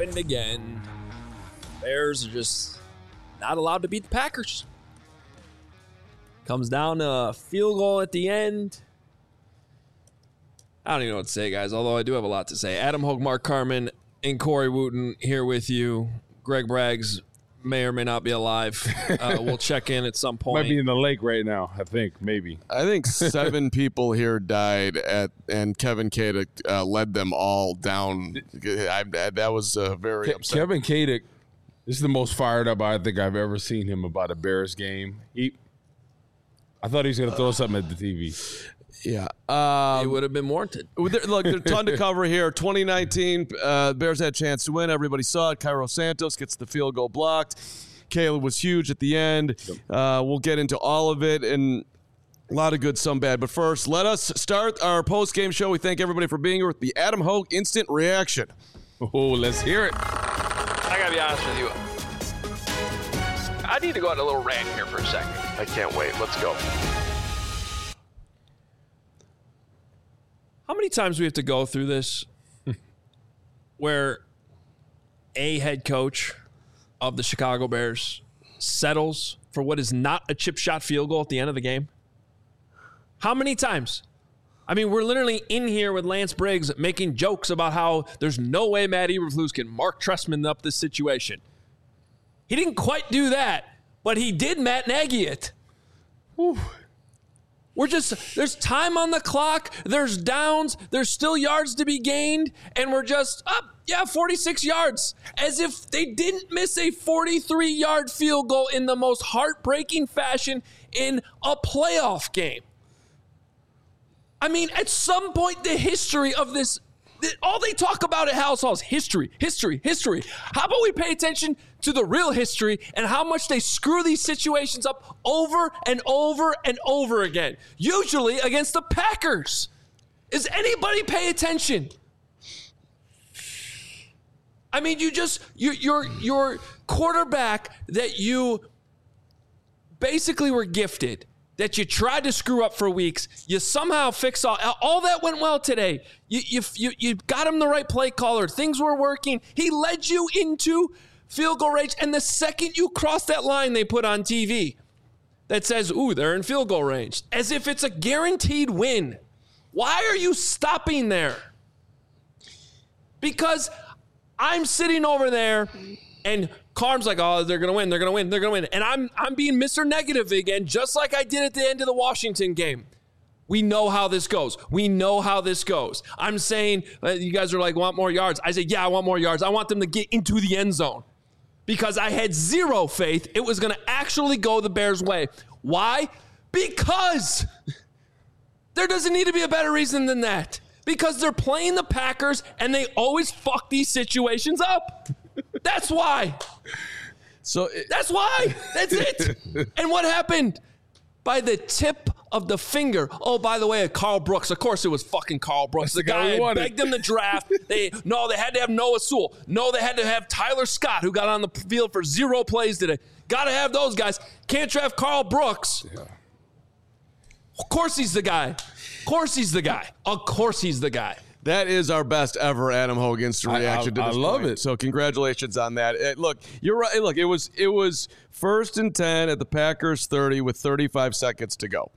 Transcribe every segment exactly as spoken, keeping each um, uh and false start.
happened again. Bears are just not allowed to beat the Packers. Comes down to a field goal at the end. I don't even know what to say, guys, although I do have a lot to say. Adam Hogue, Mark Carman, and Corey Wooten here with you. Greg Braggs may or may not be alive. Uh, we'll check in at some point. Might be in the lake right now, I think, maybe. I think seven people here died, at, and Kevin Kadick uh, led them all down. I, I, that was uh, very Ke- upsetting. Kevin Kadick, this is the most fired up I think I've ever seen him about a Bears game. He, I thought he was going to throw something at the T V. Yeah. Um, it would have been warranted. Look, there's a ton to cover here. twenty nineteen, uh, Bears had a chance to win. Everybody saw it. Cairo Santos gets the field goal blocked. Caleb was huge at the end. Uh, we'll get into all of it, and a lot of good, some bad. But first, let us start our post-game show. We thank everybody for being here with the Adam Hogue Instant Reaction. Oh, let's hear it. I got to be honest with you. I need to go on a little rant here for a second. I can't wait. Let's go. How many times do we have to go through this where a head coach of the Chicago Bears settles for what is not a chip shot field goal at the end of the game? How many times? I mean, we're literally in here with Lance Briggs making jokes about how there's no way Matt Eberflus can Mark Trestman up this situation. He didn't quite do that, but he did Matt Nagy it. Whew. We're just, there's time on the clock, there's downs, there's still yards to be gained, and we're just up, yeah, forty-six yards. As if they didn't miss a forty-three-yard field goal in the most heartbreaking fashion in a playoff game. I mean, at some point, the history of this, all they talk about at House Hall is history, history, history. How about we pay attention to the real history and how much they screw these situations up over and over and over again, usually against the Packers. Is anybody pay attention? I mean, you just, you, your, your quarterback that you basically were gifted, that you tried to screw up for weeks, you somehow fix all, all that went well today. You, you, you, you got him the right play caller. Things were working. He led you into field goal range. And the second you cross that line they put on T V that says, ooh, they're in field goal range, as if it's a guaranteed win. Why are you stopping there? Because I'm sitting over there and Carm's like, oh, they're going to win, they're going to win, they're going to win. And I'm I'm being Mister Negative again, just like I did at the end of the Washington game. We know how this goes. We know how this goes. I'm saying, uh, you guys are like, want more yards. I say, yeah, I want more yards. I want them to get into the end zone because I had zero faith it was going to actually go the Bears' way. Why? Because there doesn't need to be a better reason than that. Because they're playing the Packers and they always fuck these situations up. That's why. So it, That's why. That's it. And what happened? By the tip of the finger. Oh, by the way, Carl Brooks. Of course it was fucking Carl Brooks. That's the the guy guy we who wanted. begged them to draft. They No, they had to have Noah Sewell. No, they had to have Tyler Scott, who got on the field for zero plays today. Got to have those guys. Can't draft Carl Brooks. Yeah. Of course he's the guy. Of course he's the guy. Of course he's the guy. that is our best ever Adam Hogue instant I- reaction I- to I this love point. it. So congratulations on that. Uh, look, you're right. Look, it was it was first and ten at the Packers thirty with thirty-five seconds to go.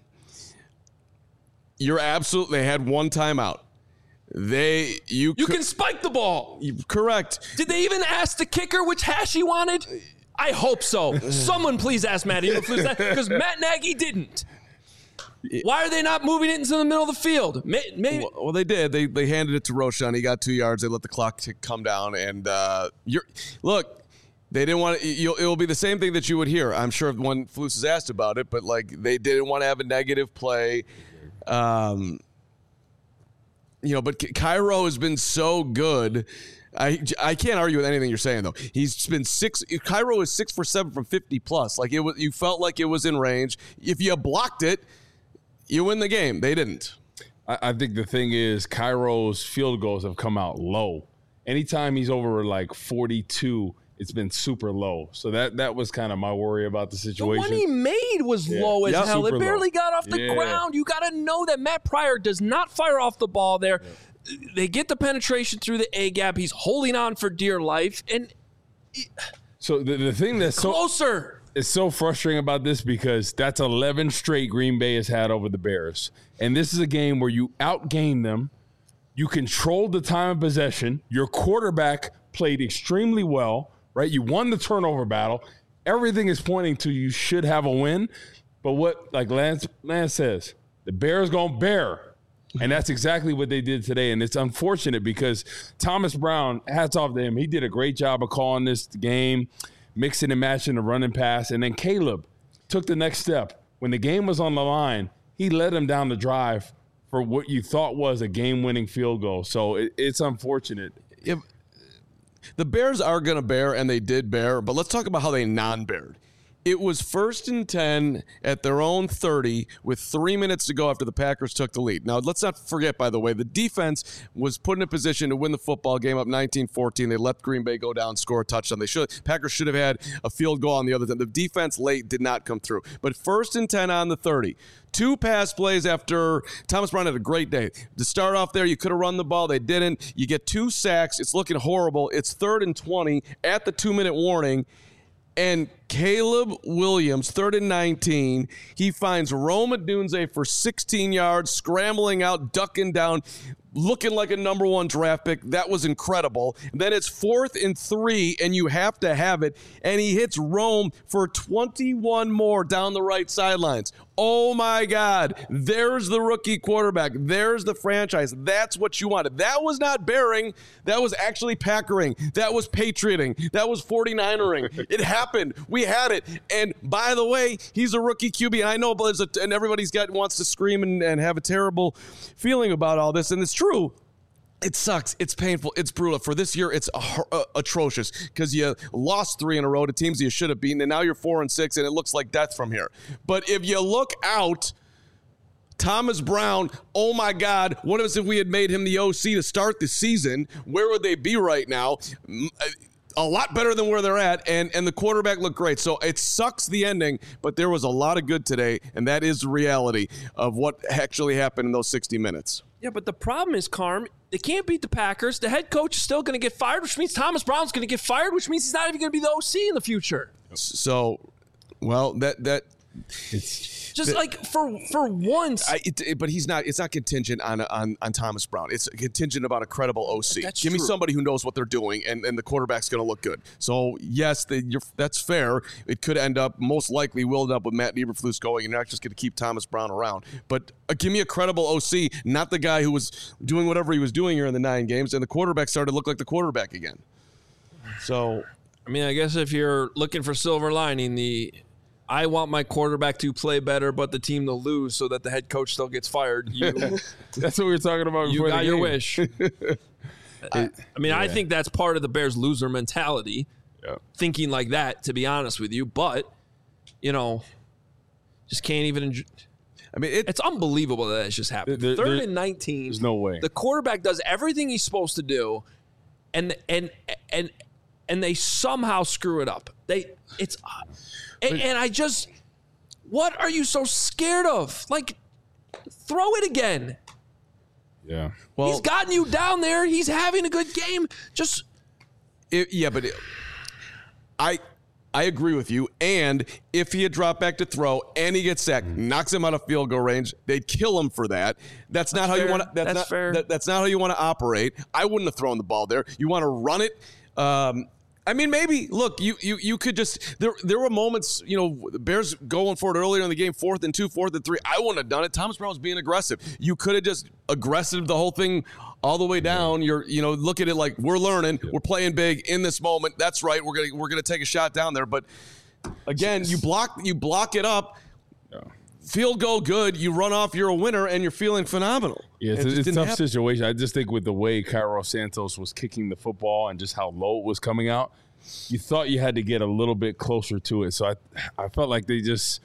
You're absolutely. They had one timeout. They you You cou- can spike the ball. correct. Did they even ask the kicker which hash he wanted? I hope so. Someone please ask Matt Eberflus that, because Matt Nagy didn't. Why are they not moving it into the middle of the field? May- Maybe. Well, well, they did. They they handed it to Roshan. He got two yards. They let the clock tick come down. And uh, you're look, they didn't want to. You'll, it'll be the same thing that you would hear. I'm sure when Flus is asked about it, but like they didn't want to have a negative play. Um, you know, but Cairo has been so good. I, I can't argue with anything you're saying though. He's been six. Cairo is six for seven from fifty plus. Like it was, you felt like it was in range. If you blocked it, you win the game. They didn't. I, I think the thing is Cairo's field goals have come out low. Anytime he's over like forty-two, it's been super low. So that that was kind of my worry about the The situation. one he made was Yeah. low as Yeah, hell. It super barely low. got off the Yeah. ground. You got to know that Matt Pryor does not fire off the ball there. they get the penetration through the A gap. He's holding on for dear life, and so the, the thing that's so closer. It's so frustrating about this because that's eleven straight Green Bay has had over the Bears, and this is a game where you outgained them. You controlled the time of possession. Your quarterback played extremely well, right? You won the turnover battle. Everything is pointing to you should have a win. But what, like Lance, Lance says, the Bears going to bear. And that's exactly what they did today. And it's unfortunate because Thomas Brown, hats off to him. He did a great job of calling this game, mixing and matching the run and pass. And then Caleb took the next step. When the game was on the line, he led him down the drive for what you thought was a game-winning field goal. So it, it's unfortunate. If the Bears are going to bear, and they did bear, but let's talk about how they non-beared. It was first and ten at their own thirty with three minutes to go after the Packers took the lead. Now, let's not forget, by the way, the defense was put in a position to win the football game up nineteen fourteen. They let Green Bay go down, score a touchdown. They should Packers should have had a field goal on the other end. The defense late did not come through. But first and ten on the thirty. Two pass plays after Thomas Brown had a great day. To start off there, you could have run the ball. They didn't. You get two sacks. It's looking horrible. It's third and twenty at the two-minute warning. And Caleb Williams, third and nineteen, he finds Rome Odunze for sixteen yards, scrambling out, ducking down, looking like a number one draft pick. That was incredible. And then it's fourth and three, and you have to have it. And he hits Rome for twenty-one more down the right sidelines. Oh, my God. There's the rookie quarterback. There's the franchise. That's what you wanted. That was not bearing. That was actually Packering. That was Patrioting. That was forty-ninering. It happened. We had it. And by the way, he's a rookie Q B. And I know, but a, and everybody's got wants to scream and, and have a terrible feeling about all this. And it's true. It sucks. It's painful. It's brutal. For this year, it's uh, uh, atrocious because you lost three in a row to teams you should have beaten, and now you're four and six, and it looks like death from here. But if you look out, Thomas Brown, oh my God, what if we had made him the O C to start the season? Where would they be right now? A lot better than where they're at, and, and the quarterback looked great. So it sucks the ending, but there was a lot of good today, and that is the reality of what actually happened in those sixty minutes. Yeah, but the problem is, Carm, they can't beat the Packers. The head coach is still going to get fired, which means Thomas Brown's going to get fired, which means he's not even going to be the O C in the future. So, well, that that It's Just like for for once. I, it, it- but he's not. It's not contingent on on on Thomas Brown. It's contingent about a credible O C. That's Give me true. somebody who knows what they're doing, and, and the quarterback's going to look good. So yes, the, you're, that's fair. It could end up, most likely, will end up with Matt Eberflus going, and you're not just going to keep Thomas Brown around. But uh, give me a credible O C, not the guy who was doing whatever he was doing here in the nine games, and the quarterback started to look like the quarterback again. So I mean, I guess if you're looking for silver lining, the I want my quarterback to play better, but the team to lose so that the head coach still gets fired. You, that's what we were talking about. you before got the your game. wish. I, I mean, I think that's part of the Bears' loser mentality, Yeah. thinking like that, to be honest with you. But, you know, just can't even enjoy. I mean, it, It's unbelievable that it's just happened. There- Third there- and nineteen. There's no way. The quarterback does everything he's supposed to do, and and and and they somehow screw it up. They it's and, and I just what are you so scared of? Like, throw it again. Yeah. well, He's gotten you down there. He's having a good game. Just It, yeah, but it, I I agree with you. And if he had dropped back to throw and he gets sacked, knocks him out of field goal range, they'd kill him for that. That's, not how you fair. want to. That's, That's not, fair. that- that's not how you want to operate. I wouldn't have thrown the ball there. You want to run it. Um, I mean, maybe look, you you you could just there. There were moments, you know, the Bears going for it earlier in the game, fourth and two, fourth and three. I wouldn't have done it. Thomas Brown was being aggressive. You could have just aggressive the whole thing all the way down. You're, you know, look at it like we're learning, we're playing big in this moment. That's right. We're gonna we're gonna take a shot down there. But again, you block you block it up. Field goal good. You run off. You're a winner, and you're feeling phenomenal. Yeah, it's, It just it's a didn't tough happen. situation. I just think with the way Cairo Santos was kicking the football and just how low it was coming out, you thought you had to get a little bit closer to it. So I, I felt like they just,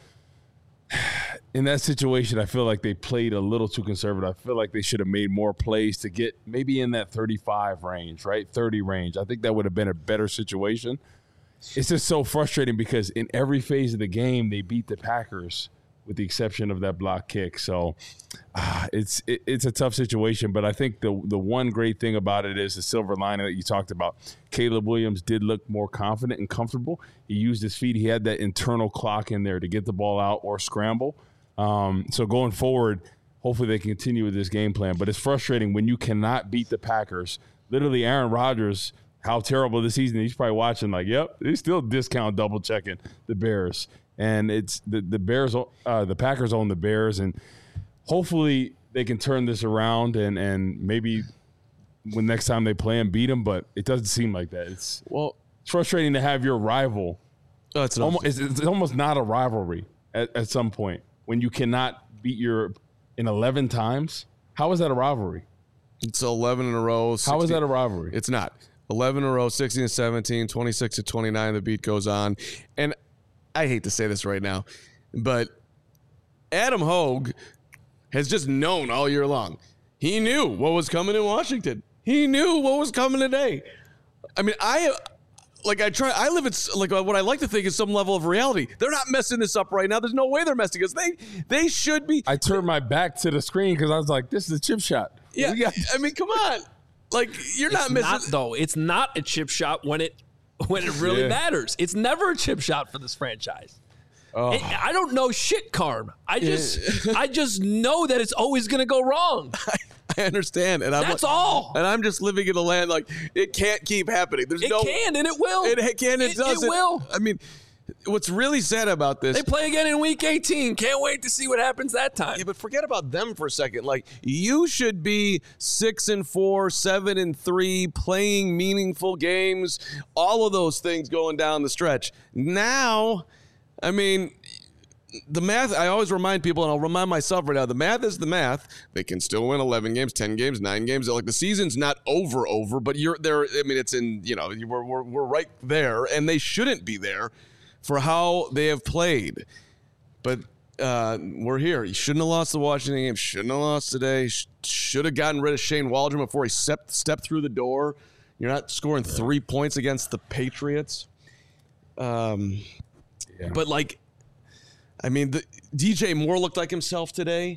in that situation, I feel like they played a little too conservative. I feel like they should have made more plays to get maybe in that thirty-five range, right? thirty range. I think that would have been a better situation. It's just so frustrating because in every phase of the game, they beat the Packers with the exception of that block kick. So uh, it's it, it's a tough situation. But I think the the one great thing about it is the silver lining that you talked about. Caleb Williams did look more confident and comfortable. He used his feet. He had that internal clock in there to get the ball out or scramble. Um, so going forward, hopefully they continue with this game plan. But it's frustrating when you cannot beat the Packers. Literally, Aaron Rodgers, how terrible this season. He's probably watching like, yep, he's still discount double checking the Bears. And it's the, the Bears, uh, the Packers own the Bears. And hopefully they can turn this around and, and maybe when next time they play them, beat them. But it doesn't seem like that. It's, well, it's frustrating to have your rival. Oh, it's, almost, it's, it's almost not a rivalry at, at some point when you cannot beat your in eleven times. How is that a rivalry? It's eleven in a row. sixteen. How is that a rivalry? It's not. eleven in a row, sixteen and seventeen, twenty-six to twenty-nine. The beat goes on. And I hate to say this right now, but Adam Hogue has just known all year long. He knew what was coming in Washington. He knew what was coming today. I mean, I like I try. I live at like what I like to think is some level of reality. They're not messing this up right now. There's no way they're messing us. They they should be. I turned my back to the screen because I was like, "This is a chip shot." Yeah, got- I mean, come on. Like you're It's not missing. not, though. It's not a chip shot when it when it really Yeah. matters. It's never a chip shot for this franchise. Oh. It- I don't know shit, Carm. I just I just know that it's always going to go wrong. I understand, and I'm That's like- all. And I'm just living in a land like it can't keep happening. There's It no. can and it will. It can. It, It- does. it will. I mean, what's really sad about this? They play again in week eighteen. Can't wait to see what happens that time. Yeah, but forget about them for a second. Like you should be six and four, seven and three, playing meaningful games. All of those things going down the stretch. Now, I mean, the math. I always remind people, and I'll remind myself right now. The math is the math. They can still win eleven games, ten games, nine games. Like the season's not over, over. But you're there. I mean, it's in. You know, we're we're, we're right there, and they shouldn't be there for how they have played. But uh, we're here. You shouldn't have lost the Washington game. Shouldn't have lost today. Sh- should have gotten rid of Shane Waldron before he stepped, stepped through the door. You're not scoring three points against the Patriots. Um, Yeah. But, like, I mean, the, D J Moore looked like himself today.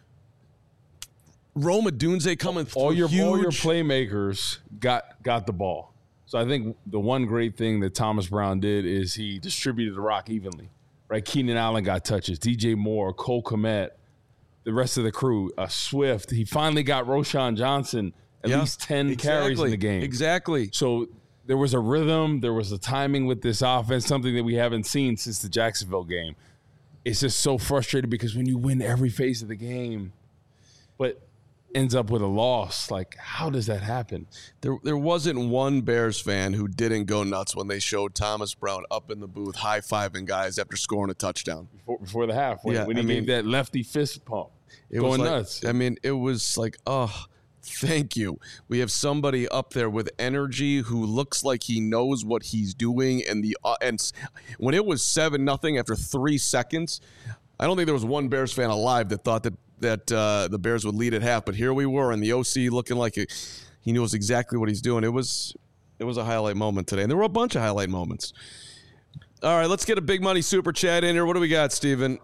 Rome Odunze coming through all your huge. all your playmakers got got the ball. So I think the one great thing that Thomas Brown did is he distributed the rock evenly. Right, Keenan Allen got touches. D J Moore, Cole Kmet, the rest of the crew, uh, Swift. He finally got Roshan Johnson at Yeah, least ten exactly, carries in the game. Exactly. So there was a rhythm, there was a timing with this offense, something that we haven't seen since the Jacksonville game. It's just so frustrating because when you win every phase of the game, but ends up with a loss, like how does that happen? There, there wasn't one Bears fan who didn't go nuts when they showed Thomas Brown up in the booth high-fiving guys after scoring a touchdown. Before, before the half, when, Yeah, when he I mean, gave that lefty fist pump, It going was like, nuts. I mean, it was like, oh, thank you. We have somebody up there with energy who looks like he knows what he's doing. And the uh, and s- when it was seven nothing after three seconds, I don't think there was one Bears fan alive that thought that that uh, the Bears would lead at half. But here we were, and the O C looking like it, he knows exactly what he's doing. It was it was a highlight moment today, and there were a bunch of highlight moments. All right, let's get a big money super chat in here. What do we got, Steven?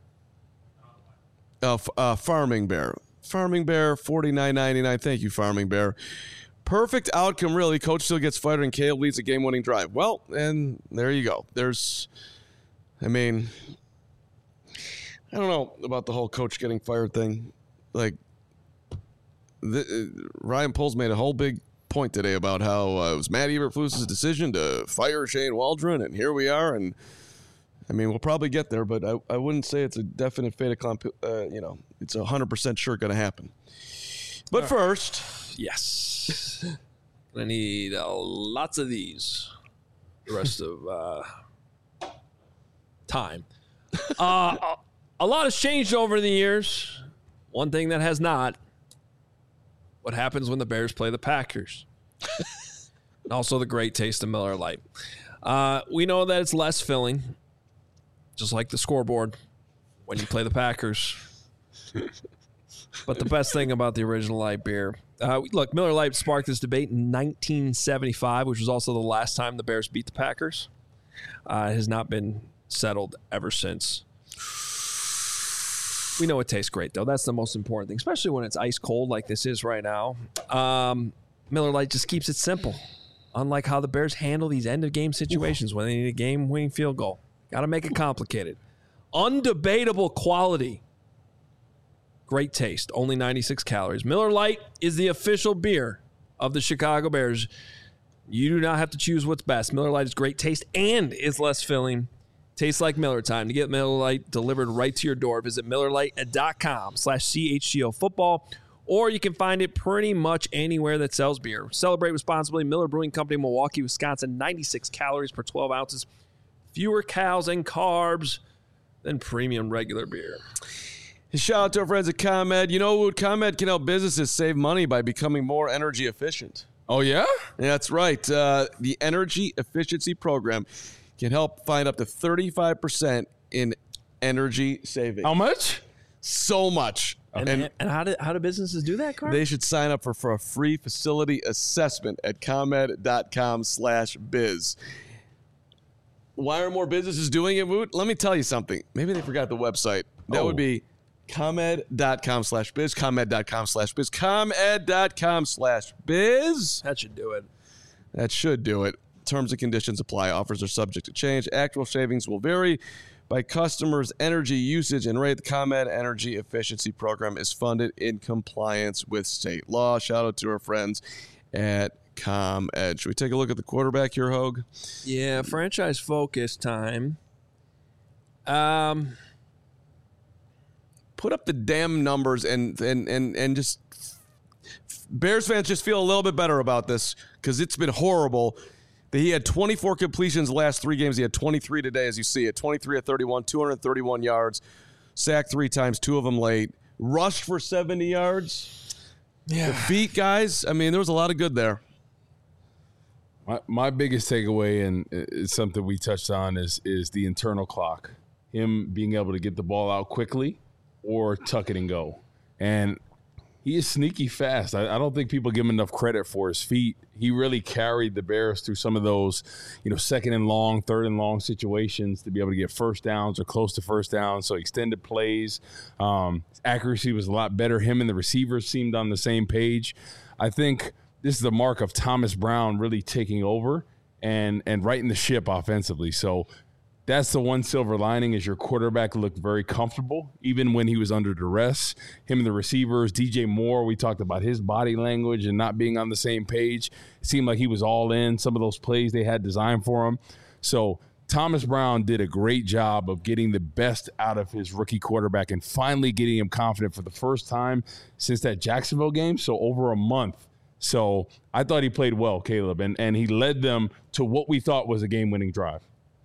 Uh, f- uh, Farming Bear. Farming Bear, forty-nine ninety-nine. Thank you, Farming Bear. Perfect outcome, really. Coach still gets fired and Caleb leads a game-winning drive. Well, and there you go. There's, I mean, I don't know about the whole coach getting fired thing. Like, the, uh, Ryan Poles made a whole big point today about how uh, it was Matt Eberflus's decision to fire Shane Waldron, and here we are. And I mean, we'll probably get there, but I, I wouldn't say it's a definite fait accompli. Uh, you know, it's a hundred percent sure going to happen. But first, Yes. I need uh, lots of these the rest of uh, time. Uh, a, a lot has changed over the years. One thing that has not, what happens when the Bears play the Packers. And also the great taste of Miller Lite. Uh, we know that it's less filling, just like the scoreboard when you play the Packers. But the best thing about the original light beer, uh, look, Miller Lite sparked this debate in nineteen seventy-five, which was also the last time the Bears beat the Packers. Uh, it has not been settled ever since. We know it tastes great, though. That's the most important thing, especially when it's ice cold like this is right now. Um, Miller Lite just keeps it simple, unlike how the Bears handle these end-of-game situations when they need a game-winning field goal. Got to make it complicated. Undebatable quality. Great taste. Only ninety-six calories. Miller Lite is the official beer of the Chicago Bears. You do not have to choose what's best. Miller Lite is great taste and is less filling. Tastes like Miller time. To get Miller Lite delivered right to your door, visit MillerLite.com slash CHGO football, or you can find it pretty much anywhere that sells beer. Celebrate responsibly. Miller Brewing Company, Milwaukee, Wisconsin. ninety-six calories per twelve ounces. Fewer calories and carbs than premium regular beer. Shout out to our friends at ComEd. You know what? ComEd can help businesses save money by becoming more energy efficient. Oh, yeah? Yeah, that's right. Uh, the Energy Efficiency Program can help find up to thirty-five percent in energy savings. How much? So much. And, and, and how do how do businesses do that, Carl? They should sign up for, for a free facility assessment at ComEd.com slash biz. Why are more businesses doing it, Woot? Let me tell you something. Maybe they forgot the website. That Oh. would be ComEd.com slash biz, ComEd.com slash biz, ComEd.com slash biz. That should do it. That should do it. Terms and conditions apply. Offers are subject to change. Actual savings will vary by customers' energy usage and rate. The ComEd Energy Efficiency Program is funded in compliance with state law. Shout out to our friends at ComEd. Should we take a look at the quarterback here, Hogue? Yeah, franchise focus time. Um, Put up the damn numbers and and and and just Bears fans just feel a little bit better about this because it's been horrible. He had twenty-four completions the last three games. He had twenty-three today, as you see it. twenty-three of thirty-one, two hundred thirty-one yards, sacked three times, two of them late, rushed for seventy yards. yeah. The feet, guys. I mean, there was a lot of good there. My, my biggest takeaway, and it's something we touched on, is is the internal clock. Him being able to get the ball out quickly or tuck it and go. And he is sneaky fast. I, I don't think people give him enough credit for his feet. He really carried the Bears through some of those, you know, second and long, third and long situations to be able to get first downs or close to first downs. So extended plays. Um, his accuracy was a lot better. Him and the receivers seemed on the same page. I think this is the mark of Thomas Brown really taking over and and righting the ship offensively. So that's the one silver lining, is your quarterback looked very comfortable, even when he was under duress. Him and the receivers, D J Moore, we talked about his body language and not being on the same page. It seemed like he was all in some of those plays they had designed for him. So Thomas Brown did a great job of getting the best out of his rookie quarterback and finally getting him confident for the first time since that Jacksonville game, so over a month. So I thought he played well, Caleb, and, and he led them to what we thought was a game-winning drive.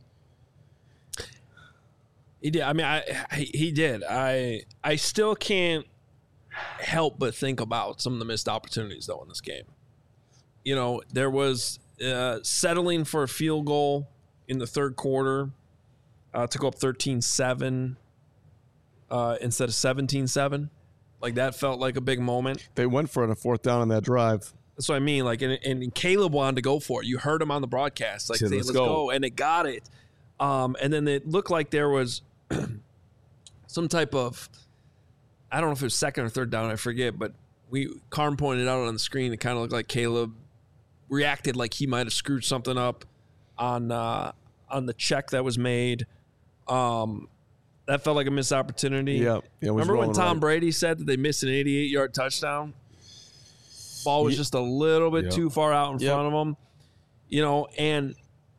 He did. I mean, I he he did. I I still can't help but think about some of the missed opportunities, though, in this game. You know, there was uh, settling for a field goal in the third quarter uh, to go up thirteen seven uh, instead of seventeen seven. Like, that felt like a big moment. They went for it on a fourth down on that drive. That's what I mean. Like, and, and Caleb wanted to go for it. You heard him on the broadcast. Like, Said, say, "Let's let's go." go. And it got it. Um, and then it looked like there was some type of, I don't know if it was second or third down, I forget, but we Carm pointed out on the screen, it kind of looked like Caleb reacted like he might have screwed something up on uh, on the check that was made. Um, that felt like a missed opportunity. Yeah, yeah, it was Remember when rolling Tom right. Brady said that they missed an eighty-eight yard touchdown? Ball was Ye- just a little bit Yep. too far out in Yep. front of him. You know, and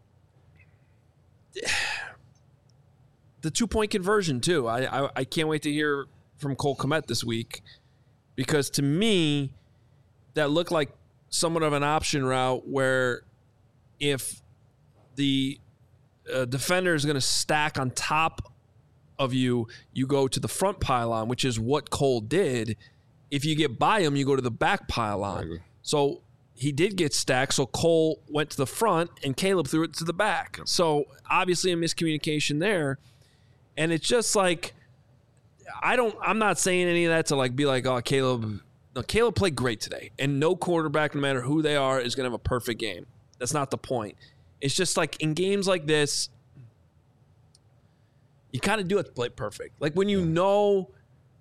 the two-point conversion, too. I, I I can't wait to hear from Cole Kmet this week, because to me, that looked like somewhat of an option route where if the uh, defender is going to stack on top of you, you go to the front pylon, which is what Cole did. If you get by him, you go to the back pylon. So he did get stacked, so Cole went to the front and Caleb threw it to the back. So obviously a miscommunication there. And it's just like, I don't, I'm not saying any of that to like be like, oh, Caleb, no, Caleb played great today. And no quarterback, no matter who they are, is going to have a perfect game. That's not the point. It's just like in games like this, you kind of do have to play perfect. Like when you know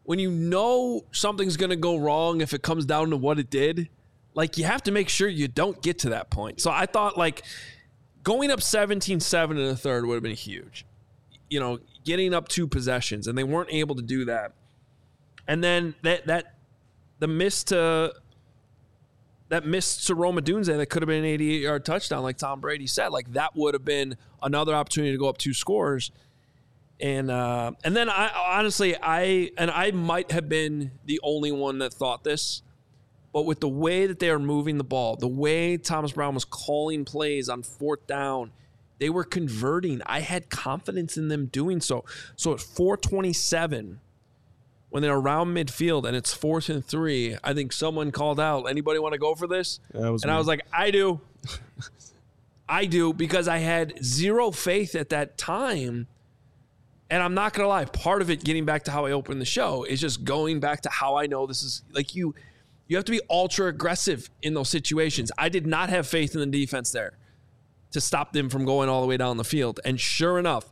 when you know something's going to go wrong if it comes down to what it did, like, you have to make sure you don't get to that point. So I thought, like, going up seventeen seven in the third would have been huge. You know, getting up two possessions, and they weren't able to do that. And then that that the miss to that miss to Rome Odunze that could have been an eighty-yard touchdown, like Tom Brady said, like, that would have been another opportunity to go up two scores. And uh, and then I honestly I and I might have been the only one that thought this, but with the way that they are moving the ball, the way Thomas Brown was calling plays on fourth down, they were converting. I had confidence in them doing so. So at four twenty-seven, when they're around midfield and it's fourth and three, I think someone called out, "Anybody want to go for this?" That was and me. I was like, "I do." I do, because I had zero faith at that time. And I'm not going to lie, part of it, getting back to how I opened the show, is just going back to how I know this is, like, you you have to be ultra aggressive in those situations. I did not have faith in the defense there to stop them from going all the way down the field. And sure enough,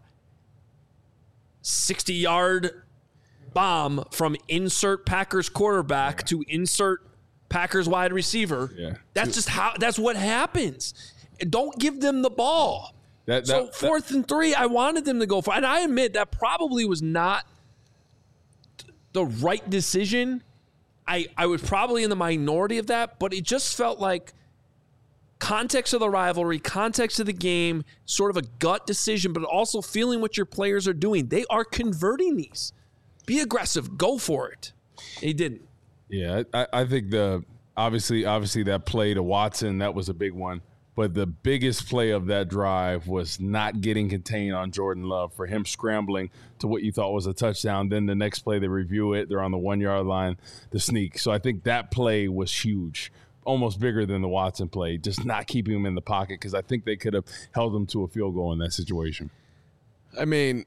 sixty-yard bomb from insert Packers quarterback yeah. to insert Packers wide receiver. Yeah. That's just how, that's what happens. Don't give them the ball. That, that, so fourth that, and three, I wanted them to go for, and I admit that probably was not the right decision. I, I was probably in the minority of that, but it just felt like context of the rivalry, context of the game, sort of a gut decision, but also feeling what your players are doing. They are converting these. Be aggressive. Go for it. He didn't. Yeah, I, I think the obviously obviously that play to Watson, that was a big one. But the biggest play of that drive was not getting contained on Jordan Love, for him scrambling to what you thought was a touchdown. Then the next play, they review it. They're on the one-yard line, the sneak. So I think that play was huge, almost bigger than the Watson play, just not keeping him in the pocket, because I think they could have held him to a field goal in that situation. I mean,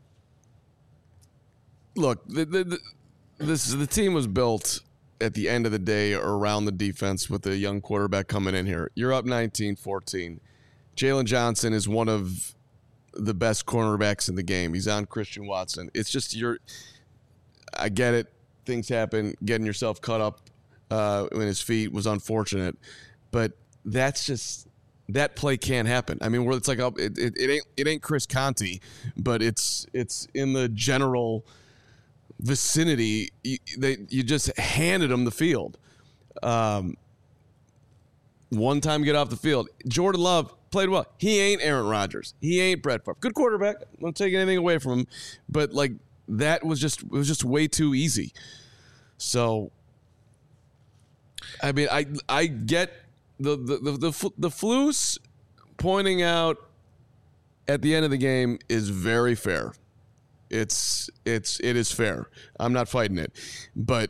look, the, the, the, this the team was built at the end of the day around the defense with a young quarterback coming in here. You're up nineteen fourteen. Jalen Johnson is one of the best cornerbacks in the game. He's on Christian Watson. It's just you're – I get it. Things happen. Getting yourself cut up uh, in his feet was unfortunate. But that's just – that play can't happen. I mean, where it's like a, it, it, it ain't it ain't Chris Conte, but it's it's in the general – vicinity. You, they, you just handed them the field. Um, one time get off the field. Jordan Love played well. He ain't Aaron Rodgers. He ain't Brett Favre. Good quarterback. I don't take anything away from him, but like that was just it was just way too easy. So, I mean, I I get the the the the, the Flus pointing out at the end of the game is very fair. It's it's it is fair. I'm not fighting it, but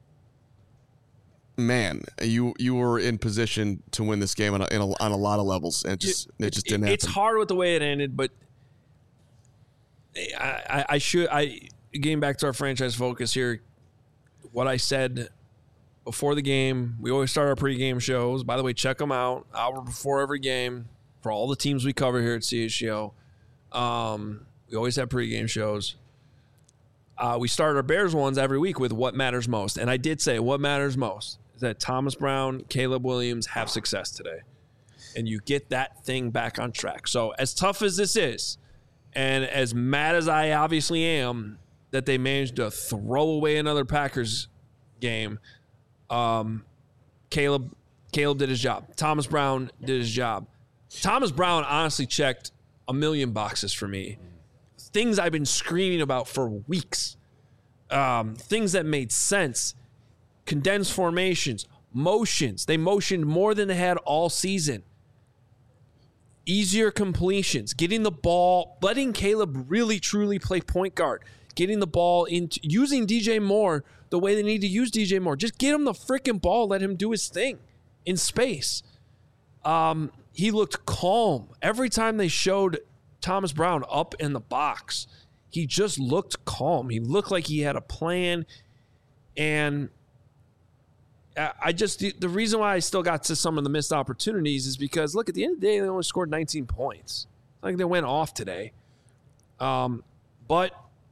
man, you you were in position to win this game on a, in a, on a lot of levels, and it just it, it just didn't happen. It's hard with the way it ended, but I, I, I should I getting back to our franchise focus here. What I said before the game, we always start our pregame shows. By the way, check them out hour before every game for all the teams we cover here at C H G O. Um, We always have pregame shows. Uh, we start our Bears ones every week with what matters most. And I did say what matters most is that Thomas Brown, Caleb Williams have success today. And you get that thing back on track. So as tough as this is, and as mad as I obviously am that they managed to throw away another Packers game, um, Caleb, Caleb did his job. Thomas Brown did his job. Thomas Brown honestly checked a million boxes for me. Things I've been screaming about for weeks. Um, things that made sense. Condensed formations. Motions. They motioned more than they had all season. Easier completions. Getting the ball. Letting Caleb really, truly play point guard. Getting the ball into... Using D J Moore the way they need to use D J Moore. Just get him the freaking ball. Let him do his thing in space. Um, he looked calm. Every time they showed... Thomas Brown up in the box, he just looked calm. He looked like he had a plan. And I just, the, the reason why I still got to some of the missed opportunities is because, look, at the end of the day, they only scored nineteen points. It's like they went off today. Um, but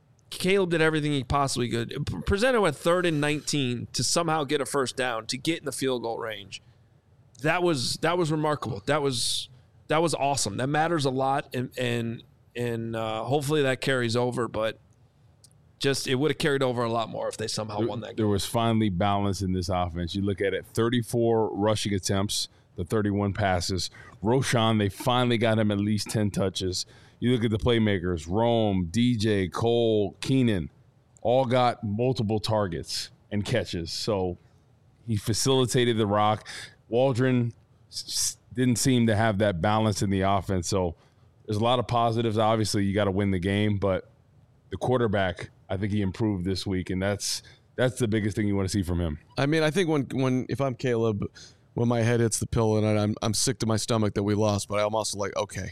Caleb did everything he possibly could. Presented with third and nineteen to somehow get a first down, to get in the field goal range. That was that was remarkable. That was that was awesome. That matters a lot, and and and uh, hopefully that carries over. But just it would have carried over a lot more if they somehow there, won that game. There was finally balance in this offense. You look at it, thirty-four rushing attempts, the thirty-one passes. Roschon, they finally got him at least ten touches. You look at the playmakers, Rome, D J, Cole, Keenan, all got multiple targets and catches. So he facilitated the rock. Waldron s- didn't seem to have that balance in the offense. So there's a lot of positives. Obviously, you got to win the game, but the quarterback, I think he improved this week, and that's that's the biggest thing you want to see from him. I mean, I think when when if I'm Caleb, when my head hits the pillow and I'm I'm sick to my stomach that we lost, but I'm also like, okay.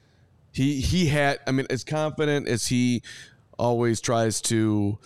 He he had, I mean, as confident as he always tries to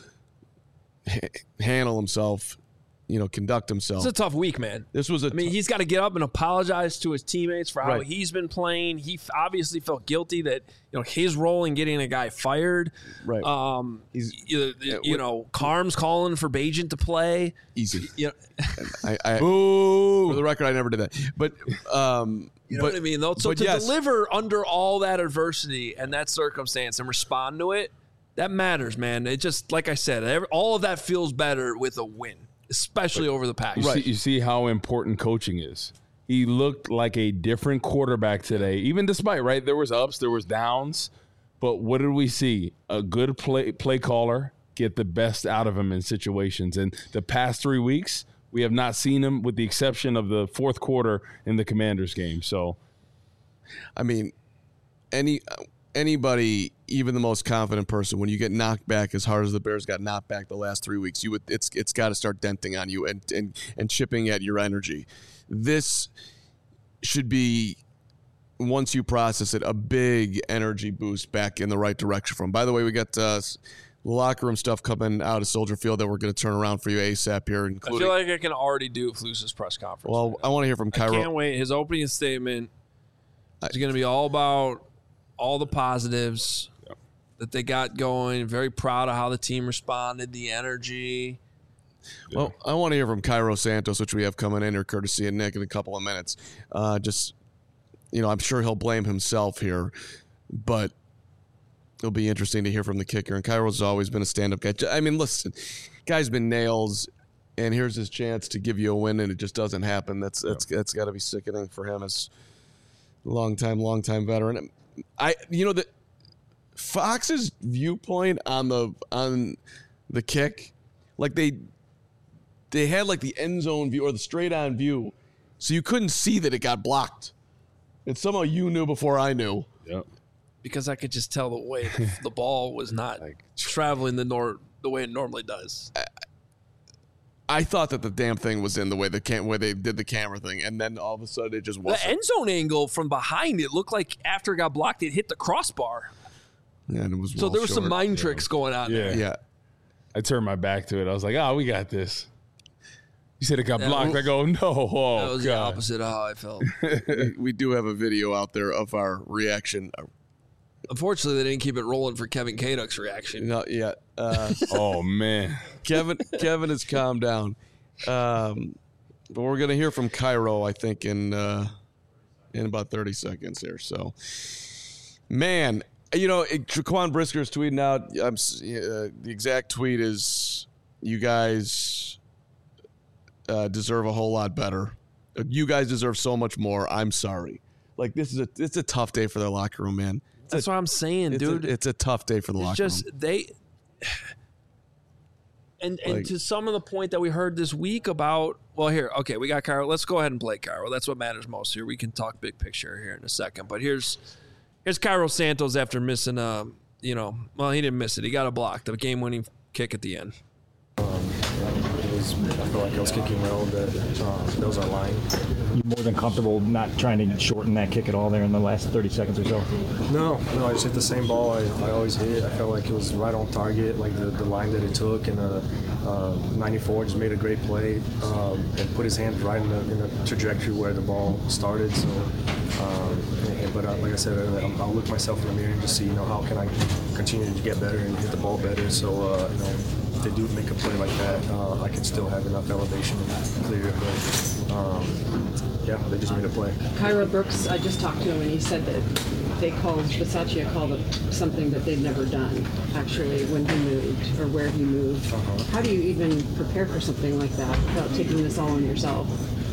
ha- handle himself, you know, conduct himself. It's a tough week, man. This was a I mean, he's got to get up and apologize to his teammates for how Right. he's been playing. He f- obviously felt guilty that, you know, his role in getting a guy fired. Right. Um, He's- you, you know, Carm's calling for Bajan to play. easy. You know, I, I, Ooh. for the record, I never did that. But um, you know but, what I mean, though. So but to yes. deliver under all that adversity and that circumstance and respond to it, that matters, man. It just, like I said, every, all of that feels better with a win, especially over the Packers. You, see, you see how important coaching is. He looked like a different quarterback today, even despite, right, there was ups, there was downs. But what did we see? A good play play caller get the best out of him in situations. And the past three weeks, we have not seen him, with the exception of the fourth quarter in the Commanders game. So, I mean, any anybody, even the most confident person, when you get knocked back as hard as the Bears got knocked back the last three weeks, you would it's it's got to start denting on you and and and chipping at your energy. This should be, once you process it, a big energy boost back in the right direction from. By the way, we got uh, locker room stuff coming out of Soldier Field that we're going to turn around for you ASAP here, I including. feel like I can already do Flus's press conference. well, right I now. want to hear from I Cairo. can't wait. His opening statement is going to be all about all the positives Yep. that they got going. Very proud of how the team responded, the energy. Well, I want to hear from Cairo Santos, which we have coming in here, courtesy of Nick, in a couple of minutes. Uh, just, you know, I'm sure he'll blame himself here, but it'll be interesting to hear from the kicker. And Cairo's always been a stand-up guy. I mean, listen, guy's been nails, and here's his chance to give you a win, and it just doesn't happen. That's that's that's got to be sickening for him as a long time, long time veteran. I, you know, the Fox's viewpoint on the on the kick, like they. They had like the end zone view or the straight on view, so you couldn't see that it got blocked. And somehow you knew before I knew. yep. Because I could just tell the way the ball was not traveling the nor the way it normally does. I thought that the damn thing was in the way the cam- way they did the camera thing, and then all of a sudden it just The wasn't. end zone angle from behind, it looked like after it got blocked, it hit the crossbar. Yeah, and it was So well there was some short. mind tricks going on Yeah. there. Yeah, I turned my back to it. I was like, oh, we got this. You said it got That blocked. was- I go, no. Oh, That was the God. opposite of how I felt. we, we do have a video out there of our reaction. Unfortunately, they didn't keep it rolling for Kevin Kaduk's reaction. Not yet. Uh, Oh, man. Kevin Kevin has calmed down. Um, but we're gonna hear from Cairo, I think, in uh, in about thirty seconds here. So, man, you know, it, Jaquan Brisker is tweeting out. I'm, s- uh, the exact tweet is, "You guys uh, deserve a whole lot better. You guys deserve so much more. I'm sorry." Like, this is a it's a tough day for their locker room, man. It's That's a, what I'm saying, it's dude. A, it's a tough day for the It's locker just room. they and and Like- to some of the point that we heard this week about, well, here, okay, we got Cairo. Let's go ahead and play Cairo. That's what matters most here. We can talk big picture here in a second, but here's here's Cairo Santos after missing a, you know, well, he didn't miss it. He got a block, the game-winning kick at the end. was, I felt like I was kicking well. That uh, that was our line. You more than comfortable not trying to shorten that kick at all there in the last thirty seconds or so? No, no, I just hit the same ball I, I always hit. I felt like it was right on target, like the, the line that it took, and uh, uh, ninety-four just made a great play um, and put his hands right in the, in the trajectory where the ball started. So, um, and, but uh, like I said, I'll, I'll look myself in the mirror and just see, you know, how can I continue to get better and hit the ball better. So, uh, you know, if they do make a play like that, uh, I can still have enough elevation to clear it. But, um, yeah, they just made a play. Cairo Brooks, I just talked to him, and he said that they called, Bisaccia called it something that they'd never done, actually, when he moved, or where he moved. Uh-huh. How do you even prepare for something like that without taking this all on yourself?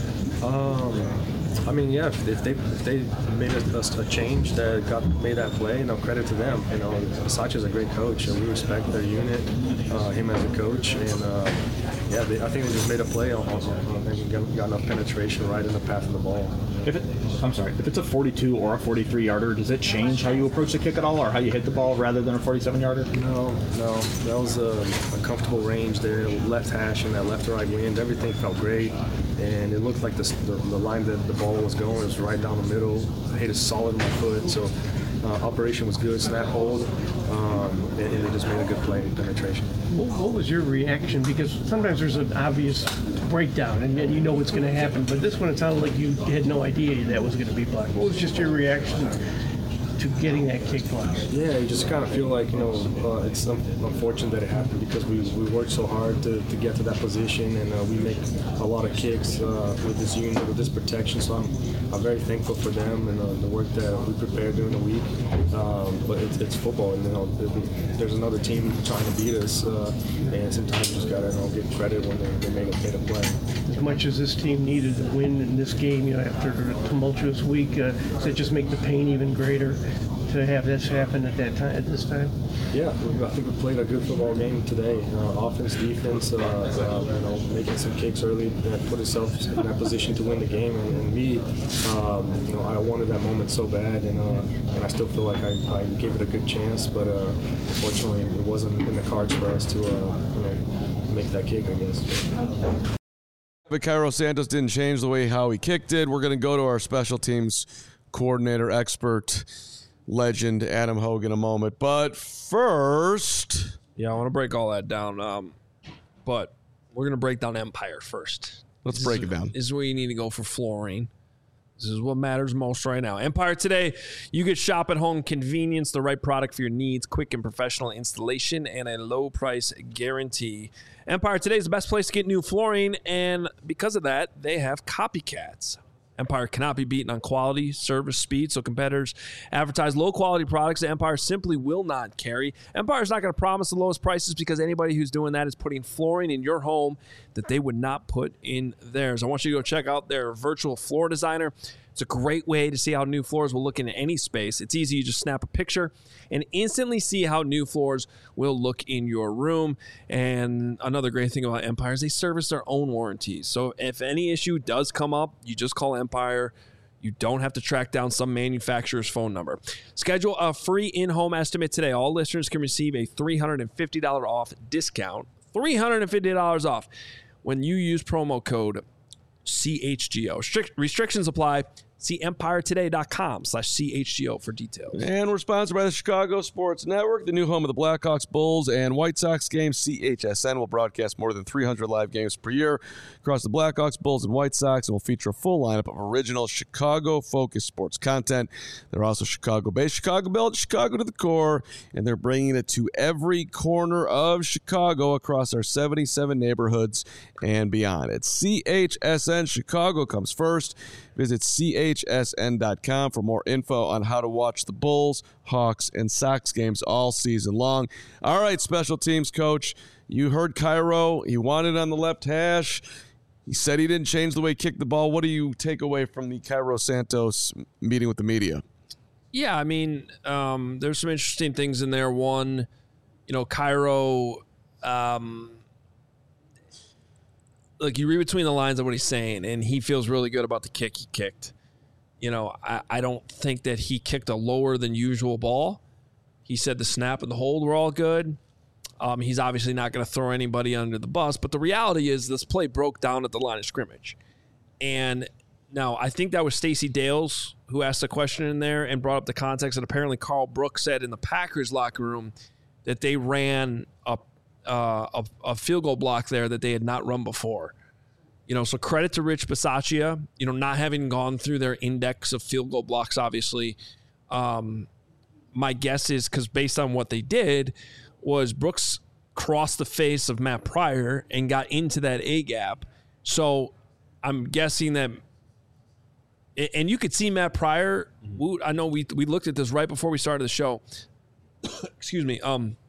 Um, I mean, yeah, if, if they if they made a, a change that got made that play, you know, credit to them. You know, Bisaccia's a great coach, and we respect their unit, uh, him as a coach, and uh, yeah, they, I think they just made a play on, on, on and got, got enough penetration right in the path of the ball. If it, I'm sorry, if it's a forty-two or a forty-three yarder, does it change how you approach the kick at all, or how you hit the ball rather than a forty-seven yarder? No, no, that was a, a comfortable range there, left hash and that left to right wind. Everything felt great, and it looked like the, the, the line that the ball was going was right down the middle. I hit it solid in my foot, so uh, operation was good, snap hold, um, and, and they just made a good play in penetration. What was your reaction? Because sometimes there's an obvious breakdown, and you know what's going to happen. But this one, it sounded like you had no idea that was going to be blocked. What was just your reaction to getting that kick blocked? Yeah, you just kind of feel like, you know, uh, it's unfortunate that it happened because we, we worked so hard to, to get to that position, and uh, we make a lot of kicks uh, with this unit, with this protection. So I'm, I'm very thankful for them and uh, the work that we prepared during the week. Um, but it's, it's football, and you know, there's another team trying to beat us, uh, and sometimes you just gotta, you know, give credit when they, they make a, made a play. As much as this team needed to win in this game, you know, after a tumultuous week, uh, does it just make the pain even greater to have this happen at that time, at this time? Yeah, I think we played a good football game today. Uh, offense, defense, uh, uh, you know, making some kicks early that put ourselves in that position to win the game. And, and me, um, you know, I wanted that moment so bad, and uh, and I still feel like I, I gave it a good chance, but uh, unfortunately, it wasn't in the cards for us to, uh, you know, make that kick, I guess. But Cairo Santos didn't change the way how he kicked it. We're going to go to our special teams coordinator, expert, legend, Adam Hogue in a moment. But first... Yeah, I want to break all that down. Um, but we're going to break down Empire first. Let's this break is, it down. This is where you need to go for flooring. This is what matters most right now. Empire today, you get shop at home convenience, the right product for your needs, quick and professional installation, and a low price guarantee. Empire today is the best place to get new flooring, and because of that, they have copycats. Empire cannot be beaten on quality, service, speed, so competitors advertise low-quality products that Empire simply will not carry. Empire's not going to promise the lowest prices because anybody who's doing that is putting flooring in your home that they would not put in theirs. I want you to go check out their virtual floor designer. It's a great way to see how new floors will look in any space. It's easy. You just snap a picture and instantly see how new floors will look in your room. And another great thing about Empire is they service their own warranties. So if any issue does come up, you just call Empire. You don't have to track down some manufacturer's phone number. Schedule a free in-home estimate today. All listeners can receive a three hundred fifty dollars off discount. three hundred fifty dollars off when you use promo code C H G O. Strict restrictions apply. See empiretoday.com slash CHGO for details. And we're sponsored by the Chicago Sports Network, the new home of the Blackhawks, Bulls, and White Sox games. C H S N will broadcast more than three hundred live games per year across the Blackhawks, Bulls, and White Sox, and will feature a full lineup of original Chicago-focused sports content. They're also Chicago-based, Chicago-built, Chicago to the core, and they're bringing it to every corner of Chicago across our seventy-seven neighborhoods and beyond. It's C H S N. Chicago comes first. Visit C H S N dot com for more info on how to watch the Bulls, Hawks, and Sox games all season long. All right, special teams coach, you heard Cairo. He wanted on the left hash. He said he didn't change the way he kicked the ball. What do you take away from the Cairo Santos meeting with the media? Yeah, I mean, um, there's some interesting things in there. One, you know, Cairo, um, look, you read between the lines of what he's saying, and he feels really good about the kick he kicked. You know, I, I don't think that he kicked a lower than usual ball. He said the snap and the hold were all good. Um, he's obviously not going to throw anybody under the bus, but the reality is this play broke down at the line of scrimmage. And now I think that was Stacey Dales who asked a question in there and brought up the context that apparently Carl Brooks said in the Packers locker room that they ran a, uh, a, a field goal block there that they had not run before. You know, so credit to Rich Bisaccia, you know, not having gone through their index of field goal blocks, obviously. Um, my guess is because based on what they did was Brooks crossed the face of Matt Pryor and got into that A gap. So I'm guessing that, and you could see Matt Pryor. I know we we looked at this right before we started the show. Excuse me. Um,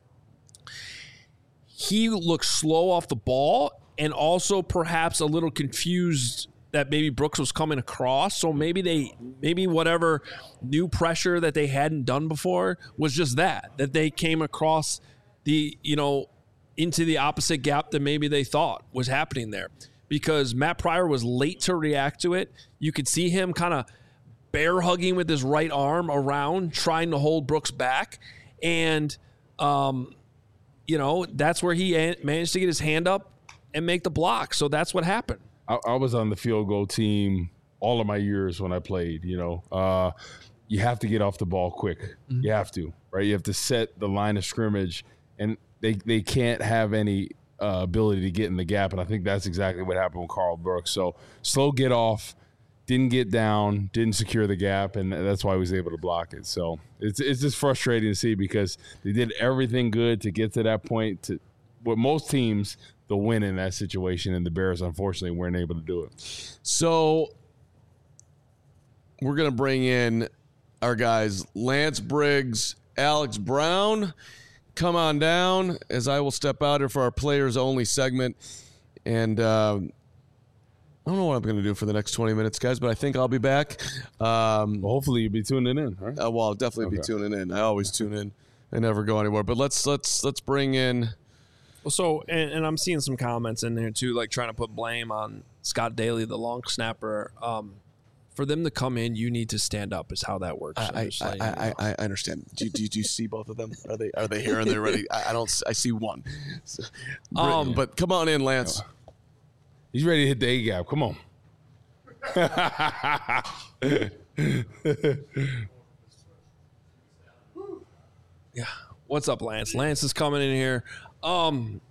he looked slow off the ball and also perhaps a little confused that maybe Brooks was coming across. So maybe they, maybe whatever new pressure that they hadn't done before was just that, that they came across the, you know, into the opposite gap that maybe they thought was happening there. Because Matt Pryor was late to react to it. You could see him kind of bear hugging with his right arm around, trying to hold Brooks back. And, um, you know, that's where he managed to get his hand up and make the block. So that's what happened. I, I was on the field goal team all of my years when I played, you know. Uh, you have to get off the ball quick. Mm-hmm. You have to, right? You have to set the line of scrimmage, and they, they can't have any uh, ability to get in the gap, and I think that's exactly what happened with Carl Brooks. So slow get off, didn't get down, didn't secure the gap, and that's why he was able to block it. So it's it's just frustrating to see because they did everything good to get to that point. To what most teams – they'll win in that situation, and the Bears, unfortunately, weren't able to do it. So we're going to bring in our guys, Lance Briggs, Alex Brown. Come on down as I will step out here for our players-only segment. And uh, I don't know what I'm going to do for the next twenty minutes, guys, but I think I'll be back. Um, well, hopefully you'll be tuning in. Right? Uh, well, I'll definitely okay. be tuning in. I always tune in. I never go anywhere. But let's let's let's bring in – Well, so, and, and I'm seeing some comments in there, too, like trying to put blame on Scott Daly, the long snapper. Um, for them to come in, you need to stand up is how that works. I, I, I, I, I understand. Do you, do, you, do you see both of them? Are they are they here and they're ready? I, I don't. I see one. So, um, but come on in, Lance. He's ready to hit the A gap. Come on. Yeah. What's up, Lance? Lance is coming in here. Um,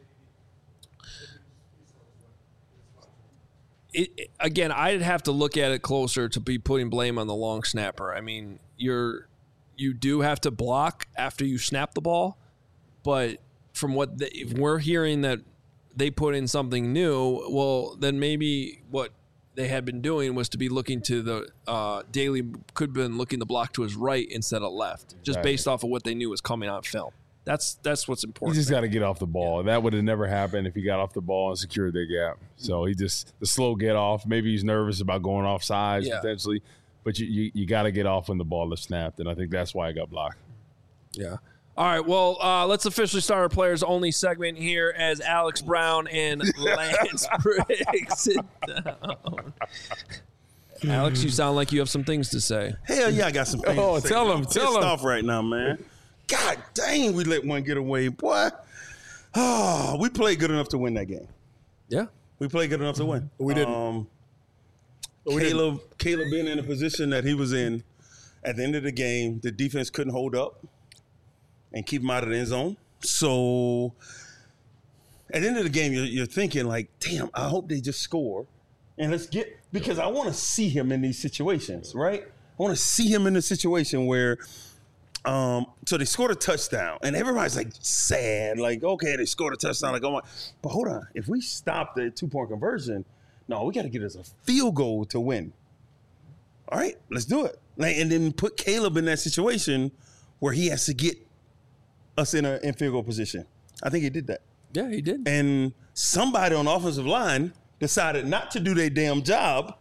it, it, again, I'd have to look at it closer to be putting blame on the long snapper. I mean, you're you do have to block after you snap the ball, but from what the, if we're hearing that they put in something new, well, then maybe what they had been doing was to be looking to the uh, Daly could have been looking to block to his right instead of left, just right. based off of what they knew was coming on film. That's that's what's important. He just got to get off the ball. Yeah. That would have never happened if he got off the ball and secured their gap. So he just the slow get off. Maybe he's nervous about going off sides yeah. potentially, but you you, you got to get off when the ball is snapped, and I think that's why I got blocked. Yeah. All right. Well, uh, let's officially start our players only segment here as Alex Brown and Lance Briggs sit down. Alex, you sound like you have some things to say. Hell yeah, I got some things. Oh, to tell say. him, I'm tell him. off right now, man. God dang, we let one get away, boy. Oh, we played good enough to win that game. Yeah, we played good enough to win. We didn't. Um, we Caleb, didn't. Caleb being in the position that he was in at the end of the game, the defense couldn't hold up and keep him out of the end zone. So at the end of the game, you're, you're thinking like, damn, I hope they just score. And let's get – because I want to see him in these situations, right? I want to see him in a situation where um, – so they scored a touchdown. And everybody's like sad, like, okay, they scored a touchdown. Like, oh my – but hold on. If we stop the two-point conversion, no, we got to get us a field goal to win. All right, let's do it. Like, and then put Caleb in that situation where he has to get us in a in field goal position. I think he did that. Yeah, he did. And somebody on the offensive line decided not to do their damn job,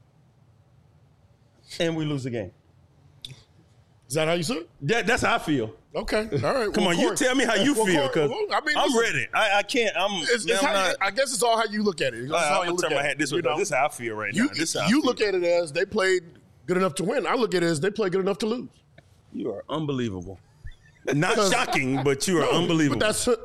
and we lose the game. Is that how you see it? That, that's how I feel. Okay, all right. Come well, on, you tell me how you well, feel, because well, I mean, I'm listen, ready. I, I can't. I'm. It's, it's I'm how, not, I guess it's all how you look at it. It's I, how I'm you gonna turn at my head this way. You know? This is how I feel right you, now. This is how you I feel. look at it as they played good enough to win. I look at it as they played good enough to lose. You are unbelievable. Not shocking, but you are no, unbelievable. But that's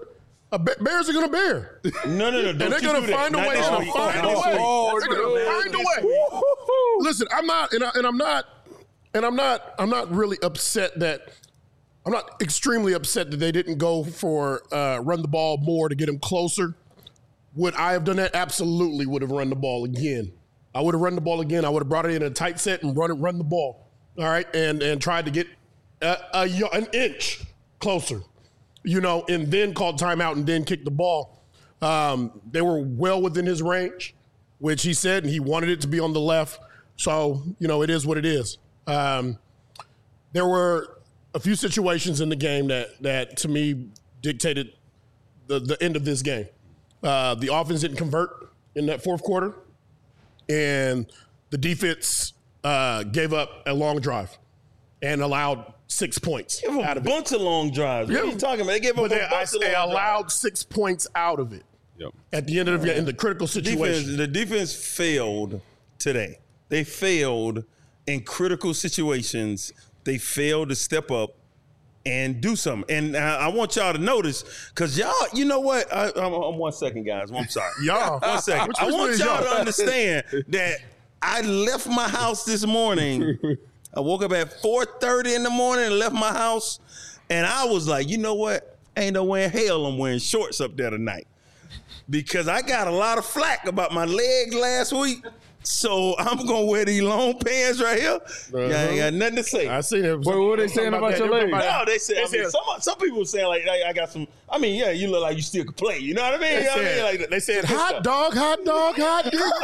A Be- Bears are going to bear. No, no, no. And they're going to find a way. They're going to find a way. Oh, They're going to find a way. Listen, I'm not, and, I, and I'm not, and I'm not, I'm not really upset that, I'm not extremely upset that they didn't go for uh, run the ball more to get him closer. Would I have done that? Absolutely would have run the ball again. I would have run the ball again. I would have brought it in a tight set and run it, run the ball. All right, and and tried to get a, a, an inch closer. You know, and then called timeout and then kicked the ball. Um, they were well within his range, which he said, and he wanted it to be on the left. So, you know, it is what it is. Um, there were a few situations in the game that, that to me, dictated the, the end of this game. Uh, the offense didn't convert in that fourth quarter, and the defense uh, gave up a long drive and allowed six points Give out a of bunch it. of long drives. What Yeah. are you talking about? They gave up But they, a I, bunch of they long allowed drives. six points out of it Yep. at the end of the in the critical situation. Defense, the defense failed today. They failed in critical situations. They failed to step up and do something. And I, I want y'all to notice, because y'all, you know what? I, I'm, I'm one second, guys. I'm sorry. Y'all. One second. Which- I which one want is y'all y'all? to understand that I left my house this morning. I woke up at four thirty in the morning and left my house. And I was like, you know what? Ain't no way in hell I'm wearing shorts up there tonight. Because I got a lot of flack about my legs last week. So I'm going to wear these long pants right here. Uh-huh. Yeah, I ain't got nothing to say. I seen it. Wait, what are they saying about your legs? No, they said, They I mean, said- some, some people saying, like, I, I got some, I mean, yeah, you look like you still could play. You know what I mean? They You know what I mean? said, Like, they said good hot stuff. dog, hot dog, hot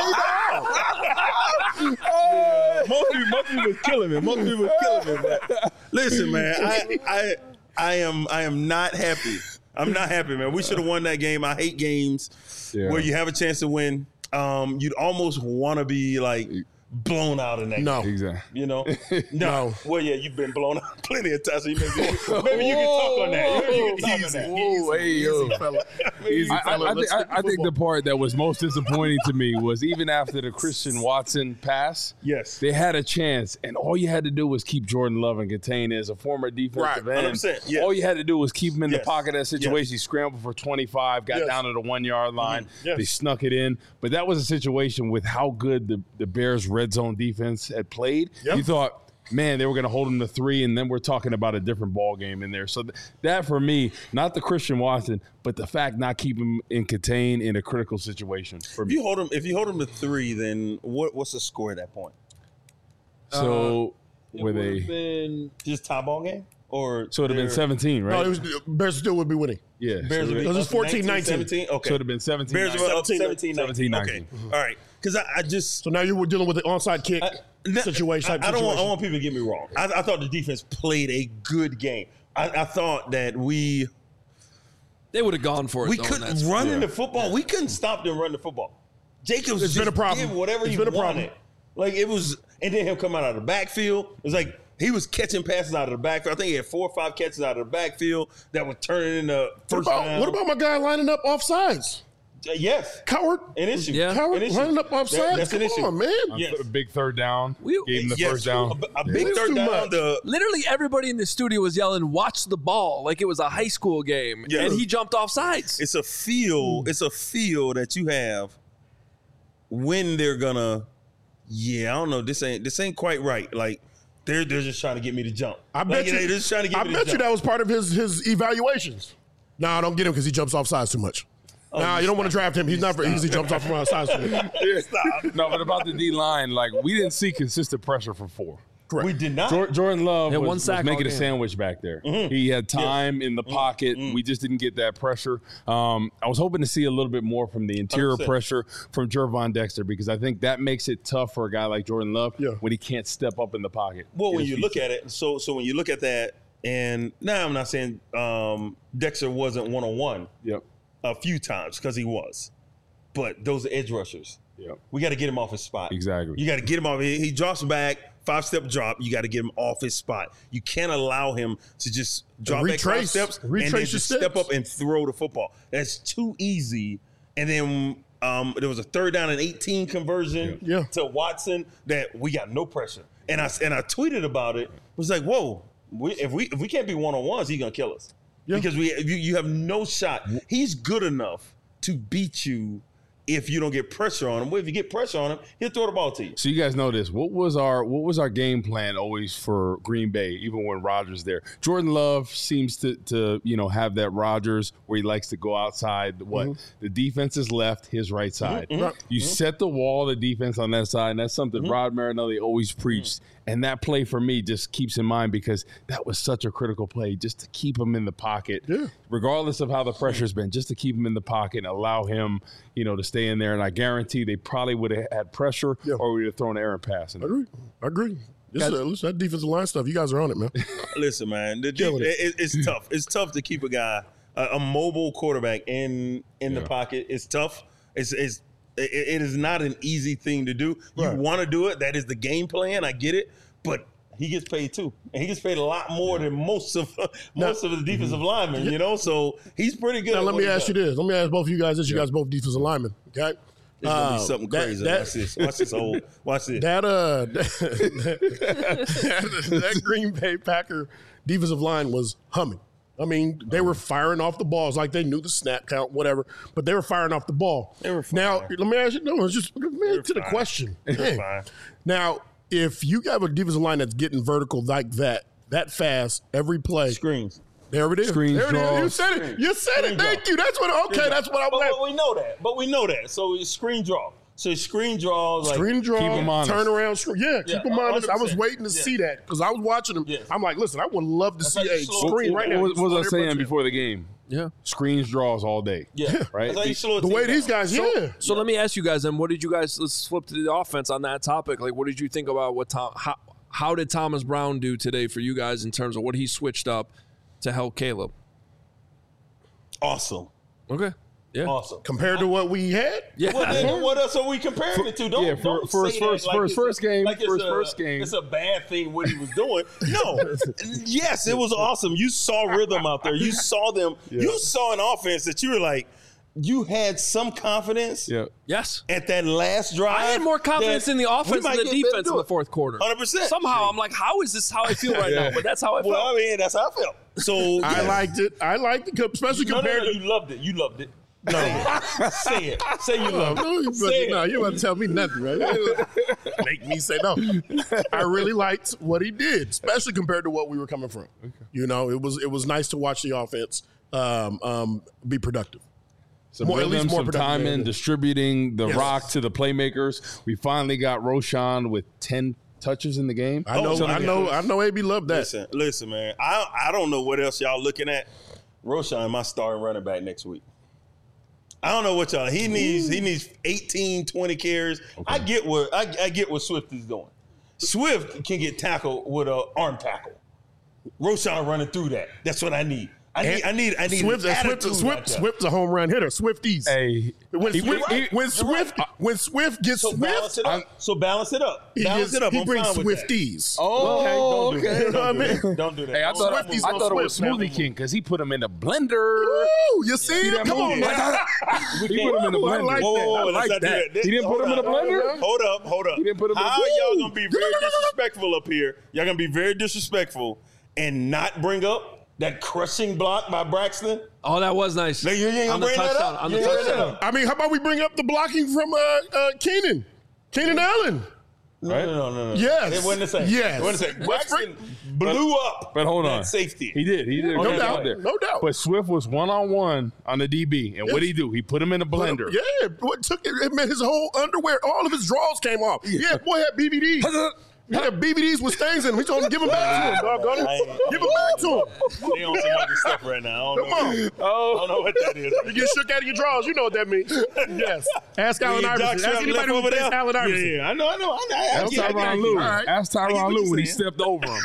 diggity dog. Most people, most people was killing me. Most people was killing me. But listen, man, I, I, I am, I am not happy. I'm not happy, man. We should have won that game. I hate games Yeah. where you have a chance to win. Um, you'd almost want to be like blown out in that No. game. Exactly. You know? No. No. Well, yeah, you've been blown out plenty of times. So you maybe, maybe you can talk on that. Maybe you can talk on that. Whoa, hey, yo. Easy, I, I, fella. I, Let's think, I, stick to I think the football. part that was most disappointing to me was even after the Christian Watson pass, Yes. they had a chance, and all you had to do was keep Jordan Love and contain as a former defensive Right, end. one hundred percent, yes. All you had to do was keep him in Yes. the pocket of that situation. Yes. He scrambled for twenty-five, got Yes. down to the one-yard line. Yes. They snuck it in. But that was a situation with how good the, the Bears' red zone defense had played. Yep. You thought, man, they were going to hold him to three, and then we're talking about a different ball game in there. So th- that, for me, not the Christian Watson, but the fact not keeping him in contain in a critical situation for If me. you hold them, if you hold them to three, then what, what's the score at that point? So It were would've they? been Just tie ball game, or So it would have been they're- seventeen, right? No, it was, Bears still would be winning. yeah. Bears so would be It was up fourteen nineteen, nineteen. seventeen? Okay. So it would have been seventeen. Bears were up seventeen, seventeen, nineteen. seventeen, Okay. All right. Because I, I just So now you were dealing with the onside kick situation. I, Type I don't want, I situation. want people to get me wrong. I, I thought the defense played a good game. I, I thought that we they would have gone for it. we though, couldn't and that's- run in the football. We couldn't stop them running the football. Jacobs It's just been a problem. did whatever It's he been a problem. wanted. Like it was, and then him come out of the backfield. It was like he was catching passes out of the backfield. I think he had four or five catches out of the backfield that were turning into What first about, down. what about my guy lining up off sides? Uh, yes, Coward. an issue. Yeah. Coward An issue. lining up off That- sides? that's Come an issue. on, man. Yes. A big third down. We- Gave him the Yes, first down. A, a big It's third too down. much. The, Literally everybody in the studio was yelling, "Watch the ball!" like it was a high school game, Yeah. and he jumped off sides. it's a feel. It's a feel that you have when they're gonna. Yeah, I don't know. This ain't this ain't quite right. Like they're they're just trying to get me to jump. I Like, bet you. they're just trying to get I me to bet you jump. that was part of his his evaluations. No, I don't get him because he jumps off sides too much. Oh, nah, you don't want to draft him. He's not for easy jumps off from sides too much. No, but about the D line, like we didn't see consistent pressure from four. Correct. We did not. Jor- Jordan Love He had was, one was sack all making a game. sandwich back there. Mm-hmm. He had time in the pocket. We just didn't get that pressure. Um, I was hoping to see a little bit more from the interior one hundred percent. pressure from Jervon Dexter because I think that makes it tough for a guy like Jordan Love Yeah. when he can't step up in the pocket. Well, Get when his you feet look set. at it, so so when you look at that, and now I'm not saying um, Dexter wasn't one on one Yep. a few times because he was, but those are edge rushers. Yep. We got to get him off his spot. Exactly. You got to get him off. He, he drops back, five step drop. You got to get him off his spot. You can't allow him to just drop back five retrace- steps and retrace then your just steps. step up and throw the football. That's too easy. And then um, there was a third down and eighteen conversion Yeah. Yeah. to Watson that we got no pressure. And I and I tweeted about it. It was like, whoa, we, if we if we can't be one on ones, he's gonna kill us. Yeah. Because we you, you have no shot. He's good enough to beat you if you don't get pressure on him. Well, if you get pressure on him, he'll throw the ball to you. So you guys know this. What was our what was our game plan always for Green Bay, even when Rodgers there? Jordan Love seems to to you know have that Rodgers where he likes to go outside. What mm-hmm. the defense is left, his right side. Mm-hmm. You mm-hmm. set the wall, the defense on that side, and that's something mm-hmm. Rod Marinelli always preached. Mm-hmm. And that play for me just keeps in mind because that was such a critical play just to keep him in the pocket, yeah. regardless of how the pressure's been, just to keep him in the pocket and allow him, you know, to stay in there. And I guarantee they probably would have had pressure yeah. or we would have thrown an errant pass. I agree. I agree. This is, listen, that defensive line stuff, you guys are on it, man. Listen, man, the deep, it. It, it's tough. It's tough to keep a guy, a, a mobile quarterback in in yeah. the pocket. It's tough. It's it's it, it is not an easy thing to do. You right. want to do it. That is the game plan. I get it. But he gets paid too. And he gets paid a lot more yeah. than most of most now, of the defensive mm-hmm. linemen, you know? So he's pretty good. Now, at let me ask does. you this. Let me ask both of you guys this. You yeah. guys both defensive linemen, okay? It's going to be something uh, crazy. That, watch this. Watch this. Old. Watch this. That, uh, that, that Green Bay Packer defensive line was humming. I mean, they were firing off the balls like they knew the snap count, whatever, but they were firing off the ball. They were fine. Now, let me ask you, no, it's just man, to the question. Fine. Now, if you have a defensive line that's getting vertical like that, that fast, every play. Screens. There it is. Screens, there it draws. is. You said it. You said Screen it. Thank draw. you. That's what, okay, Screen that's what I but, was but we know that. But we know that. So it's screen draw. So screen draws. Like, screen draw, keep them honest. turn around. Screen, yeah, yeah, keep them honest. I was one hundred percent. waiting to yeah. see that because I was watching them. Yes. I'm like, listen, I would love to That's see like a slow screen it right now. What, what was I saying before the game? Yeah. Screens, draws all day. Yeah. Right? That's how you slow a The team way down. these guys, So, yeah. so let me ask you guys then, what did you guys, let's flip to the offense on that topic. Like, what did you think about what Tom, how, how did Thomas Brown do today for you guys in terms of what he switched up to help Caleb? Awesome. Okay. Yeah. Awesome. Compared to what we had? Yeah. Well, then what else are we comparing it to? Don't, yeah, for- don't for say his first- that like for his it's a- first game, like for it's his a- first game. It's a bad thing what he was doing. No. Yes, it was awesome. You saw rhythm out there. You saw them. Yeah. You saw an offense that you were like, you had some confidence Yeah. Yes. at that last drive. I had more confidence that in the we offense might than the get better defense do in it. the fourth quarter. one hundred percent. Somehow I'm like, how is this how I feel right Yeah. now? But that's how I felt. Well, I mean, that's how I felt. So I yes. liked it. I liked it, especially No, no, compared no, to. you loved it. You loved it. No. Say it. Say you No, loved no, you it. Say no, it. you wouldn't tell me nothing, right? Make me say no. I really liked what he did, especially compared to what we were coming from. Okay. You know, it was it was nice to watch the offense um, um, be productive. Some More- at rhythm, least more some productive. time in distributing the Yes. rock to the playmakers. We finally got Roshan with ten touches in the game. I know, Oh, I know, I know. A B loved that. Listen, listen, man. I I don't know what else y'all looking at. Roshan, my starting running back next week. I don't know what y'all. He needs he needs eighteen, twenty carries. Okay. I get what I, I get what Swift is doing. Swift can get tackled with an arm tackle. Roshan running through that. That's what I need. I need. I need. I need. Swift, an Swift, attitude Swift, like that. Swift's a home run hitter. Swifties. Hey, when he- Swift, he- when you're Swift, right. when Swift gets So balance Swift, it up. So balance it up. he, Balance gets, it up. he I'm brings fine with that. Swifties. Oh, Okay, don't do that. You know what I Don't do mean? that. Don't do that. Hey, I thought, I, Swifties I on thought it was Swift, Smoothie man. King because he put him in the blender. Ooh, you see, See him? that Come movie? on, man. He put him in the Ooh, I blender. like Whoa, that. whoa, whoa, I let's like not do that. that. He didn't put Hold him in up. the blender? Hold up, hold up. He didn't put him in the How blender? y'all gonna be very disrespectful up here? Y'all gonna be very disrespectful and not bring up that crushing block by Braxton? Oh, that was nice. No, you ain't gonna on the bring that touchdown. up? On You the ain't bring that touchdown. up? I mean, how about we bring up the blocking from uh, uh, Keenan, Keenan Allen? No, no, no, no, no. Yes. It wasn't the same. Yes. It wasn't the same. Let's Braxton blew up But hold that on. safety. He did. He did. a No good doubt. job there. No doubt. But Swift was one on one on the D B, and what did he do? He put him in a blender. Yeah, what took it? It meant his whole underwear, all of his drawers came off. Yeah, boy had B V Ds. He had B V Ds with stains in them. He told him to give them back to him, doggone I it. ain't- Give them back to him. They on some other stuff right now. I don't Come know. on. I don't know what that is. You get shook out of your drawers. You know what that means. Yes. Ask Allen Yeah, Doc Iverson. Ask Shop anybody left who over thinks there? Allen Iverson. Yeah, yeah, I know, I know. I know. I Ask get- I get- Tyronn Lue. All right. Ask I get Tyronn what Lue you're when he saying. stepped over him.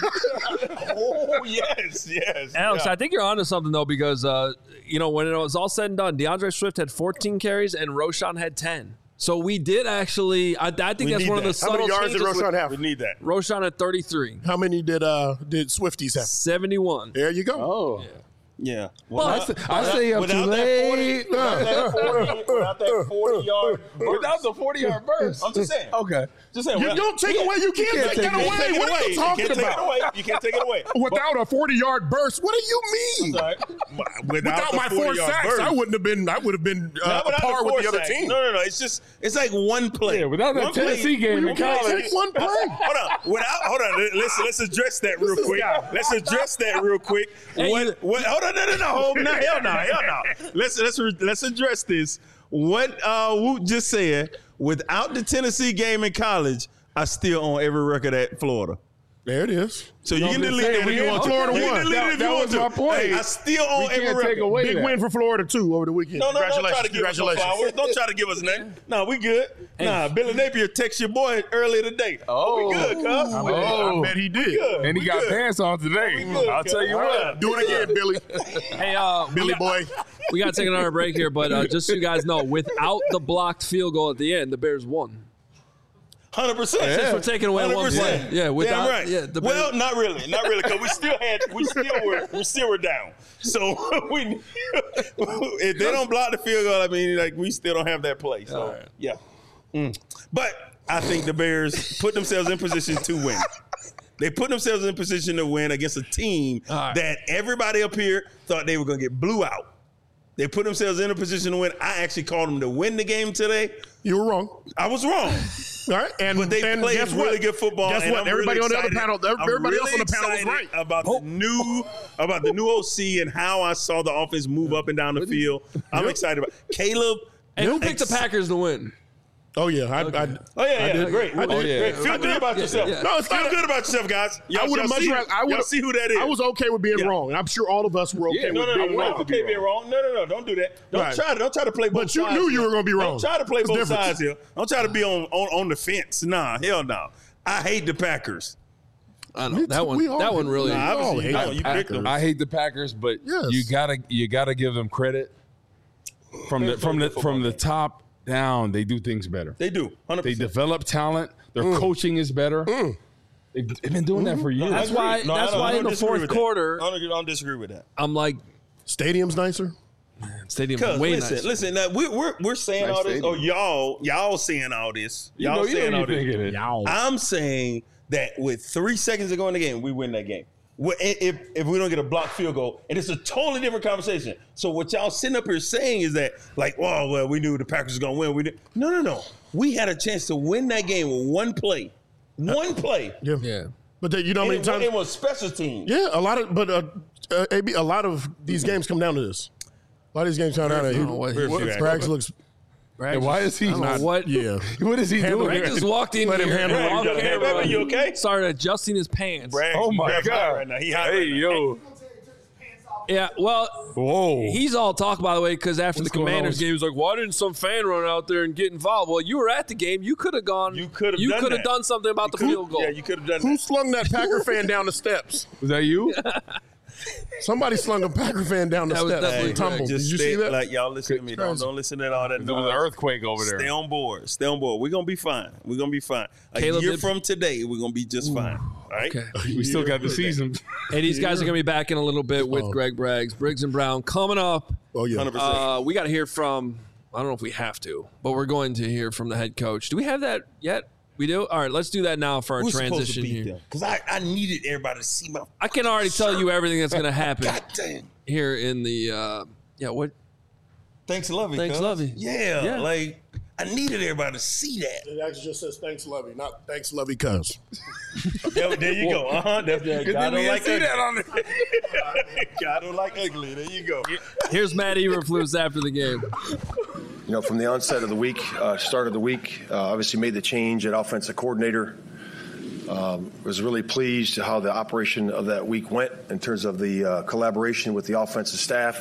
Oh, yes, yes. Alex, Yeah. I think you're onto something though, because uh, you know when it was all said and done, DeAndre Swift had fourteen carries and Roshan had ten. So we did actually. I, I think We that's need one of the that. How many subtle yards did changes. Roshan have? We need that. Roshan at thirty-three, How many did uh did Swifties have? seventy-one. There you go. Oh. Yeah. Well, I say, I say up too without that late. forty, without that forty, without that forty-yard burst. Without the forty-yard burst. I'm just saying. Okay. Just saying. You without- don't take Yeah. away. You can't, can't take take that it. away. You can't take it What are away. you talking you can't about? Take it away. You can't take it away. Without a forty-yard burst, what do you mean? Sorry. Without, Without the my four forty-yard sacks, burst. I wouldn't have been. I would have been uh, Not without par the with four the other sacks. team. No, no, no. It's just it's like one play. Yeah, without that One Tennessee play, game in college. Take one play. Hold on. Without hold on. Let's let's address that real quick. Let's address that real quick. What what hold on, no, no, no, hold no, hell no, hell no. Let's let's let's address this. What uh Woot just said, without the Tennessee game in college, I still own every record at Florida. There it is. So you No, can I'm just delete saying, that we if you want want to. Florida You can won. delete That- it if that you want was to. my point. Hey, I still own We every can't record. take away Big that. win for Florida too over the weekend. No, no, don't try to Congratulations. give us no Congratulations. flowers. Don't try to give us nothing. No, we good. Nah, Billy Napier text your boy earlier today. Oh. we good, cuz. I We bet, Oh. I bet he did. good. And he We got good. pants on today. good, I'll tell you All what. right. Do it again, Billy. Hey, uh, we Billy got- boy. We got to take another break here, but uh, just so you guys know, without the blocked field goal at the end, the Bears won. Hundred percent. Since we're taking away one play. Yeah, without- Damn right. yeah, the well, Bears- not really, not really, because we still had, we still were, we still were down. So we, if they don't block the field goal, I mean, like we still don't have that play. So right. yeah, Mm. But I think the Bears put themselves in position to win. They put themselves in position to win against a team right. that everybody up here thought they were going to get blew out. They put themselves in a position to win. I actually called them to win the game today. You were wrong. I was wrong. All right, and But they and played guess really what? good football. Guess and what? I'm Everybody really on the other excited. panel, I'm everybody else really on the panel was excited right. about the new about the new O C and how I saw the offense move up and down the field. I'm Yep. excited about Caleb. Hey, who picked ex- the Packers to win? Oh yeah, I, I, Oh yeah, yeah, I did. great. I Oh, did. great. Feel I good did. about yourself. yeah. No, it's Feel not. good about yourself, guys. Y'all, I would have y'all much see, rather. I y'all would see who that is. I was okay with being Yeah. wrong, and I'm sure all of us were okay Yeah, with No, no, being no. right. We're okay being wrong. No, no, no. Don't do that. Don't Right. try to. Don't try to play both But you sides. knew you here. were gonna be wrong. Don't try to play It's both different. sides here. Don't try to be on, on on the fence. Nah, hell no. I hate the Packers. I Me know too. that one. We all that hate- one really. Nah, all obviously, hate no, the you picked them. I hate the Packers, but Yes. you gotta you gotta give them credit from the from the from the top down. They do things better. They do. Hundred They percent. develop talent. Their coaching is better. They've, they've been doing that for years. That's why- that's why in the fourth quarter- I don't, I don't disagree with that. I'm like, Stadium's nicer. stadium Because way listen, nice. listen. Now, we, we're we're saying Nice all this. stadium. Oh, y'all, y'all saying all this. You Y'all know, you saying know all you this. thinking it. I'm saying that with three seconds to go in the game, we win that game. Well, If, if we don't get a blocked field goal, and it's a totally different conversation. So what y'all sitting up here saying is that, like, oh, well, we knew the Packers was going to win. We did. No, no, no. We had a chance to win that game with one play. One play. Yeah. Yeah. But the, you know how And many it, times? it was special teams. Yeah, a lot of. But uh, uh, A B, a lot of these games come down to this. A lot of these games come down to I don't know what he- he, Where's he at? Braggs looks. And why is he I don't know not? what? Yeah. What is he Handle doing? it. Greg just walked in Let him here. handle and it. off Hey, camera, baby, you okay? Started adjusting his pants. Bragg, Oh my Bragg's hot God! Right now. He hot Hey right now. yo! Yeah, well, Whoa! he's all talk, by the way, because after What's the going Commanders on? game, he was like, why didn't some fan run out there and get involved? Well, you were at the game. You could have gone. You could have You done could have that. done something about the Could- field goal. Yeah, you could have done Who that. slung that Packer fan down the steps? Was that you? Somebody slung a Packer fan down the That was steps. definitely and tumbled. Just Did you stay, see that? Like, y'all listen to me. Don't, Crazy. don't listen to all that. There was an noise. earthquake over there. Stay on board. Stay on board. We're gonna be fine. We're gonna be fine. A Caleb year did- from today, we're gonna be just fine. All right. Okay. We still got the season. Hey, these guys are going to be back in a little bit with Oh. Greg Braggs, Briggs and Brown coming up. Oh yeah. Hundred percent. Uh, we got to hear from, I don't know if we have to, but we're going to hear from the head coach. Do we have that yet? We do? All right, let's do that now for our Who's supposed to transition beat here. them? Because I, I needed everybody to see my. I can already tell you everything that's going to happen God damn. here in the, uh, yeah, what? Thanks, Lovey. Thanks, cuz. Lovey. Yeah, Yeah. like I needed everybody to see that. It actually just says thanks, Lovey, not thanks, Lovey, cuz. There, there you go. Uh huh. That's that. Good God thing we don't didn't like see ugly. that on there. God don't like ugly. There you go. Here's Matt Eberflus after the game. You know, from the onset of the week, uh, start of the week, uh, obviously made the change at offensive coordinator. Um, was really pleased to how the operation of that week went in terms of the uh, collaboration with the offensive staff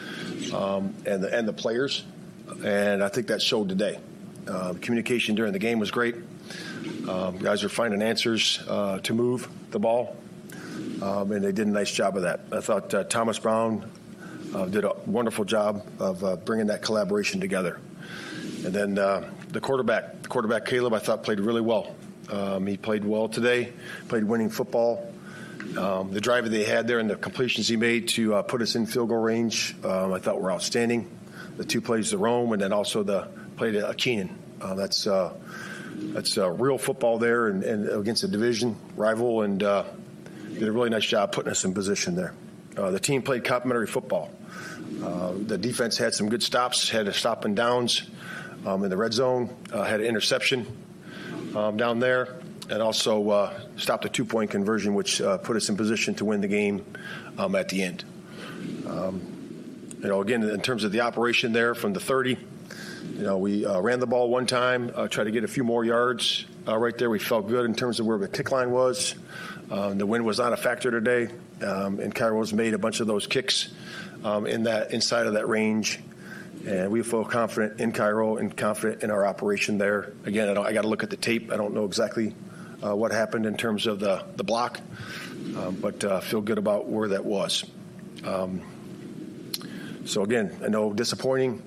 um, and the and the players, and I think that showed today. Uh, communication during the game was great. Um, guys are finding answers uh, to move the ball, um, and they did a nice job of that. I thought uh, Thomas Brown Uh, did a wonderful job of uh, bringing that collaboration together. And then uh, the quarterback, the quarterback Caleb, I thought played really well. Um, he played well today, played winning football, Um, the drive that they had there and the completions he made to uh, put us in field goal range, um, I thought were outstanding. The two plays to Rome and then also the play to Keenan. Uh, that's uh, that's uh, real football there and, and against a division rival, and uh, did a really nice job putting us in position there. Uh, the team played complementary football. Uh, the defense had some good stops, had a stop and downs um, in the red zone, uh, had an interception um, down there, and also uh, stopped a two-point conversion, which uh, put us in position to win the game um, at the end. Um, you know, again, in terms of the operation there from the thirty, you know, we uh, ran the ball one time, uh, tried to get a few more yards uh, right there. We felt good in terms of where the kick line was. Um, the wind was not a factor today, um, and Cairo's made a bunch of those kicks um, in that inside of that range. And we feel confident in Cairo and confident in our operation there. Again, I, don't, I got to look at the tape. I don't know exactly uh, what happened in terms of the, the block, um, but uh, feel good about where that was. Um, so, again, I know disappointing,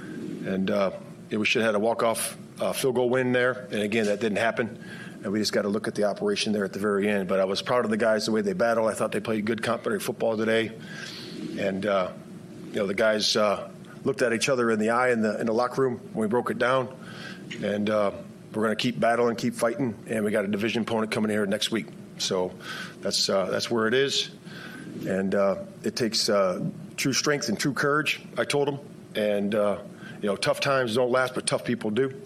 and uh, we should have had a walk-off uh, field goal win there. And, again, that didn't happen. And we just got to look at the operation there at the very end. But I was proud of the guys, the way they battled. I thought they played good complementary football today. And, uh, you know, the guys uh, – looked at each other in the eye in the in the locker room when we broke it down, and uh, we're going to keep battling, keep fighting, and we got a division opponent coming here next week. So that's uh, that's where it is, and uh, it takes uh, true strength and true courage. I told them, and uh, you know, tough times don't last, but tough people do,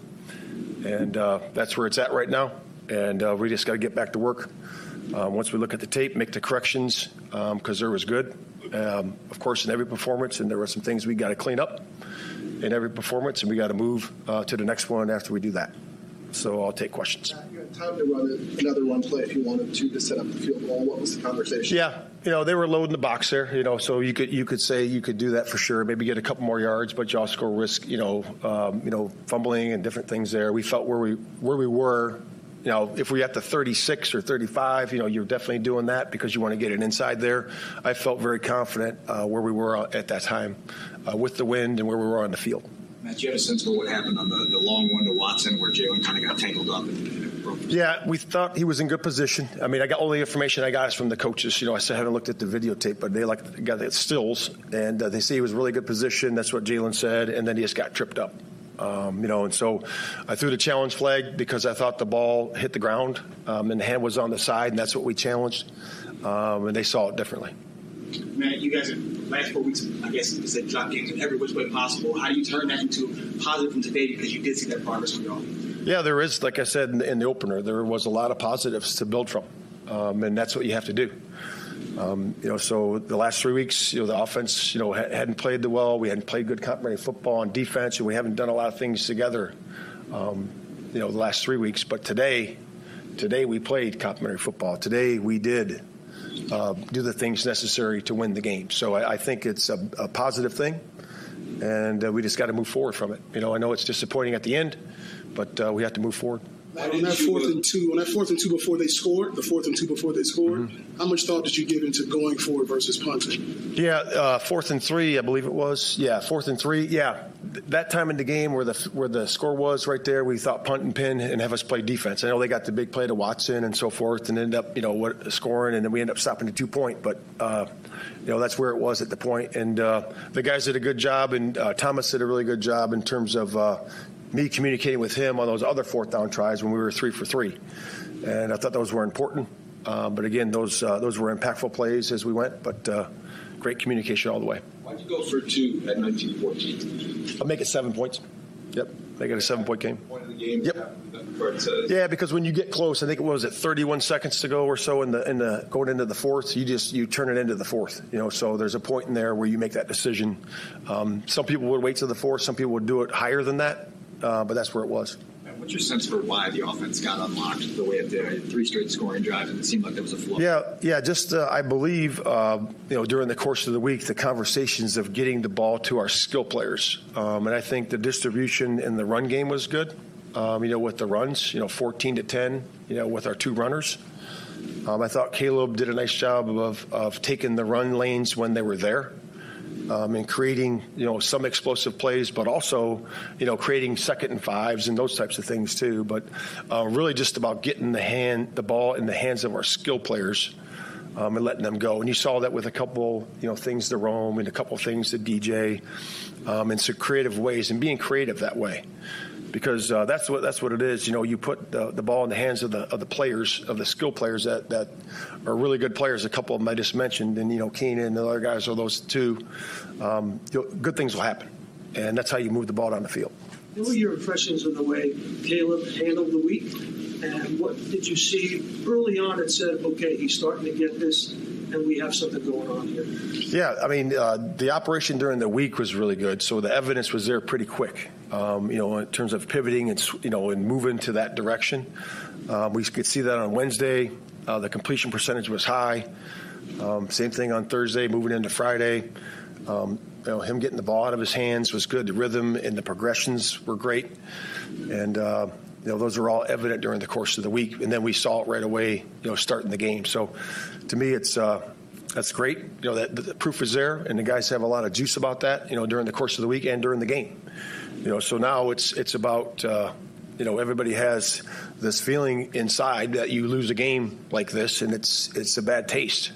and uh, that's where it's at right now. And uh, we just got to get back to work. Uh, once we look at the tape, make the corrections because um, there was good. Um, of course, in every performance, and there were some things we got to clean up in every performance, and we got to move uh, to the next one after we do that. So I'll take questions. You had time to run another run play if you wanted to to set up the field goal. What was the conversation? Yeah, you know, they were loading the box there, you know, so you could you could say you could do that for sure, maybe get a couple more yards, but you also risk, you know, um, you know, fumbling and different things there. We felt where we where we were. You know, if we're at the thirty-six or thirty-five, you know, you're definitely doing that because you want to get it inside there. I felt very confident uh, where we were at that time uh, with the wind and where we were on the field. Matt, you had a sense for what happened on the, the long one to Watson where Jalen kind of got tangled up and, and broke his Yeah, we thought he was in good position. I mean, I got all the information I got is from the coaches. You know, I still haven't looked at the videotape, but they like got the stills, and uh, they say he was in really good position. That's what Jalen said, and then he just got tripped up. Um, you know, and so I threw the challenge flag because I thought the ball hit the ground um, and the hand was on the side, and that's what we challenged, um, and they saw it differently. Matt, you guys have last four weeks, I guess you said drop games in every which way possible. How do you turn that into positive from today because you did see that progress from y'all? Yeah, there is, like I said in the, in the opener, there was a lot of positives to build from, um, and that's what you have to do. Um, you know, so the last three weeks, you know, the offense, you know, ha- hadn't played the well. We hadn't played good complementary football on defense, and we haven't done a lot of things together, um, you know, the last three weeks. But today, today we played complementary football. Today we did uh, do the things necessary to win the game. So I, I think it's a, a positive thing, and uh, we just got to move forward from it. You know, I know it's disappointing at the end, but uh, we have to move forward. On that fourth and two, on that fourth and two before they scored, the fourth and two before they scored, mm-hmm. how much thought did you give into going forward versus punting? Yeah, uh, fourth and three, I believe it was. Yeah, fourth and three. Yeah, that time in the game where the where the score was right there, we thought punt and pin and have us play defense. I know they got the big play to Watson and so forth, and ended up you know what, scoring, and then we ended up stopping the two point. But uh, you know that's where it was at the point, and uh, the guys did a good job, and uh, Thomas did a really good job in terms of. Uh, me communicating with him on those other fourth down tries when we were three for three. And I thought those were important. Uh, but, again, those uh, those were impactful plays as we went, but uh, great communication all the way. Why'd you go for two at nineteen fourteen? I'll make it seven points. Yep. Make it a seven-point game. Point of the game? Yep. Yeah, because when you get close, I think it was at thirty-one seconds to go or so in the in the going into the fourth, you just you turn it into the fourth. You know, so there's a point in there where you make that decision. Um, some people would wait to the fourth. Some people would do it higher than that. Uh, but that's where it was. What's your sense for why the offense got unlocked the way it did? Three straight scoring drives, and it seemed like there was a flow. Yeah, yeah. Just uh, I believe uh, you know during the course of the week, the conversations of getting the ball to our skill players, um, and I think the distribution in the run game was good. Um, you know, with the runs, you know, fourteen to ten, you know, with our two runners. Um, I thought Caleb did a nice job of of taking the run lanes when they were there. Um, and creating, you know, some explosive plays, but also, you know, creating second and fives and those types of things too. But uh, really, just about getting the hand, the ball in the hands of our skill players um, and letting them go. And you saw that with a couple, you know, things to Rome and a couple things to D J, um, in some creative ways and being creative that way. Because uh, that's what that's what it is. You know, you put the, the ball in the hands of the of the players, of the skill players that, that are really good players. A couple of them I just mentioned, and you know, Keenan and the other guys are those two. Um, good things will happen, and that's how you move the ball down the field. What were your impressions of the way Caleb handled the week, and what did you see early on that said, okay, he's starting to get this, and we have something going on here? Yeah, I mean, uh, the operation during the week was really good, so the evidence was there pretty quick. Um, you know, in terms of pivoting and, you know, and moving to that direction. Um, we could see that on Wednesday. Uh, the completion percentage was high. Um, same thing on Thursday, moving into Friday. Um, you know, him getting the ball out of his hands was good. The rhythm and the progressions were great. And, uh, you know, those were all evident during the course of the week. And then we saw it right away, you know, starting the game. So, to me, it's uh, that's great. You know, that the proof is there, and the guys have a lot of juice about that, you know, during the course of the week and during the game. You know, so now it's it's about, uh, you know, everybody has this feeling inside that you lose a game like this, and it's it's a bad taste.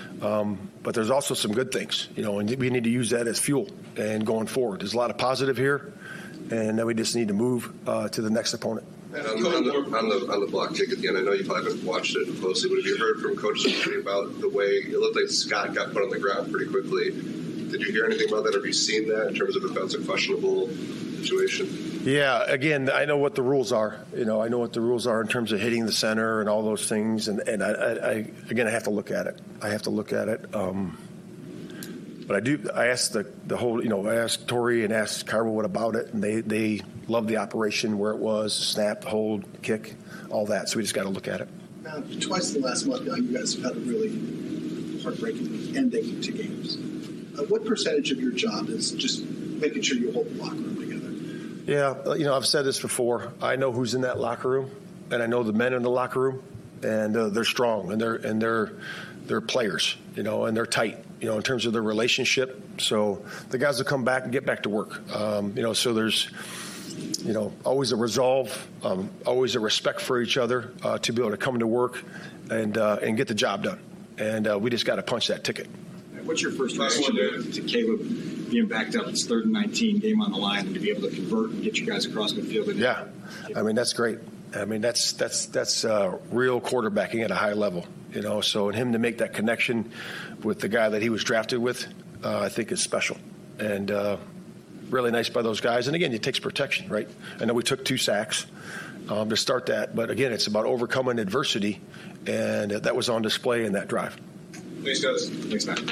Um, but there's also some good things, you know, and we need to use that as fuel and going forward. There's a lot of positive here, and then we just need to move uh, to the next opponent. And on, on, the, on, the, on the block kick at the end, I know you probably haven't watched it closely, but have you heard from Coach Ciccarelli about the way it looked like Scott got put on the ground pretty quickly? Did you hear anything about that? Have you seen that in terms of if that's a questionable situation? Yeah, again, I know what the rules are. You know, I know what the rules are in terms of hitting the center and all those things. And, and I, I, I again, I have to look at it. I have to look at it. Um, but I do. I asked the, the whole, you know, I asked Torrey and asked Carwood about it, and they they loved the operation where it was, snap, hold, kick, all that. So we just got to look at it. Now, twice in the last month now, you guys have had a really heartbreaking ending to games. Uh, what percentage of your job is just making sure you hold the locker room together? Yeah, you know, I've said this before. I know who's in that locker room, and I know the men in the locker room, and uh, they're strong, and they're and they're they're players, you know, and they're tight, you know, in terms of their relationship. So the guys will come back and get back to work, um, you know. So there's, you know, always a resolve, um, always a respect for each other uh, to be able to come to work and uh, and get the job done. And uh, we just got to punch that ticket. What's your first reaction to, to Caleb being backed up? It's third and nineteen, game on the line, and to be able to convert and get you guys across midfield? And yeah, I mean, that's great. I mean, that's that's that's uh, real quarterbacking at a high level, you know. So, and him to make that connection with the guy that he was drafted with, uh, I think is special, and uh, really nice by those guys. And again, it takes protection, right? I know we took two sacks um, to start that, but again, it's about overcoming adversity, and uh, that was on display in that drive. Thanks, guys. Thanks, Matt.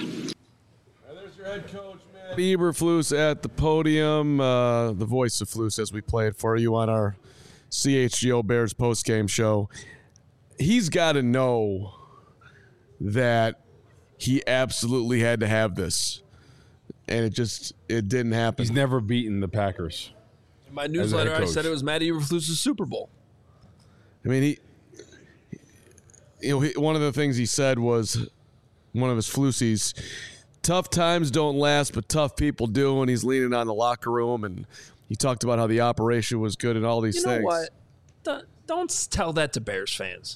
There's your head coach, man. Eberflus at the podium, uh, the voice of Flus as we play it for you on our C H G O Bears postgame show. He's got to know that he absolutely had to have this, and it just it didn't happen. He's never beaten the Packers. In my newsletter, I said it was Matt Eberflus' Super Bowl. I mean, he, you know, he, one of the things he said was one of his Flusies, tough times don't last, but tough people do, and he's leaning on the locker room, and he talked about how the operation was good and all these you know things. What? Don't, don't tell that to Bears fans.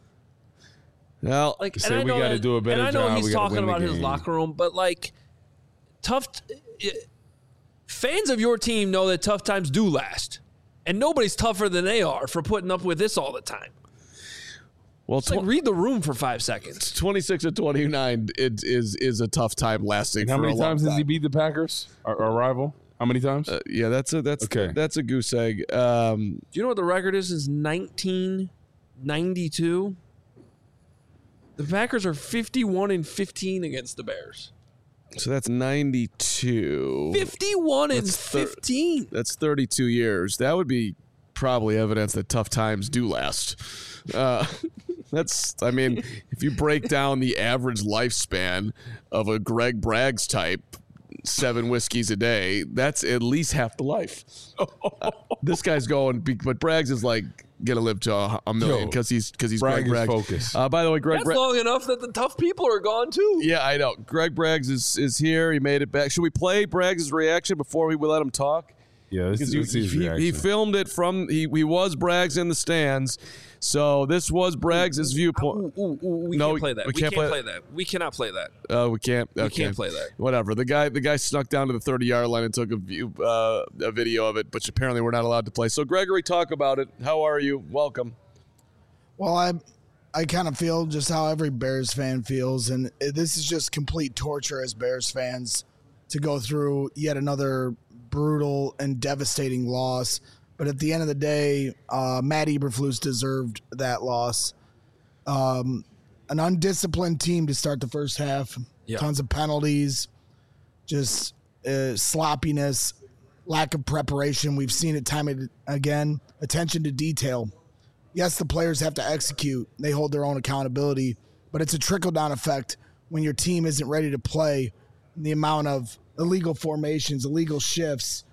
Well, like, say we got to do a better job. And I know job. he's talking about his locker room, but like, tough t- fans of your team know that tough times do last, and nobody's tougher than they are for putting up with this all the time. Well, tw- like read the room for five seconds. twenty-six and twenty-nine it is is a tough time lasting. And how for many a long times time. has he beat the Packers, our, our rival? How many times? Uh, yeah, that's a that's okay. That's a goose egg. Um, Do you know what the record is? Is nineteen ninety-two. The Packers are fifty-one and fifteen against the Bears. So that's ninety-two. fifty-one and That's thir- fifteen. That's thirty-two years. That would be probably evidence that tough times do last. Uh, that's, I mean, if you break down the average lifespan of a Greg Braggs type, seven whiskeys a day, that's at least half the life. Uh, this guy's going, but Braggs is like gonna live to a, a million because he's because he's Bragg Greg is Braggs. focused. Uh, by the way, Greg That's Bra- long enough that the tough people are gone too. Yeah, I know. Greg Braggs is is here. He made it back. Should we play Braggs' reaction before we let him talk? Yeah, this, because this he, is he, reaction. he filmed it from he, he was Braggs in the stands, so this was Braggs' viewpoint. Ooh, ooh, ooh, we no, can't play that. We, We, can't, can't, play, play that. We cannot play that. Uh, we can't. We Okay. can't play that. Whatever. The guy, the guy snuck down to the thirty-yard line and took a view, uh, a video of it, which apparently we're not allowed to play. So, Gregory, talk about it. How are you? Welcome. Well, I, I kind of feel just how every Bears fan feels, and this is just complete torture as Bears fans to go through yet another brutal and devastating loss. But at the end of the day, uh, Matt Eberflus deserved that loss. Um, an undisciplined team to start the first half. Yeah. Tons of penalties, just uh, sloppiness, lack of preparation. We've seen it time and again. Attention to detail. Yes, the players have to execute. They hold their own accountability. But it's a trickle-down effect when your team isn't ready to play. The amount of illegal formations, illegal shifts,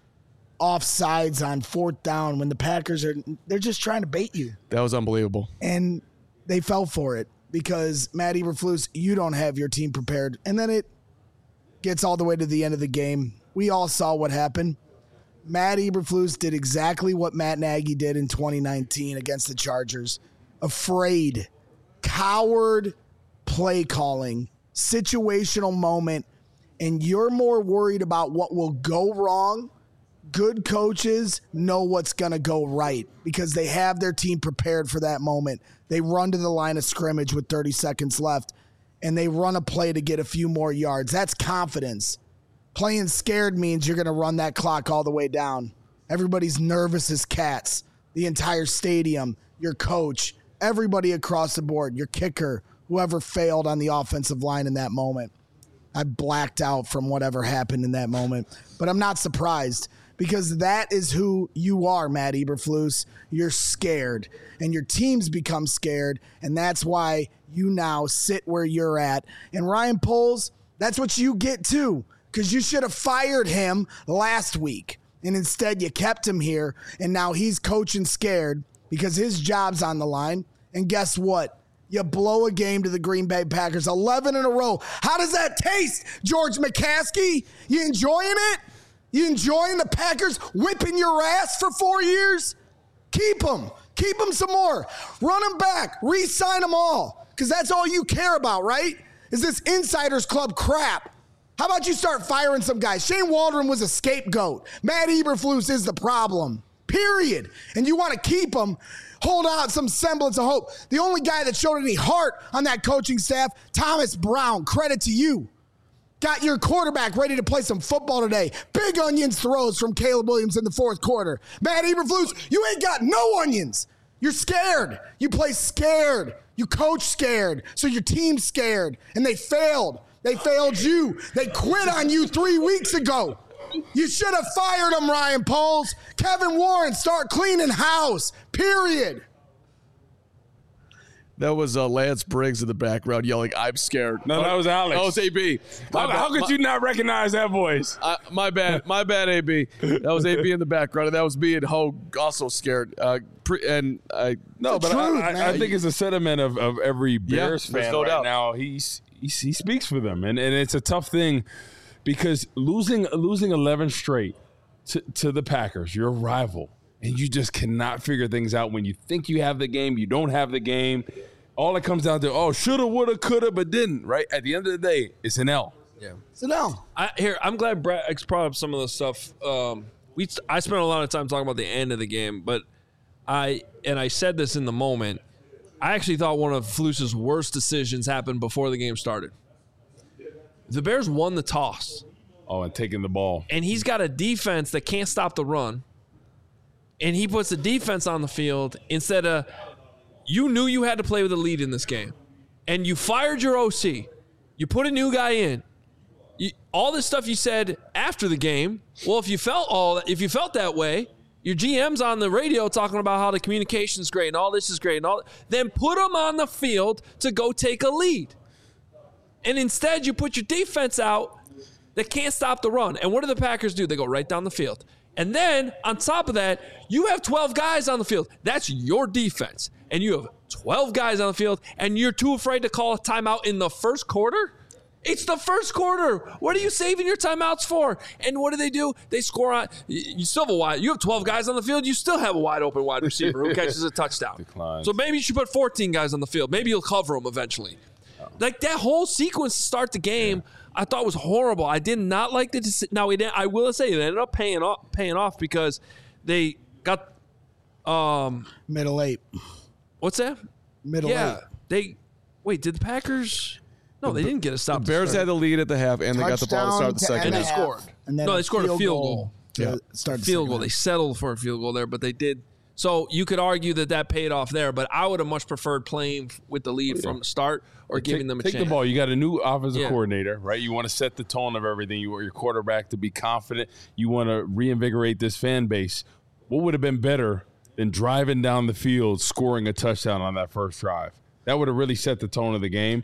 offsides on fourth down when the Packers are they're just trying to bait you. That was unbelievable. And they fell for it because Matt Eberflus, you don't have your team prepared. And then it gets all the way to the end of the game. We all saw what happened. Matt Eberflus did exactly what Matt Nagy did in twenty nineteen against the Chargers. Afraid, coward play calling, situational moment, and you're more worried about what will go wrong. Good coaches know what's going to go right because they have their team prepared for that moment. They run to the line of scrimmage with thirty seconds left, and they run a play to get a few more yards. That's confidence. Playing scared means you're going to run that clock all the way down. Everybody's nervous as cats. The entire stadium, your coach, everybody across the board, your kicker, whoever failed on the offensive line in that moment. I blacked out from whatever happened in that moment. But I'm not surprised because that is who you are, Matt Eberflus. You're scared, and your teams become scared, and that's why you now sit where you're at. And Ryan Poles, that's what you get too, because you should have fired him last week, and instead you kept him here, and now he's coaching scared because his job's on the line. And guess what? You blow a game to the Green Bay Packers, eleven in a row. How does that taste, George McCaskey? You enjoying it? You enjoying the Packers whipping your ass for four years? Keep them. Keep them some more. Run them back. Re-sign them all. Because that's all you care about, right? Is this Insiders Club crap. How about you start firing some guys? Shane Waldron was a scapegoat. Matt Eberflus is the problem. Period. And you want to keep them, hold out some semblance of hope. The only guy that showed any heart on that coaching staff, Thomas Brown, credit to you. Got your quarterback ready to play some football today. Big onions throws from Caleb Williams in the fourth quarter. Matt Eberflus, you ain't got no onions. You're scared. You play scared. You coach scared. So your team's scared. And they failed. They failed you. They quit on you three weeks ago. You should have fired him, Ryan Poles. Kevin Warren, start cleaning house. Period. That was uh, Lance Briggs in the background yelling, "I'm scared." No, that was Alex. That was A B. How, how could my, you not recognize that voice? Uh, my bad. My bad, A B. That was A B in the background, and that was me and Hogue also scared. Uh, pre- and I No, but truth, I, I, I think it's a sentiment of, of every Bears yeah, fan no right doubt. now. He's, he's he speaks for them, and, and it's a tough thing because losing losing eleven straight to, to the Packers, your rival, and you just cannot figure things out when you think you have the game, you don't have the game. All it comes down to, oh, shoulda, woulda, coulda, but didn't, right? At the end of the day, it's an L. Yeah. It's an L. I, here, I'm glad Brett X brought up some of the stuff. Um, we I spent a lot of time talking about the end of the game, but I and I said this in the moment. I actually thought one of Flus's worst decisions happened before the game started. The Bears won the toss. Oh, and taking the ball. And he's got a defense that can't stop the run. And he puts the defense on the field instead of – you knew you had to play with a lead in this game. And you fired your O C. You put a new guy in. You, all this stuff you said after the game, well, if you felt all if you felt that way, your G M's on the radio talking about how the communication's great and all this is great and all, then put them on the field to go take a lead. And instead you put your defense out that can't stop the run. And what do the Packers do? They go right down the field. And then on top of that, you have twelve guys on the field. That's your defense. And you have twelve guys on the field, and you're too afraid to call a timeout in the first quarter? It's the first quarter. What are you saving your timeouts for? And what do they do? They score on. You still have a wide. You have twelve guys on the field. You still have a wide open wide receiver who catches a touchdown. Declines. So maybe you should put fourteen guys on the field. Maybe you'll cover them eventually. Oh. Like that whole sequence to start the game, yeah. I thought was horrible. I did not like the decision. Now it, I will say it ended up paying off, paying off because they got um, middle eight. What's that? Middle yeah, eight. They wait. Did the Packers? No, they didn't get a stop. The Bears had the lead at the half, and they got the ball to start the second. And they half. scored. And then no, a they scored field a field goal goal. to Yeah. start the Field second goal. half. They settled for a field goal there, but they did. So you could argue that that paid off there, but I would have much preferred playing with the lead from the start or giving take, them a take chance. the ball. You got a new offensive Yeah. coordinator, right? You want to set the tone of everything. You want your quarterback to be confident. You want to reinvigorate this fan base. What would have been better than driving down the field, scoring a touchdown on that first drive? That would have really set the tone of the game.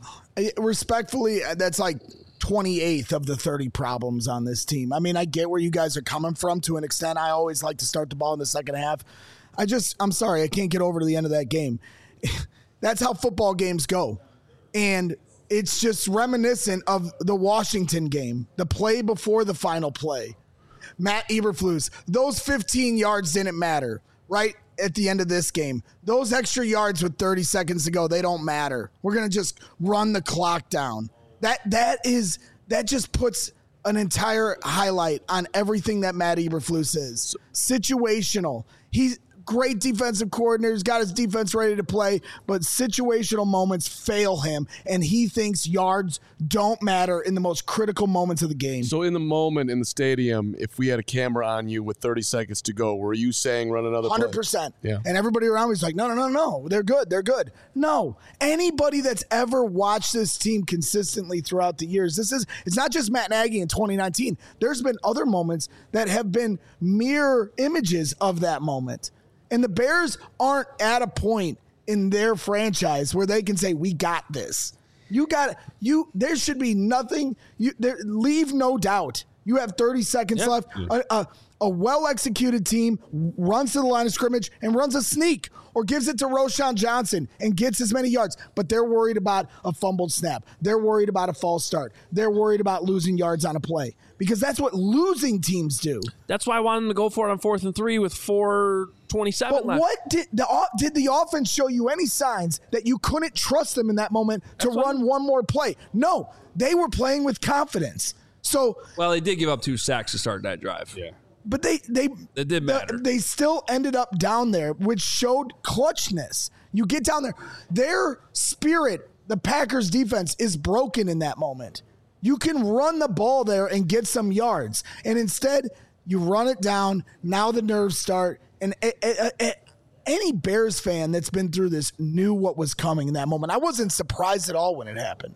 Respectfully, that's like twenty-eighth of the thirty problems on this team. I mean, I get where you guys are coming from to an extent. I always like to start the ball in the second half. I just, I'm sorry, I can't get over to the end of that game. That's how football games go. And it's just reminiscent of the Washington game, the play before the final play. Matt Eberflus, those fifteen yards didn't matter, right? At the end of this game, those extra yards with thirty seconds to go, they don't matter. We're going to just run the clock down. That that is that just puts an entire highlight on everything that Matt Eberflus is. Situational. He's great defensive coordinator. He's got his defense ready to play, but situational moments fail him, and he thinks yards don't matter in the most critical moments of the game. So in the moment in the stadium, if we had a camera on you with thirty seconds to go, were you saying run another play? one hundred percent. Yeah. And everybody around me is like, no, no, no, no. They're good. They're good. No. Anybody that's ever watched this team consistently throughout the years, this is, it's not just Matt Nagy in twenty nineteen. There's been other moments that have been mirror images of that moment. And the Bears aren't at a point in their franchise where they can say, we got this. You got you. There should be nothing. You there, leave no doubt. You have thirty seconds Yeah. left. A, a, a well-executed team runs to the line of scrimmage and runs a sneak or gives it to Roschon Johnson and gets as many yards. But they're worried about a fumbled snap. They're worried about a false start. They're worried about losing yards on a play because that's what losing teams do. That's why I wanted them to go for it on fourth and three with four twenty-seven But left. what did the did the offense show you any signs that you couldn't trust them in that moment to That's run one more play? No, they were playing with confidence. So, Well, they did give up two sacks to start that drive. Yeah. but they they It did matter. the- they still ended up down there, which showed clutchness. You get down there, their spirit, the Packers defense is broken in that moment. You can run the ball there and get some yards, and instead you run it down. Now the nerves start, and a, a, a, any Bears fan that's been through this knew what was coming in that moment. I wasn't surprised at all when it happened.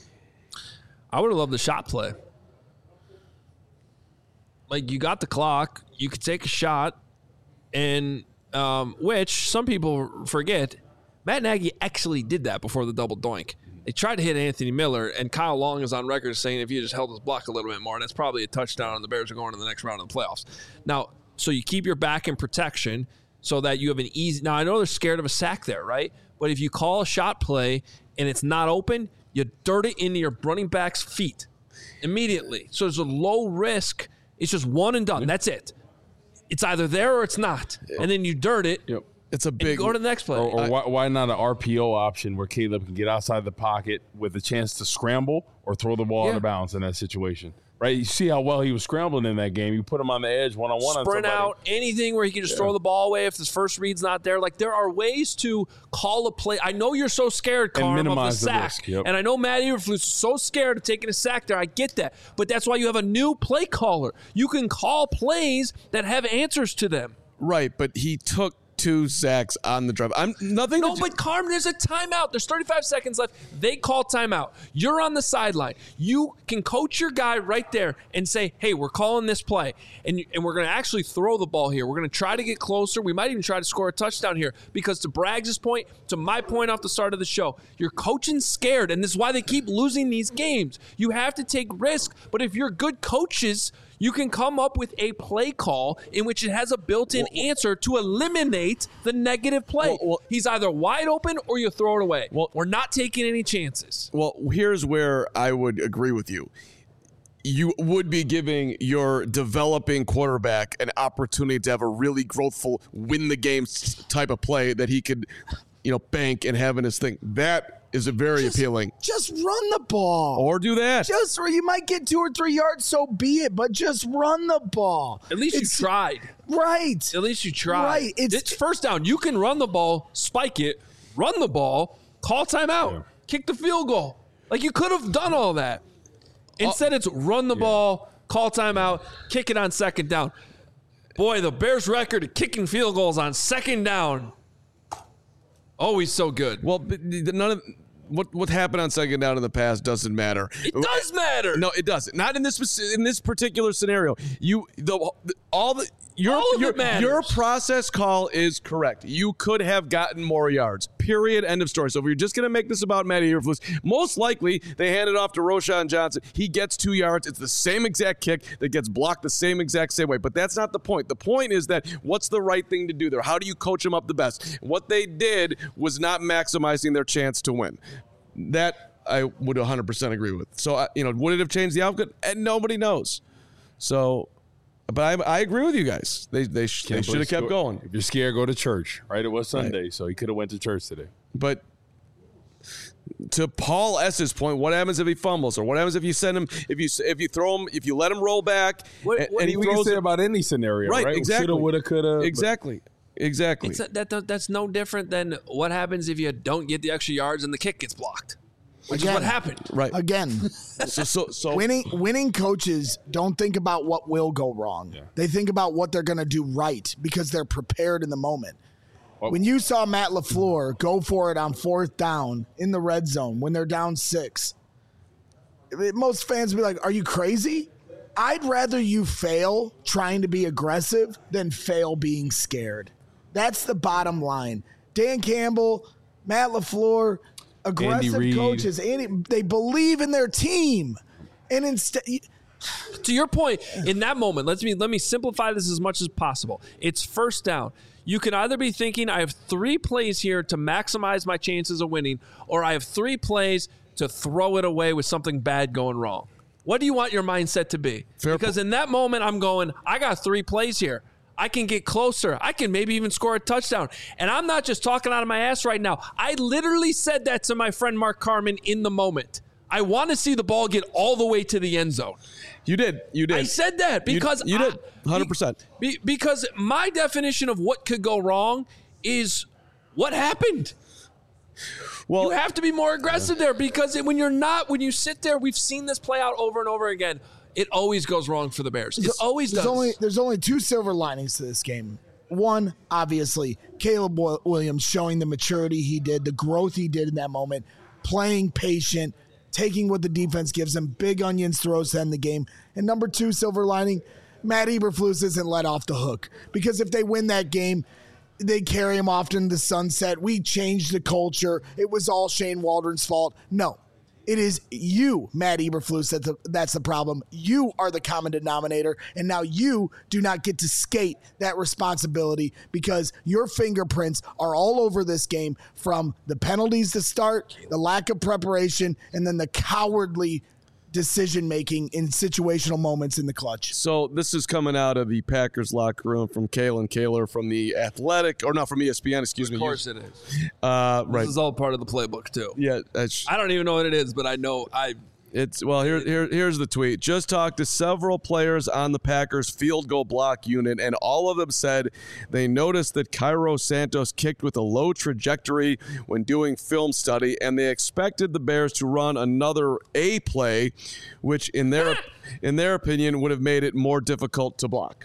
I would have loved the shot play. Like, you got the clock, you could take a shot, and um, which some people forget, Matt Nagy actually did that before the double doink. They tried to hit Anthony Miller, and Kyle Long is on record saying if you just held his block a little bit more, that's probably a touchdown, and the Bears are going to the next round of the playoffs. Now, so you keep your back in protection so that you have an easy – now, I know they're scared of a sack there, right? But if you call a shot play and it's not open, you dirt it into your running back's feet immediately. So there's a low risk. It's just one and done. That's it. It's either there or it's not. And then you dirt it. Yep. It's a big. Go to the next play. Or, or I- why, why not an R P O option where Caleb can get outside the pocket with a chance to scramble or throw the ball Yeah. out of bounds in that situation? Right? You see how well he was scrambling in that game. You put him on the edge one on one on Sprint somebody. out, anything where he can just Yeah. throw the ball away if his first read's not there. Like, there are ways to call a play. I know you're so scared, And Carm, of the minimize the sack. risk, yep. And I know Matt Eberflus is so scared of taking a sack there. I get that. But that's why you have a new play caller. You can call plays that have answers to them. Right, but he took two sacks on the drive. I'm nothing. No, to, but Carm, there's a timeout. There's thirty-five seconds left. They call timeout. You're on the sideline. You can coach your guy right there and say, hey, we're calling this play. And, and we're going to actually throw the ball here. We're going to try to get closer. We might even try to score a touchdown here. Because to Braggs' point, to my point off the start of the show, you're coaching scared. And this is why they keep losing these games. You have to take risk. But if you're good coaches, You can come up with a play call in which it has a built-in well, answer to eliminate the negative play. Well, well, He's either wide open or you throw it away. Well, we're not taking any chances. Well, here's where I would agree with you. You would be giving your developing quarterback an opportunity to have a really growthful, win the game type of play that he could, you know, bank and have in his thing. That is a very just, appealing. Just run the ball. Or do that. Just, or you might get two or three yards, so be it, but just run the ball. At least it's, you tried. Right. At least you tried. Right. It's, it's first down. You can run the ball, spike it, run the ball, call timeout, yeah. kick the field goal. Like, you could have done all that. Instead, it's run the yeah. ball, call timeout, kick it on second down. Boy, the Bears' record of kicking field goals on second down, always so good. Well, but none of what what happened on second down in the past doesn't matter. It does matter. No, it doesn't. Not in this in this particular scenario. You the all the. Your, All of your, it matters. Your process call is correct. You could have gotten more yards. Period. End of story. So if you're just going to make this about Matty Eberflus, most likely they hand it off to Roschon Johnson. He gets two yards. It's the same exact kick that gets blocked the same exact same way. But that's not the point. The point is that what's the right thing to do there? How do you coach them up the best? What they did was not maximizing their chance to win. That I would one hundred percent agree with. So, you know, would it have changed the outcome? And nobody knows. So... But I, I agree with you guys. They they, sh- they should have kept going. If you're scared, go to church. Right? It was Sunday, right. So he could have went to church today. But to Paul S's point, what happens if he fumbles, or what happens if you send him, if you if you throw him, if you let him roll back, what, and, what and he we throws can say it about any scenario, right? right? Exactly. Shoulda, woulda, coulda. Exactly. Exactly. It's a, that that's no different than what happens if you don't get the extra yards and the kick gets blocked. Which Again, is what happened. Right. Again, so, so, so winning winning coaches don't think about what will go wrong. Yeah. They think about what they're going to do right because they're prepared in the moment. Well, when you saw Matt LaFleur go for it on fourth down in the red zone when they're down six, most fans would be like, are you crazy? I'd rather you fail trying to be aggressive than fail being scared. That's the bottom line. Dan Campbell, Matt LaFleur, aggressive coaches, Andy, they believe in their team, and instead, to your point, in that moment, let me let me simplify this as much as possible. It's first down. You can either be thinking, I have three plays here to maximize my chances of winning, or I have three plays to throw it away with something bad going wrong. What do you want your mindset to be? Fair because po- in that moment, I'm going, I got three plays here. I can get closer. I can maybe even score a touchdown. And I'm not just talking out of my ass right now. I literally said that to my friend Mark Carman in the moment. I want to see the ball get all the way to the end zone. You did. You did. I said that because you, you did. one hundred percent. I, be, because my definition of what could go wrong is what happened. Well, you have to be more aggressive yeah. there because when you're not, when you sit there, we've seen this play out over and over again. It always goes wrong for the Bears. It always there's does. Only, there's only two silver linings to this game. One, obviously, Caleb Williams showing the maturity he did, the growth he did in that moment, playing patient, taking what the defense gives him, big onions throws to end the game. And number two, silver lining, Matt Eberflus isn't let off the hook. Because if they win that game, they carry him off into the sunset. We changed the culture. It was all Shane Waldron's fault. No. It is you, Matt Eberflus, that's the, that's the problem. You are the common denominator, and now you do not get to skate that responsibility because your fingerprints are all over this game from the penalties to start, the lack of preparation, and then the cowardly decision-making in situational moments in the clutch. So this is coming out of the Packers locker room from Kalen Kaler from the Athletic, or not from E S P N, excuse of me. Of course it is. Uh, right. This is all part of the playbook, too. Yeah. That's, I don't even know what it is, but I know I... It's well. Here, here, here's the tweet. Just talked to several players on the Packers field goal block unit, and all of them said they noticed that Cairo Santos kicked with a low trajectory when doing film study, and they expected the Bears to run another A play, which in their in their opinion would have made it more difficult to block.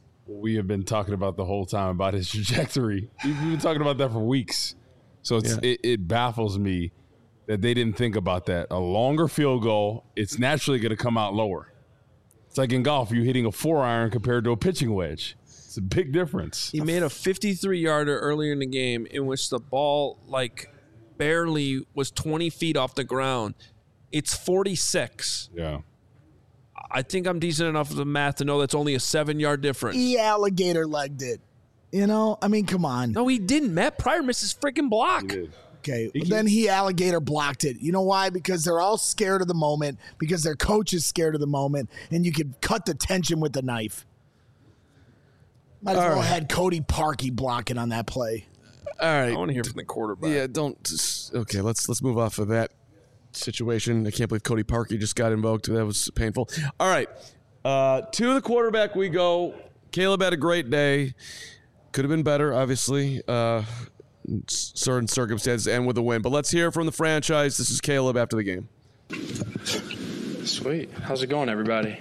We have been talking about the whole time about his trajectory. We've been talking about that for weeks, so it's, yeah. it, it baffles me that they didn't think about that. A longer field goal, it's naturally going to come out lower. It's like in golf, you're hitting a four iron compared to a pitching wedge. It's a big difference. He made a fifty-three yarder earlier in the game in which the ball like barely was twenty feet off the ground. It's forty-six. Yeah. I think I'm decent enough with the math to know that's only a seven-yard difference. He alligator legged it. You know, I mean, come on. No, he didn't. Matt Pryor missed his freaking block. Okay, well, then he alligator blocked it. You know why? Because they're all scared of the moment, because their coach is scared of the moment, and you could cut the tension with the knife. Might as All well right. had Cody Parkey blocking on that play. All right. I want to hear from the quarterback. Yeah, don't. Okay, let's let's move off of that situation. I can't believe Cody Parkey just got invoked. That was painful. All right, uh, to the quarterback we go. Caleb had a great day. Could have been better, obviously, uh, certain circumstances, and with a win. But let's hear from the franchise. This is Caleb after the game. Sweet. How's it going, everybody?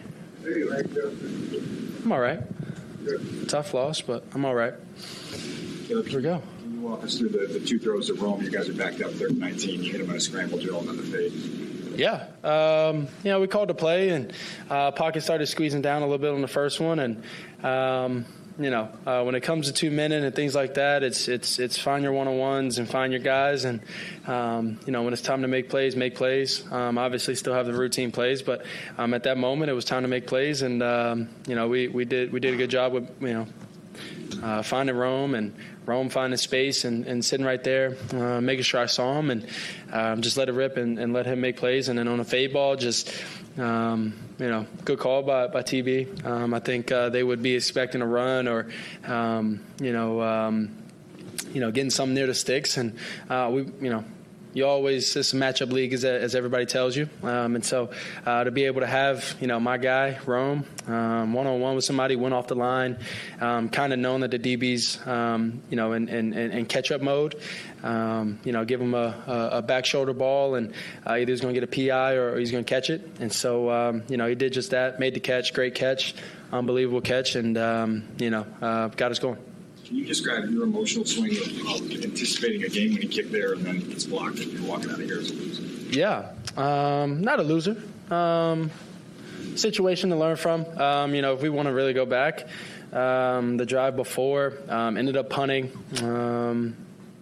I'm all right. Tough loss, but I'm all right. Here we go. Can you walk us through the, the two throws to Rome? You guys are backed up third and nineteen. You hit him on a scramble drill and then the fade. Yeah. Um, you know, we called the play, and uh, pocket started squeezing down a little bit on the first one. And, um, you know, uh, when it comes to two minute and things like that, it's it's it's find your one-on-ones and find your guys. And, um, you know, when it's time to make plays, make plays. Um, obviously still have the routine plays, but um, at that moment it was time to make plays. And, um, you know, we, we did we did a good job with, you know, uh, finding Rome and Rome finding space and, and sitting right there, uh, making sure I saw him and um, just let it rip and, and let him make plays. And then on a fade ball, just, um, you know, good call by, by T B. Um, I think uh, they would be expecting a run or, um, you know, um, you know, getting something near the sticks. And uh, we, you know, you always, it's a matchup league, as, as everybody tells you. Um, and so uh, to be able to have, you know, my guy, Rome, um, one-on-one with somebody, went off the line, um, kind of knowing that the D B's, um, you know, in, in, in catch-up mode, um, you know, give him a, a, a back shoulder ball, and uh, either he's going to get a P I or he's going to catch it. And so, um, you know, he did just that, made the catch, great catch, unbelievable catch, and, um, you know, uh, got us going. Can you describe your emotional swing of, of anticipating a game-winning kick there and then it's blocked and you're walking out of here as a loser? Yeah, um, not a loser. Um, situation to learn from. Um, you know, if we want to really go back, um, the drive before um, ended up punting. Um,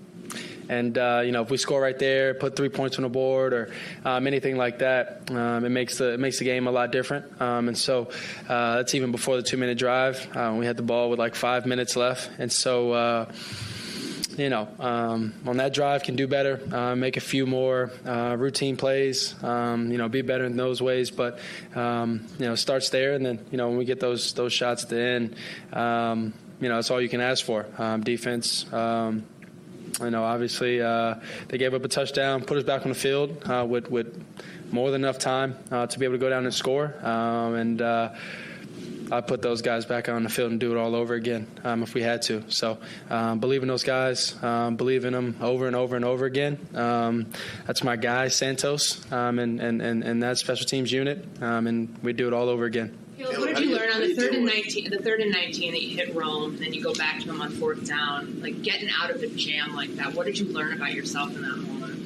And, uh, you know, if we score right there, put three points on the board or um, anything like that, um, it makes the it makes the game a lot different. Um, and so uh, that's even before the two-minute drive. Uh, we had the ball with like five minutes left. And so, uh, you know, um, on that drive can do better, uh, make a few more uh, routine plays, um, you know, be better in those ways. But, um, you know, it starts there. And then, you know, when we get those, those shots at the end, um, you know, that's all you can ask for. Um, defense, um You know, obviously uh, they gave up a touchdown, put us back on the field uh, with, with more than enough time uh, to be able to go down and score. Um, and uh, I put those guys back on the field and do it all over again um, if we had to. So um, believe in those guys, um, believe in them over and over and over again. Um, that's my guy, Santos, um, and, and, and, and that special teams unit, um, and we do it all over again. Caleb, what did you learn on the third and nineteen? The third and nineteen that you hit Rome, and then you go back to him on fourth down, like getting out of a jam like that. What did you learn about yourself in that moment?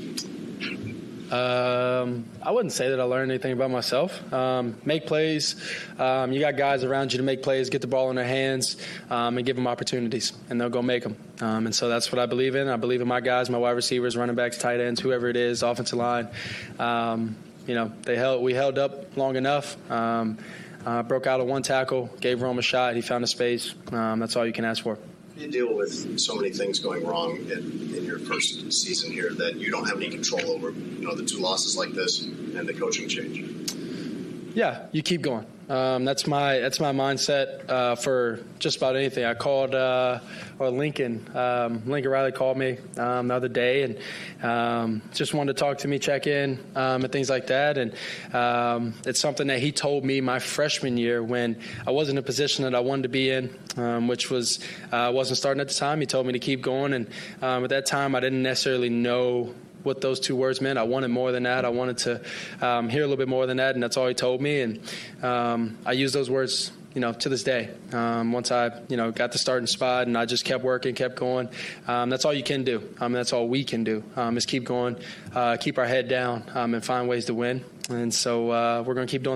Um, I wouldn't say that I learned anything about myself. Um, make plays. Um, you got guys around you to make plays, get the ball in their hands, um, and give them opportunities, and they'll go make them. Um, and so that's what I believe in. I believe in my guys, my wide receivers, running backs, tight ends, whoever it is, offensive line. Um, you know, they held. We held up long enough. Um, Uh, broke out of one tackle, gave Rome a shot. He found a space. Um, that's all you can ask for. You deal with so many things going wrong in, in your first season here that you don't have any control over. You know, the two losses like this and the coaching change. Yeah, you keep going. Um, that's my that's my mindset uh, for just about anything. I called uh, or Lincoln um, Lincoln Riley called me um, the other day and um, just wanted to talk to me, check in, um, and things like that. And um, it's something that he told me my freshman year when I wasn't in a position that I wanted to be in, um, which was I uh, wasn't starting at the time. He told me to keep going, and um, at that time I didn't necessarily know what those two words meant. I wanted more than that. I wanted to um, hear a little bit more than that, and that's all he told me. And um, I use those words, you know, to this day. Um, once I, you know, got the starting spot, and I just kept working, kept going. Um, that's all you can do. I mean, that's all we can do um, is keep going, uh, keep our head down, um, and find ways to win. And so uh, we're going to keep doing that.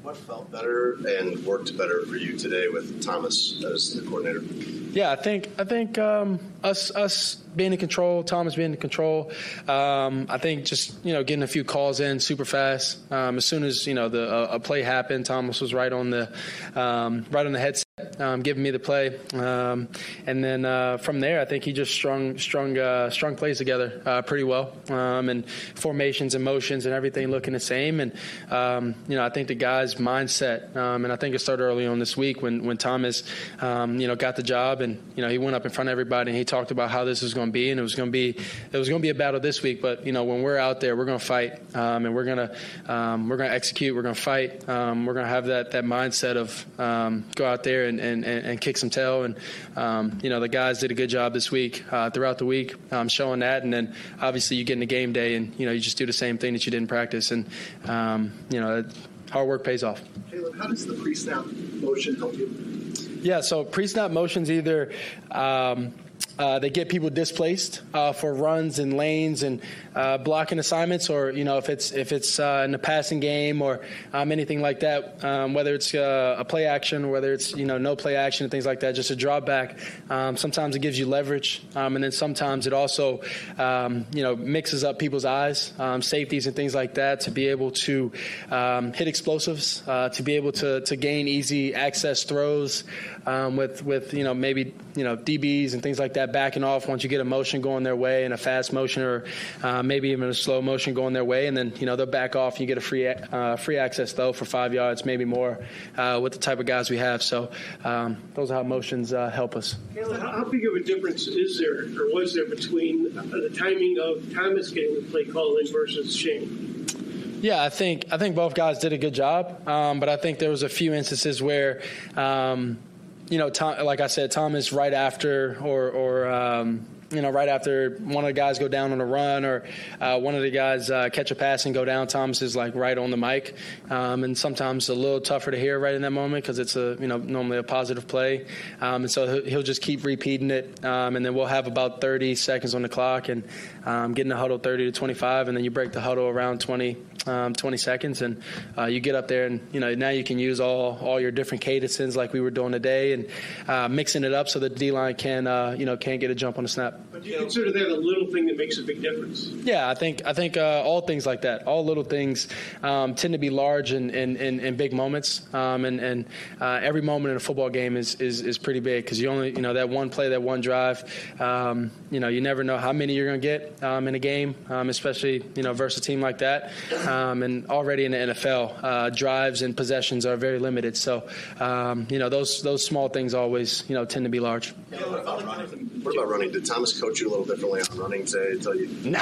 What felt better and worked better for you today with Thomas as the coordinator? Yeah, I think I think um, us us being in control, Thomas being in control. Um, I think just you know getting a few calls in super fast. Um, as soon as you know the a, a play happened, Thomas was right on the um, right on the headset, um, giving me the play, um, and then uh, from there, I think he just strung strung uh, strung plays together uh, pretty well, um, and formations and motions and everything looking the same. And um, you know, I think the guys' mindset, um, and I think it started early on this week when when Thomas, um, you know, got the job, and you know he went up in front of everybody and he talked about how this was going to be, and it was going to be it was going to be a battle this week. But you know, when we're out there, we're going to fight, um, and we're going to um, we're going to execute. We're going to fight. Um, we're going to have that that mindset of um, go out there and, and, and kick some tail. And um, you know, the guys did a good job this week uh, throughout the week, um, showing that. And then obviously you get into game day, and you know you just do the same thing that you did in practice, and um, you know hard work pays off. Caleb, how does the pre-snap motion help you? Yeah, so pre-snap motions either um, uh, they get people displaced uh, for runs and lanes and uh, blocking assignments, or you know if it's if it's uh, in the passing game or um, anything like that, um, whether it's uh, a play action or whether it's you know no play action and things like that, just a drop back. Um, sometimes it gives you leverage, um, and then sometimes it also um, you know mixes up people's eyes, um, safeties and things like that, to be able to um, hit explosives, uh, to be able to to gain easy access throws um, with with you know maybe you know D Bs and things like that backing off once you get a motion going their way, and a fast motion or uh, maybe even a slow motion going their way, and then you know they'll back off and you get a free uh, free access though for five yards, maybe more, uh, with the type of guys we have. So um, those are how motions uh, help us. Caleb, how big of a difference is there or was there between the timing of Thomas getting the play call in versus Shane? Yeah, I think I think both guys did a good job, um, but I think there was a few instances where, um, you know, Tom, like I said, Thomas right after or or. Um, You know, right after one of the guys go down on a run, or uh, one of the guys uh, catch a pass and go down, Thomas is like right on the mic, um, and sometimes a little tougher to hear right in that moment because it's a you know normally a positive play, um, and so he'll just keep repeating it, um, and then we'll have about thirty seconds on the clock, and um, get in the huddle thirty to twenty-five, and then you break the huddle around twenty, um, twenty seconds, and uh, you get up there, and you know now you can use all all your different cadences like we were doing today, and uh, mixing it up so that the D-line can uh, you know can get a jump on the snap. But do you consider that a little thing that makes a big difference? Yeah, I think I think uh, all things like that, all little things, um, tend to be large in, in, in, in big moments, um, and and uh, every moment in a football game is is, is pretty big because you only you know that one play, that one drive, um, you know you never know how many you're going to get um, in a game, um, especially you know versus a team like that, um, and already in the N F L, uh, drives and possessions are very limited. So um, you know those those small things always you know tend to be large. Yeah, what about running? What about running? Did Thomas coach you a little differently on running today? Tell you no,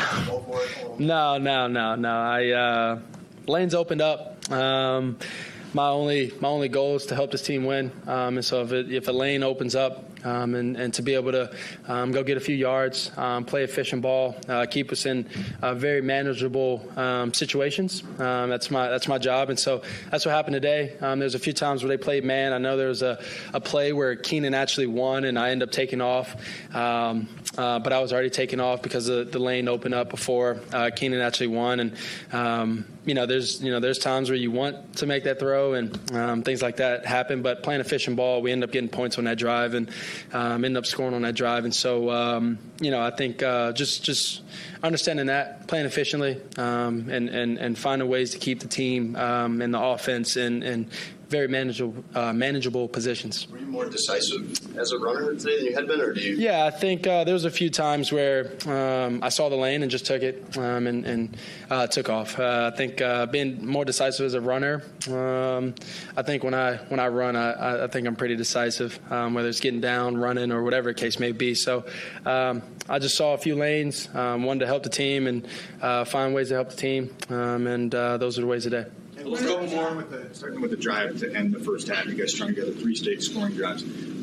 no, no, no, no. I uh, lanes opened up. Um, my only my only goal is to help this team win. Um, and so if it, if a lane opens up, um, and, and to be able to um, go get a few yards, um, play efficient ball, uh, keep us in uh, very manageable um, situations. Um, that's my that's my job, and so that's what happened today. Um, there's a few times where they played man. I know there was a, a play where Keenan actually won, and I ended up taking off. Um, uh, but I was already taken off because the, the lane opened up before uh, Keenan actually won. And um, you know, there's you know there's times where you want to make that throw, and um, things like that happen. But playing efficient ball, we end up getting points on that drive, and um, end up scoring on that drive. And so um, you know, I think uh, just just understanding that, playing efficiently, um, and and and finding ways to keep the team um, and the offense and and very manageable uh, manageable positions. Were you more decisive as a runner today than you had been, or do you? Yeah, I think uh, there was a few times where um, I saw the lane and just took it um, and, and uh, took off. Uh, I think uh, being more decisive as a runner. Um, I think when I when I run, I, I think I'm pretty decisive, um, whether it's getting down, running, or whatever the case may be. So um, I just saw a few lanes, um, wanted to help the team and uh, find ways to help the team, um, and uh, those are the ways today. Let's go more with the, starting with the drive to end the first half. You guys strung together three straight scoring drives.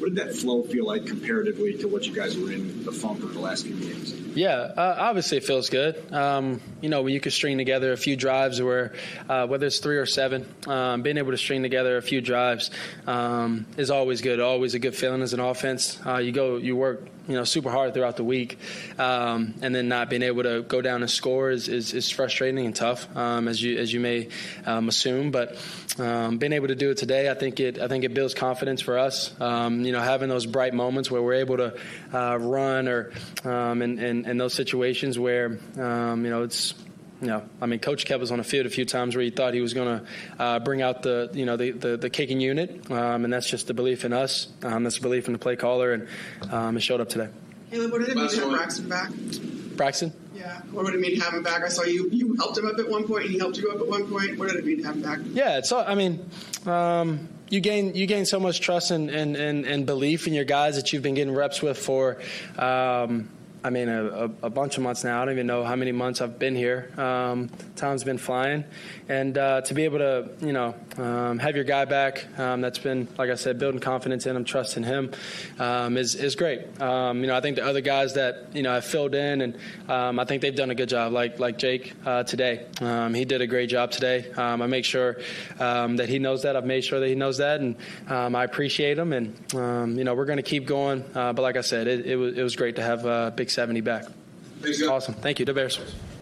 What did that flow feel like comparatively to what you guys were in the funk of the last few games? Yeah, uh, obviously it feels good. Um, you know, when you can string together a few drives where, uh, whether it's three or seven, um, being able to string together a few drives um, is always good, always a good feeling as an offense. Uh, you go, you work, you know, super hard throughout the week, um, and then not being able to go down and score is, is, is frustrating and tough, um, as you as you may um, assume. But um, being able to do it today, I think it I think it builds confidence for us. Um, you know, having those bright moments where we're able to uh, run or um, and, and and those situations where um, you know it's. You know, I mean, Coach kept us on the field a few times where he thought he was going to uh, bring out the, you know, the, the, the kicking unit, um, and that's just the belief in us. Um, that's the belief in the play caller, and um, it showed up today. Caleb, what did it mean to have Braxton back? Braxton? Yeah, what would it mean to have him back? I saw you you helped him up at one point, and he helped you up at one point. What did it mean to have him back? Yeah, it's all, I mean, um, you gain you gain so much trust and, and, and, and belief in your guys that you've been getting reps with for um, – I mean, a, a, a bunch of months now. I don't even know how many months I've been here. Um, time's been flying. And uh, to be able to, you know, um, have your guy back, um, that's been, like I said, building confidence in him, trusting him, um, is, is great. Um, you know, I think the other guys that, you know, have filled in, and um, I think they've done a good job, like like Jake uh, today. Um, he did a great job today. Um, I make sure um, that he knows that. I've made sure that he knows that, and um, I appreciate him. And, um, you know, we're going to keep going. Uh, but like I said, it, it, was, it was great to have uh, Big seventy back. Awesome. Thank you. The Bears.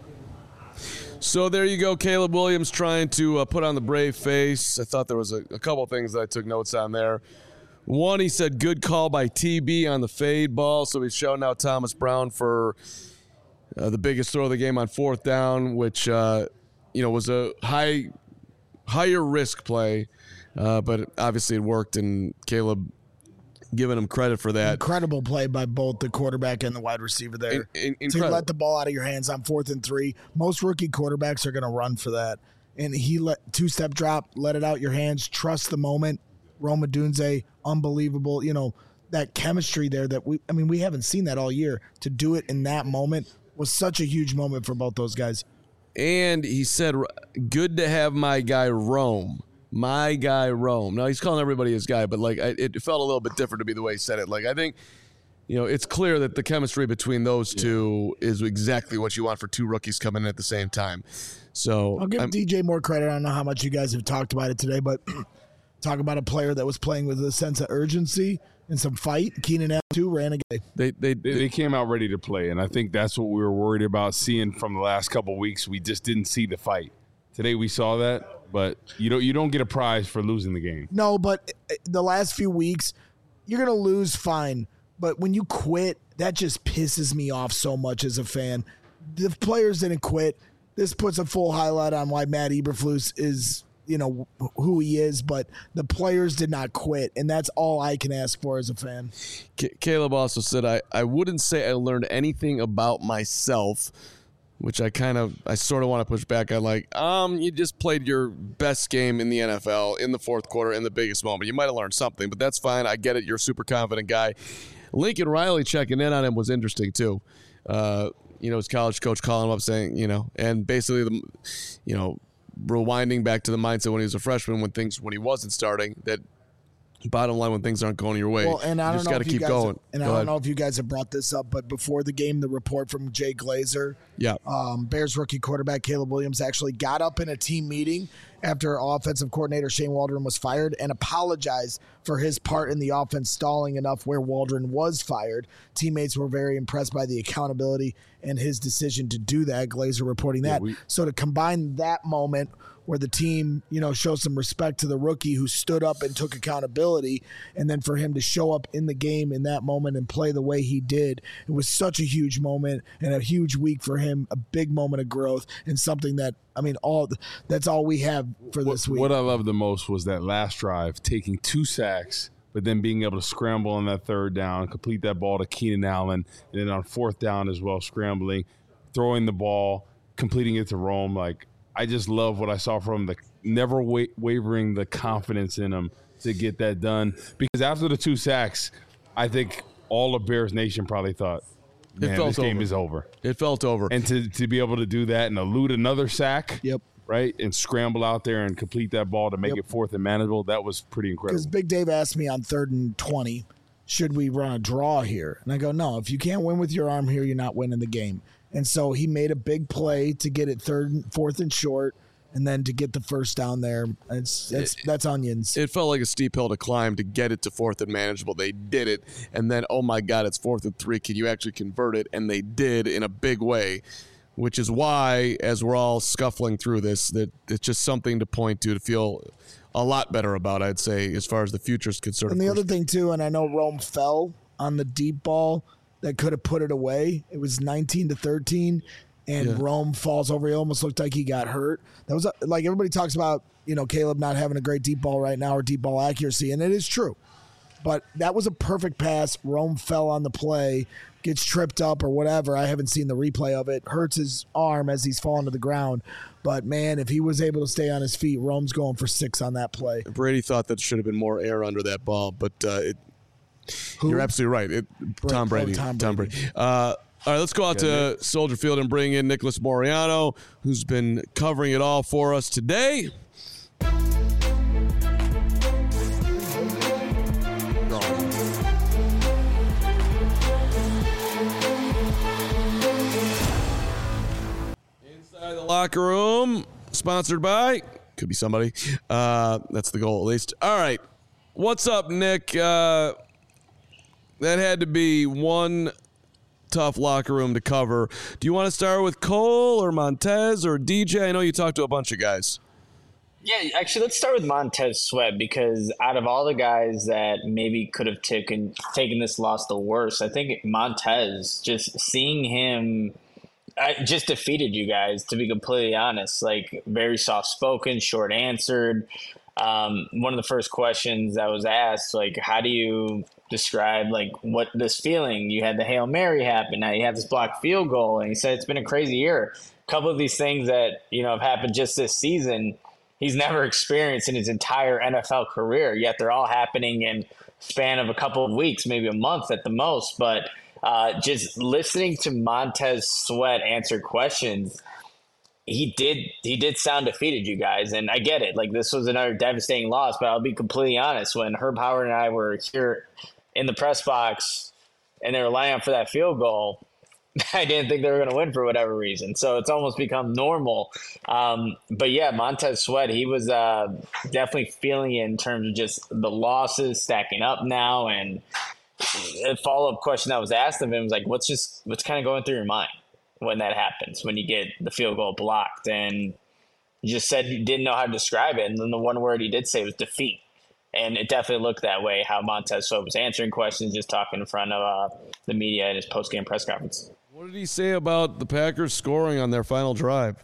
So there you go. Caleb Williams trying to uh, put on the brave face. I thought there was a, a couple things that I took notes on there. One, he said, good call by T B on the fade ball. So he's shouting out Thomas Brown for uh, the biggest throw of the game on fourth down, which, uh, you know, was a high, higher risk play. Uh, but obviously it worked, and Caleb giving him credit for that. Incredible play by both the quarterback and the wide receiver there. In, in, to let the ball out of your hands on fourth and three. Most rookie quarterbacks are going to run for that. And he let two-step drop, let it out your hands, trust the moment. Rome Odunze, unbelievable. You know, that chemistry there that we, I mean, we haven't seen that all year. To do it in that moment was such a huge moment for both those guys. And he said, good to have my guy Rome. My guy Rome. Now, he's calling everybody his guy, but like I, it felt a little bit different to be the way he said it. Like, I think, you know, it's clear that the chemistry between those two is exactly what you want for two rookies coming in at the same time. So I'll give I'm, D J more credit. I don't know how much you guys have talked about it today, but talk about a player that was playing with a sense of urgency and some fight. Keenan Allen, too, ran again. They, they, they, they came out ready to play, and I think that's what we were worried about seeing from the last couple of weeks. We just didn't see the fight. Today we saw that. But you don't you don't get a prize for losing the game. No, but the last few weeks, you're going to lose, fine. But when you quit, that just pisses me off so much as a fan. The players didn't quit. This puts a full highlight on why Matt Eberflus is, you know, who he is. But the players did not quit, and that's all I can ask for as a fan. C- Caleb also said, I, I wouldn't say I learned anything about myself, which I kind of, I sort of want to push back on. Like, um, you just played your best game in the N F L in the fourth quarter in the biggest moment. You might have learned something, but that's fine. I get it. You're a super confident guy. Lincoln Riley checking in on him was interesting too. Uh, you know, his college coach calling him up saying, you know, and basically the, you know, rewinding back to the mindset when he was a freshman, when things, when he wasn't starting, that bottom line, when things aren't going your way, well, and I you don't just know got to if you keep guys going. Have, and Go I don't ahead. know if you guys have brought this up, but before the game, the report from Jay Glazer, yeah, um, Bears rookie quarterback Caleb Williams actually got up in a team meeting after offensive coordinator Shane Waldron was fired and apologized for his part in the offense stalling enough where Waldron was fired. Teammates were very impressed by the accountability and his decision to do that. Glazer reporting that. Yeah, we- so to combine that moment where the team, you know, shows some respect to the rookie who stood up and took accountability, and then for him to show up in the game in that moment and play the way he did, it was such a huge moment and a huge week for him, a big moment of growth, and something that, I mean, all that's all we have for this what, week. What I loved the most was that last drive, taking two sacks, but then being able to scramble on that third down, complete that ball to Keenan Allen, and then on fourth down as well, scrambling, throwing the ball, completing it to Rome. Like, I just love what I saw from the never wa- wavering the confidence in him to get that done. Because after the two sacks, I think all of Bears Nation probably thought, man, it felt this game over. is over. It felt over. And to, to be able to do that and elude another sack, yep, right, and scramble out there and complete that ball to make Yep. it fourth and manageable, that was pretty incredible. Because Big Dave asked me on third and twenty, should we run a draw here? And I go, no, if you can't win with your arm here, you're not winning the game. And so he made a big play to get it third, fourth and short, and then to get the first down there. It's, it's it, that's onions. It felt like a steep hill to climb to get it to fourth and manageable. They did it, and then, oh my God, it's fourth and three. Can you actually convert it? And they did in a big way, which is why, as we're all scuffling through this, that it's just something to point to, to feel a lot better about, I'd say, as far as the future is concerned. And the other thing, too, and I know Rome fell on the deep ball that could have put it away. It was nineteen to thirteen. And yeah. Rome falls over. It almost looked like he got hurt. That was like everybody talks about, you know, Caleb not having a great deep ball right now or deep ball accuracy, and it is true. But that was a perfect pass. Rome fell on the play, gets tripped up or whatever. I haven't seen the replay of it. Hurts his arm as he's falling to the ground. But, man, if he was able to stay on his feet, Rome's going for six on that play. Brady thought that should have been more air under that ball, but uh, it, you're absolutely right. It, Tom Brady. Oh, Tom Brady. Tom Brady. Uh, All right, let's go out to Soldier Field and bring in Nicholas Moreano, who's been covering it all for us today. Inside the locker room, sponsored by, could be somebody. Uh, that's the goal, at least. All right, what's up, Nick? Uh, that had to be one tough locker room to cover. Do you want to start with Cole or Montez or D J? I know you talked to a bunch of guys. Yeah, actually, let's start with Montez Sweat, because out of all the guys that maybe could have taken taken this loss the worst, I think Montez, just seeing him, I just defeated you guys, to be completely honest. Like, very soft-spoken, short-answered. Um, one of the first questions I was asked, like, how do you describe like what this feeling? You had the Hail Mary happen, now you have this blocked field goal, and he said it's been a crazy year. A couple of these things that, you know, have happened just this season, he's never experienced in his entire N F L career, yet they're all happening in span of a couple of weeks, maybe a month at the most. But uh, just listening to Montez Sweat answer questions, he did he did sound defeated, you guys, and I get it. Like, this was another devastating loss, but I'll be completely honest. When Herb Howard and I were here in the press box and they were lining up for that field goal, I didn't think they were going to win for whatever reason. So it's almost become normal. Um, but yeah, Montez Sweat, he was uh, definitely feeling it in terms of just the losses stacking up now. And a follow-up question that was asked of him was like, what's just what's kind of going through your mind when that happens, when you get the field goal blocked? And he just said he didn't know how to describe it. And then the one word he did say was defeat. And it definitely looked that way, how Montez Sweat was answering questions, just talking in front of uh, the media in his post-game press conference. What did he say about the Packers scoring on their final drive?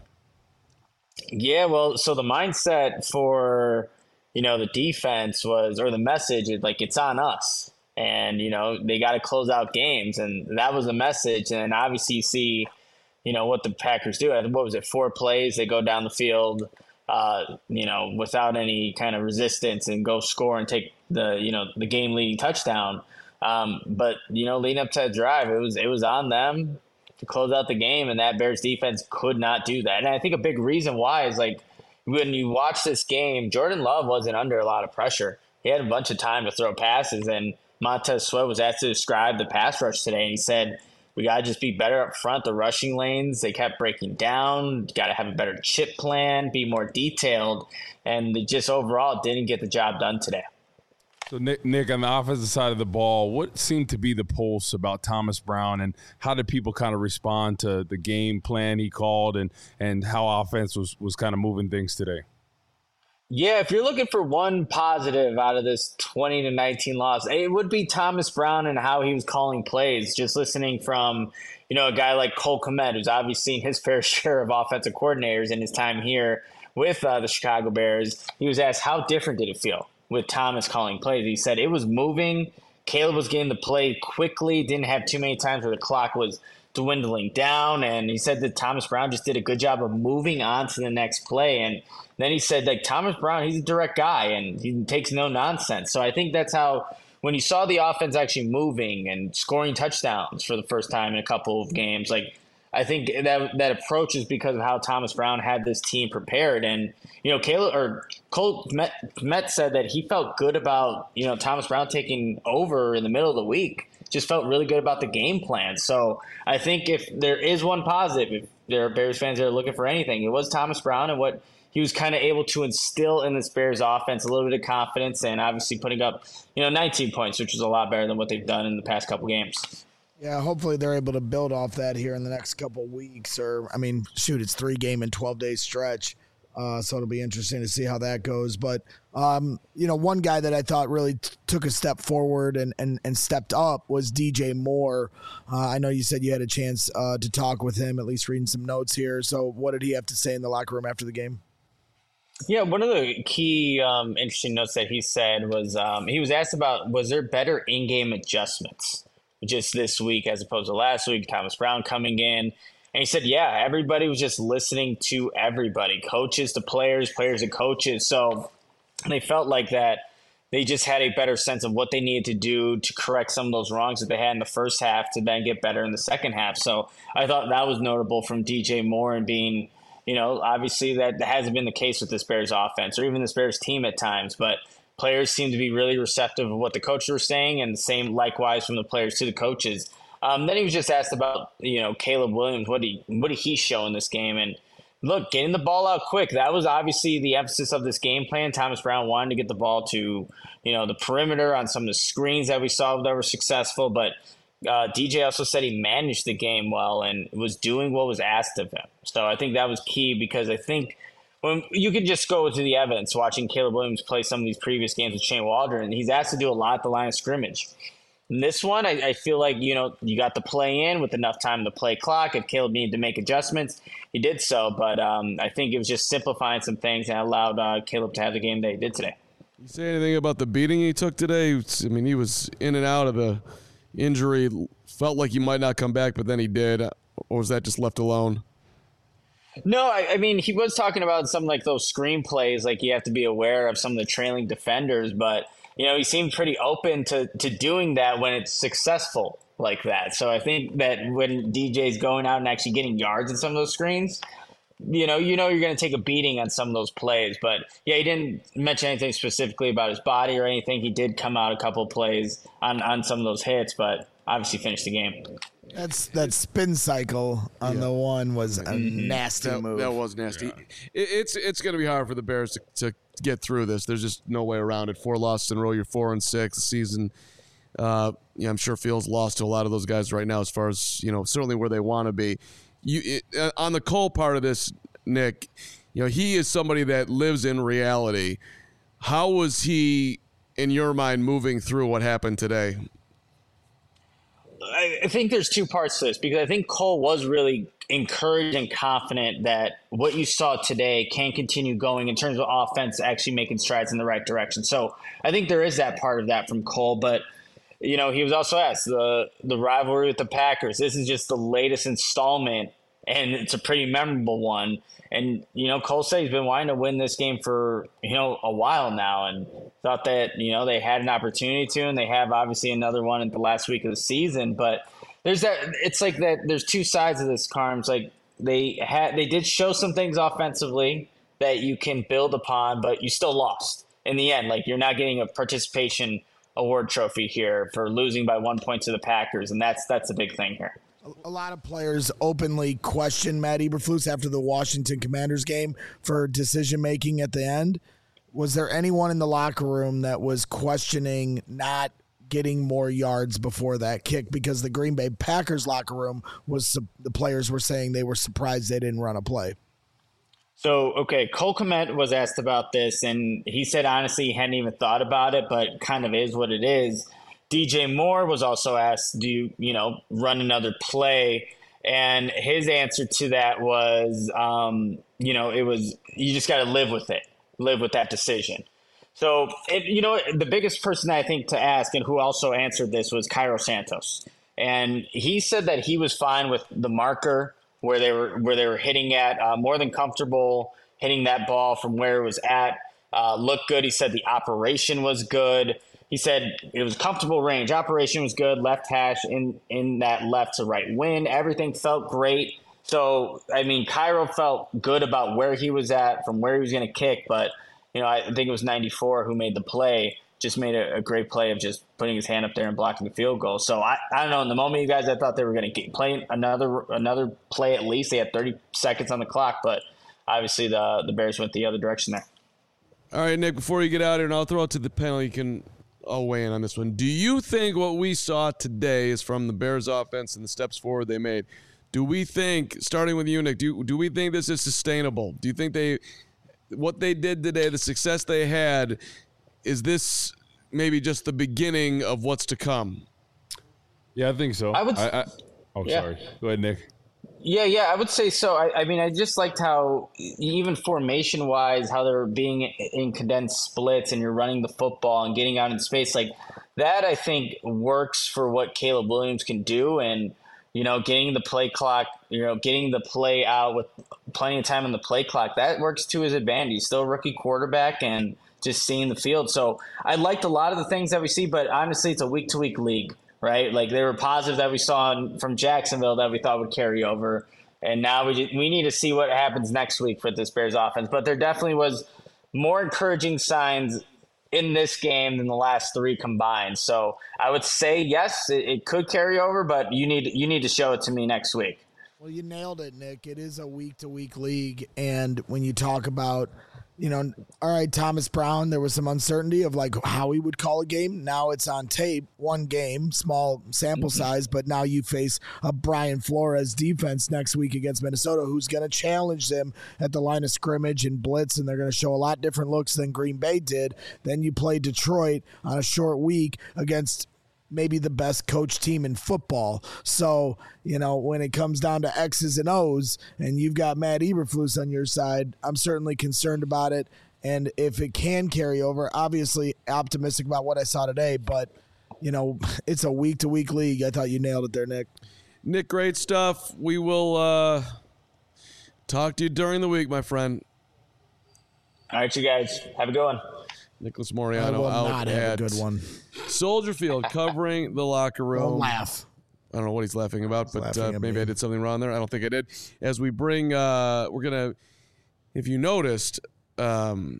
Yeah, well, so the mindset for, you know, the defense was, or the message is like, it's on us. And, you know, they got to close out games. And that was the message. And obviously you see, you know, what the Packers do. What was it, four plays? They go down the field, uh, you know, without any kind of resistance and go score and take the, you know, the game-leading touchdown. Um, but, you know, leading up to that drive, it was it was on them to close out the game, and that Bears defense could not do that. And I think a big reason why is, like, when you watch this game, Jordan Love wasn't under a lot of pressure. He had a bunch of time to throw passes, and Montez Sweat was asked to describe the pass rush today, and he said, we got to just be better up front. The rushing lanes, they kept breaking down. Got to have a better chip plan, be more detailed, and they just overall didn't get the job done today. So, Nick, Nick, on the offensive side of the ball, what seemed to be the pulse about Thomas Brown, and how did people kind of respond to the game plan he called, and, and how offense was, was kind of moving things today? Yeah, if you're looking for one positive out of this twenty to nineteen loss, it would be Thomas Brown and how he was calling plays. Just listening from, you know, a guy like Cole Kmet, who's obviously seen his fair share of offensive coordinators in his time here with uh, the Chicago Bears. He was asked, how different did it feel with Thomas calling plays? He said it was moving. Caleb was getting the play quickly, didn't have too many times where the clock was dwindling down. And he said that Thomas Brown just did a good job of moving on to the next play. And then he said, like, Thomas Brown, he's a direct guy and he takes no nonsense. So I think that's how, when you saw the offense actually moving and scoring touchdowns for the first time in a couple of games, like, I think that that approach is because of how Thomas Brown had this team prepared. And, you know, Caleb or Cole Met, Met said that he felt good about, you know, Thomas Brown taking over in the middle of the week, just felt really good about the game plan. So I think if there is one positive, if there are Bears fans that are looking for anything, it was Thomas Brown and what he was kind of able to instill in this Bears offense, a little bit of confidence, and obviously putting up, you know, nineteen points, which is a lot better than what they've done in the past couple games. Yeah, hopefully they're able to build off that here in the next couple weeks. Or, I mean, shoot, it's three game and twelve day stretch. Uh, so it'll be interesting to see how that goes. But, um, you know, one guy that I thought really t- took a step forward and, and, and stepped up was D J Moore. Uh, I know you said you had a chance uh, to talk with him, at least reading some notes here. So what did he have to say in the locker room after the game? Yeah, one of the key um, interesting notes that he said was um, he was asked about, was there better in-game adjustments just this week as opposed to last week, Thomas Brown coming in. And he said, yeah, everybody was just listening to everybody, coaches to players, players to coaches. So they felt like that they just had a better sense of what they needed to do to correct some of those wrongs that they had in the first half to then get better in the second half. So I thought that was notable from D J Moore and being, you know, obviously that hasn't been the case with this Bears offense or even this Bears team at times, but players seem to be really receptive of what the coaches were saying, and the same likewise from the players to the coaches. Um, then he was just asked about, you know, Caleb Williams. What did he, what did he show in this game? And look, getting the ball out quick, that was obviously the emphasis of this game plan. Thomas Brown wanted to get the ball to, you know, the perimeter on some of the screens that we saw that were successful, but Uh, D J also said he managed the game well and was doing what was asked of him. So I think that was key because I think when you could just go to the evidence watching Caleb Williams play some of these previous games with Shane Waldron, he's asked to do a lot at the line of scrimmage. In this one, I, I feel like, you know, you got the play in with enough time to play clock. If Caleb needed to make adjustments, he did so. But um, I think it was just simplifying some things and allowed uh, Caleb to have the game that he did today. You say anything about the beating he took today? I mean, he was in and out of the injury, felt like he might not come back, but then he did. Or was that just left alone? No, I, I mean, he was talking about some like those screen plays, like you have to be aware of some of the trailing defenders, but, you know, he seemed pretty open to, to doing that when it's successful like that. So I think that when D J's going out and actually getting yards in some of those screens, you know, you know you're going to take a beating on some of those plays. But, yeah, he didn't mention anything specifically about his body or anything. He did come out a couple of plays on, on some of those hits, but obviously finished the game. That's that spin cycle on yeah. the one was a mm-hmm. nasty that, move. That was nasty. Yeah. It, it's it's going to be hard for the Bears to, to get through this. There's just no way around it. Four losses in a row. You're four and six. The season, uh, yeah, I'm sure feels lost to a lot of those guys right now as far as, you know, certainly where they want to be. You it, uh, on the Cole part of this, Nick, you know, he is somebody that lives in reality. How was he, in your mind, moving through what happened today? I think there's two parts to this because I think Cole was really encouraged and confident that what you saw today can continue going in terms of offense actually making strides in the right direction. So I think there is that part of that from Cole, but you know, he was also asked the the rivalry with the Packers. This is just the latest installment, and it's a pretty memorable one. And, you know, Cole said he's been wanting to win this game for, you know, a while now and thought that, you know, they had an opportunity to, and they have obviously another one in the last week of the season. But there's that, it's like that, there's two sides of this, Carms. Like they had, they did show some things offensively that you can build upon, but you still lost in the end. Like you're not getting a participation award trophy here for losing by one point to the Packers. And that's, that's a big thing here. A lot of players openly questioned Matt Eberflus after the Washington Commanders game for decision-making at the end. Was there anyone in the locker room that was questioning not getting more yards before that kick? Because the Green Bay Packers locker room was the players were saying they were surprised they didn't run a play. So, okay, Cole Kmet was asked about this, and he said honestly he hadn't even thought about it, but kind of is what it is. D J Moore was also asked, do you, you know, run another play? And his answer to that was, um, you know, it was, you just got to live with it, live with that decision. So, it, you know, the biggest person I think to ask and who also answered this was Cairo Santos. And he said that he was fine with the marker where they were, where they were hitting at, uh, more than comfortable hitting that ball from where it was at, uh, looked good. He said the operation was good. he said it was comfortable range. Operation was good. Left hash in, in that left to right win. Everything felt great. So, I mean, Cairo felt good about where he was at from where he was going to kick. But, you know, I think it was ninety-four who made the play, just made a, a great play of just putting his hand up there and blocking the field goal. So, I, I don't know. In the moment, you guys, I thought they were going to play another another play at least. They had thirty seconds on the clock. But obviously the the Bears went the other direction there. All right, Nick, before you get out here, and I'll throw it to the panel, you can all weigh in on this one. Do you think what we saw today is from the Bears offense and the steps forward they made? Do we think, starting with you, Nick, do, do we think this is sustainable? Do you think they, what they did today, the success they had, is this maybe just the beginning of what's to come? Yeah, I think so. I would. I, I, oh, yeah. sorry. Go ahead, Nick. Yeah, yeah, I would say so. I, I mean, I just liked how, even formation-wise, how they're being in condensed splits and you're running the football and getting out in space. Like, that, I think, works for what Caleb Williams can do. And, you know, getting the play clock, you know, getting the play out with plenty of time on the play clock, that works to his advantage. He's still a rookie quarterback and just seeing the field. So I liked a lot of the things that we see, but honestly, it's a week-to-week league. Right, like there were positives that we saw from Jacksonville that we thought would carry over, and now we just, we need to see what happens next week with this Bears offense. But there definitely was more encouraging signs in this game than the last three combined. So I would say yes, it, it could carry over, but you need you need to show it to me next week. Well, you nailed it, Nick. It is a week-to-week league, and when you talk about, you know, all right, Thomas Brown, there was some uncertainty of like how he would call a game. Now it's on tape, one game, small sample size, but now you face a Brian Flores defense next week against Minnesota, who's going to challenge them at the line of scrimmage and blitz, and they're going to show a lot different looks than Green Bay did. Then you play Detroit on a short week against maybe the best coach team in football. So, you know, when it comes down to X's and O's and you've got Matt Eberflus on your side, I'm certainly concerned about it. And if it can carry over, obviously optimistic about what I saw today, but, you know, it's a week-to-week league. I thought you nailed it there, Nick. Nick, great stuff. We will uh, talk to you during the week, my friend. All right, you guys. Have a good one. Nicholas Moriano I will out not have at a good one. Soldier Field covering the locker room. Don't laugh. I don't know what he's laughing about, but laughing uh, at maybe me. I did something wrong there. I don't think I did. As we bring, uh, we're going to, if you noticed, um,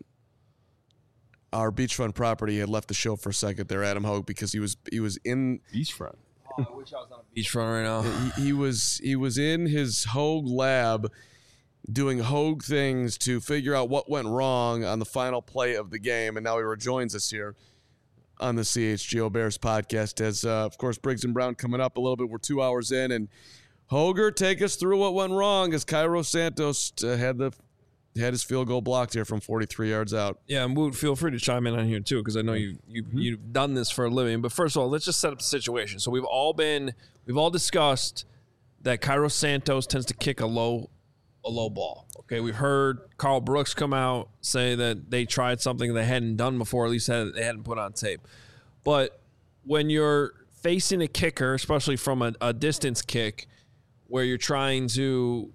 our beachfront property had left the show for a second there, Adam Hogue, because he was he was in beachfront. Oh, I wish I was on a beachfront right now. He, he was he was in his Hogue lab doing Hogue things to figure out what went wrong on the final play of the game, and now he rejoins us here on the C H G O Bears podcast. As uh, of course, Briggs and Brown coming up a little bit. We're two hours in, and Hoger, take us through what went wrong as Cairo Santos uh, had the had his field goal blocked here from forty-three yards out. Yeah, and Woot, feel free to chime in on here too, because I know you you Mm-hmm. you've done this for a living. But first of all, let's just set up the situation. So we've all been we've all discussed that Cairo Santos tends to kick a low a low ball. Okay, we've heard Carl Brooks come out say that they tried something they hadn't done before, at least had, they hadn't put on tape. But when you're facing a kicker, especially from a, a distance kick, where you're trying to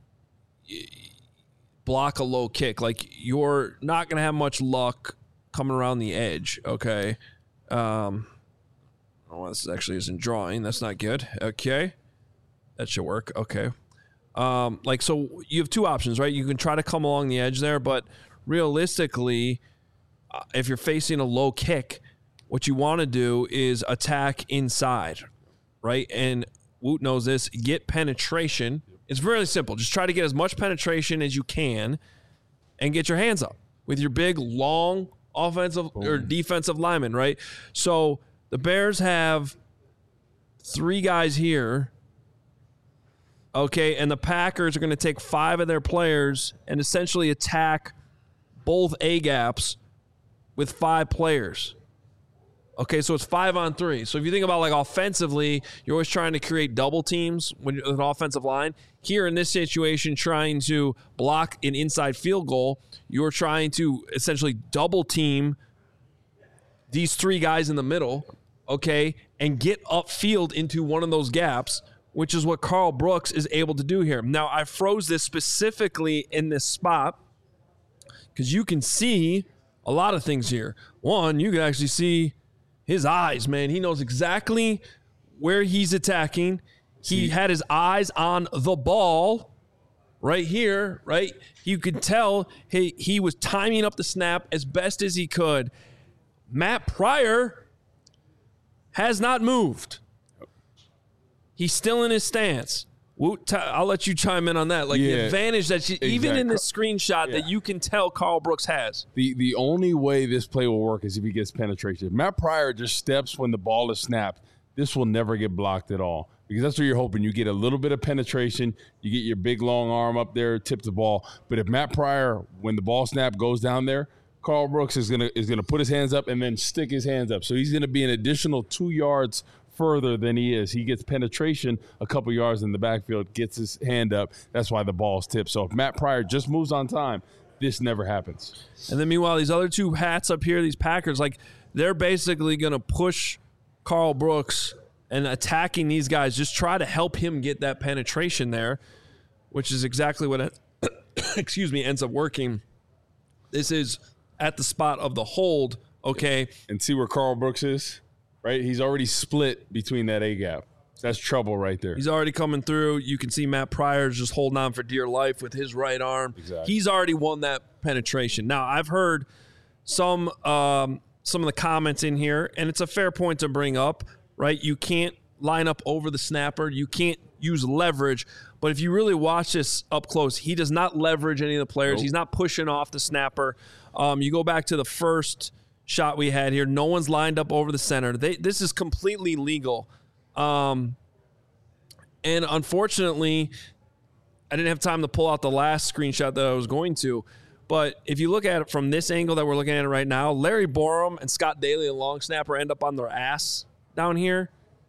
block a low kick, like you're not going to have much luck coming around the edge, okay? Um, oh, this actually isn't drawing. That's not good. Okay. That should work. Okay. Um, like, so you have two options, right? You can try to come along the edge there, but realistically, uh, if you're facing a low kick, what you want to do is attack inside, right? And Woot knows this. Get penetration. It's really simple. Just try to get as much penetration as you can and get your hands up with your big, long offensive or defensive lineman, right? So the Bears have three guys here. Okay, and the Packers are going to take five of their players and essentially attack both A-gaps with five players. Okay, so it's five on three. So if you think about like offensively, you're always trying to create double teams when you're an offensive line. Here in this situation, trying to block an inside field goal, you're trying to essentially double team these three guys in the middle, okay, and get upfield into one of those gaps, which is what Carl Brooks is able to do here. Now, I froze this specifically in this spot because you can see a lot of things here. One, you can actually see His eyes, man. He knows exactly where he's attacking. He had his eyes on the ball right here, right? You could tell he, he was timing up the snap as best as he could. Matt Pryor has not moved. He's still in his stance. I'll let you chime in on that. Like Yeah, the advantage that you, even exactly. in this screenshot Yeah. that you can tell Carl Brooks has. The the only way this play will work is if he gets penetration. If Matt Pryor just steps when the ball is snapped, this will never get blocked at all. Because that's what you're hoping. You get a little bit of penetration, you get your big long arm up there, tip the ball. But if Matt Pryor, when the ball snap goes down there, Carl Brooks is gonna is gonna put his hands up and then stick his hands up. So he's gonna be an additional two yards further than he is. He gets penetration a couple yards in the backfield, gets his hand up. That's why the ball's tipped. So if Matt Pryor just moves on time, this never happens. And then meanwhile, these other two hats up here, these Packers, like they're basically going to push Carl Brooks and attacking these guys, just try to help him get that penetration there, which is exactly what, it, excuse me, ends up working. This is at the spot of the hold, okay? And see where Carl Brooks is? Right? He's already split between that A-gap. That's trouble right there. He's already coming through. You can see Matt Pryor's just holding on for dear life with his right arm. Exactly. He's already won that penetration. Now, I've heard some um, some of the comments in here, and it's a fair point to bring up, right? You can't line up over the snapper. You can't use leverage. But if you really watch this up close, he does not leverage any of the players. Nope. He's not pushing off the snapper. Um, you go back to the first shot we had here. No one's lined up over the center. They, this is completely legal. Um, and unfortunately, I didn't have time to pull out the last screenshot that I was going to. But if you look at it from this angle that we're looking at it right now, Larry Borum and Scott Daly, the long snapper, end up on their ass down here.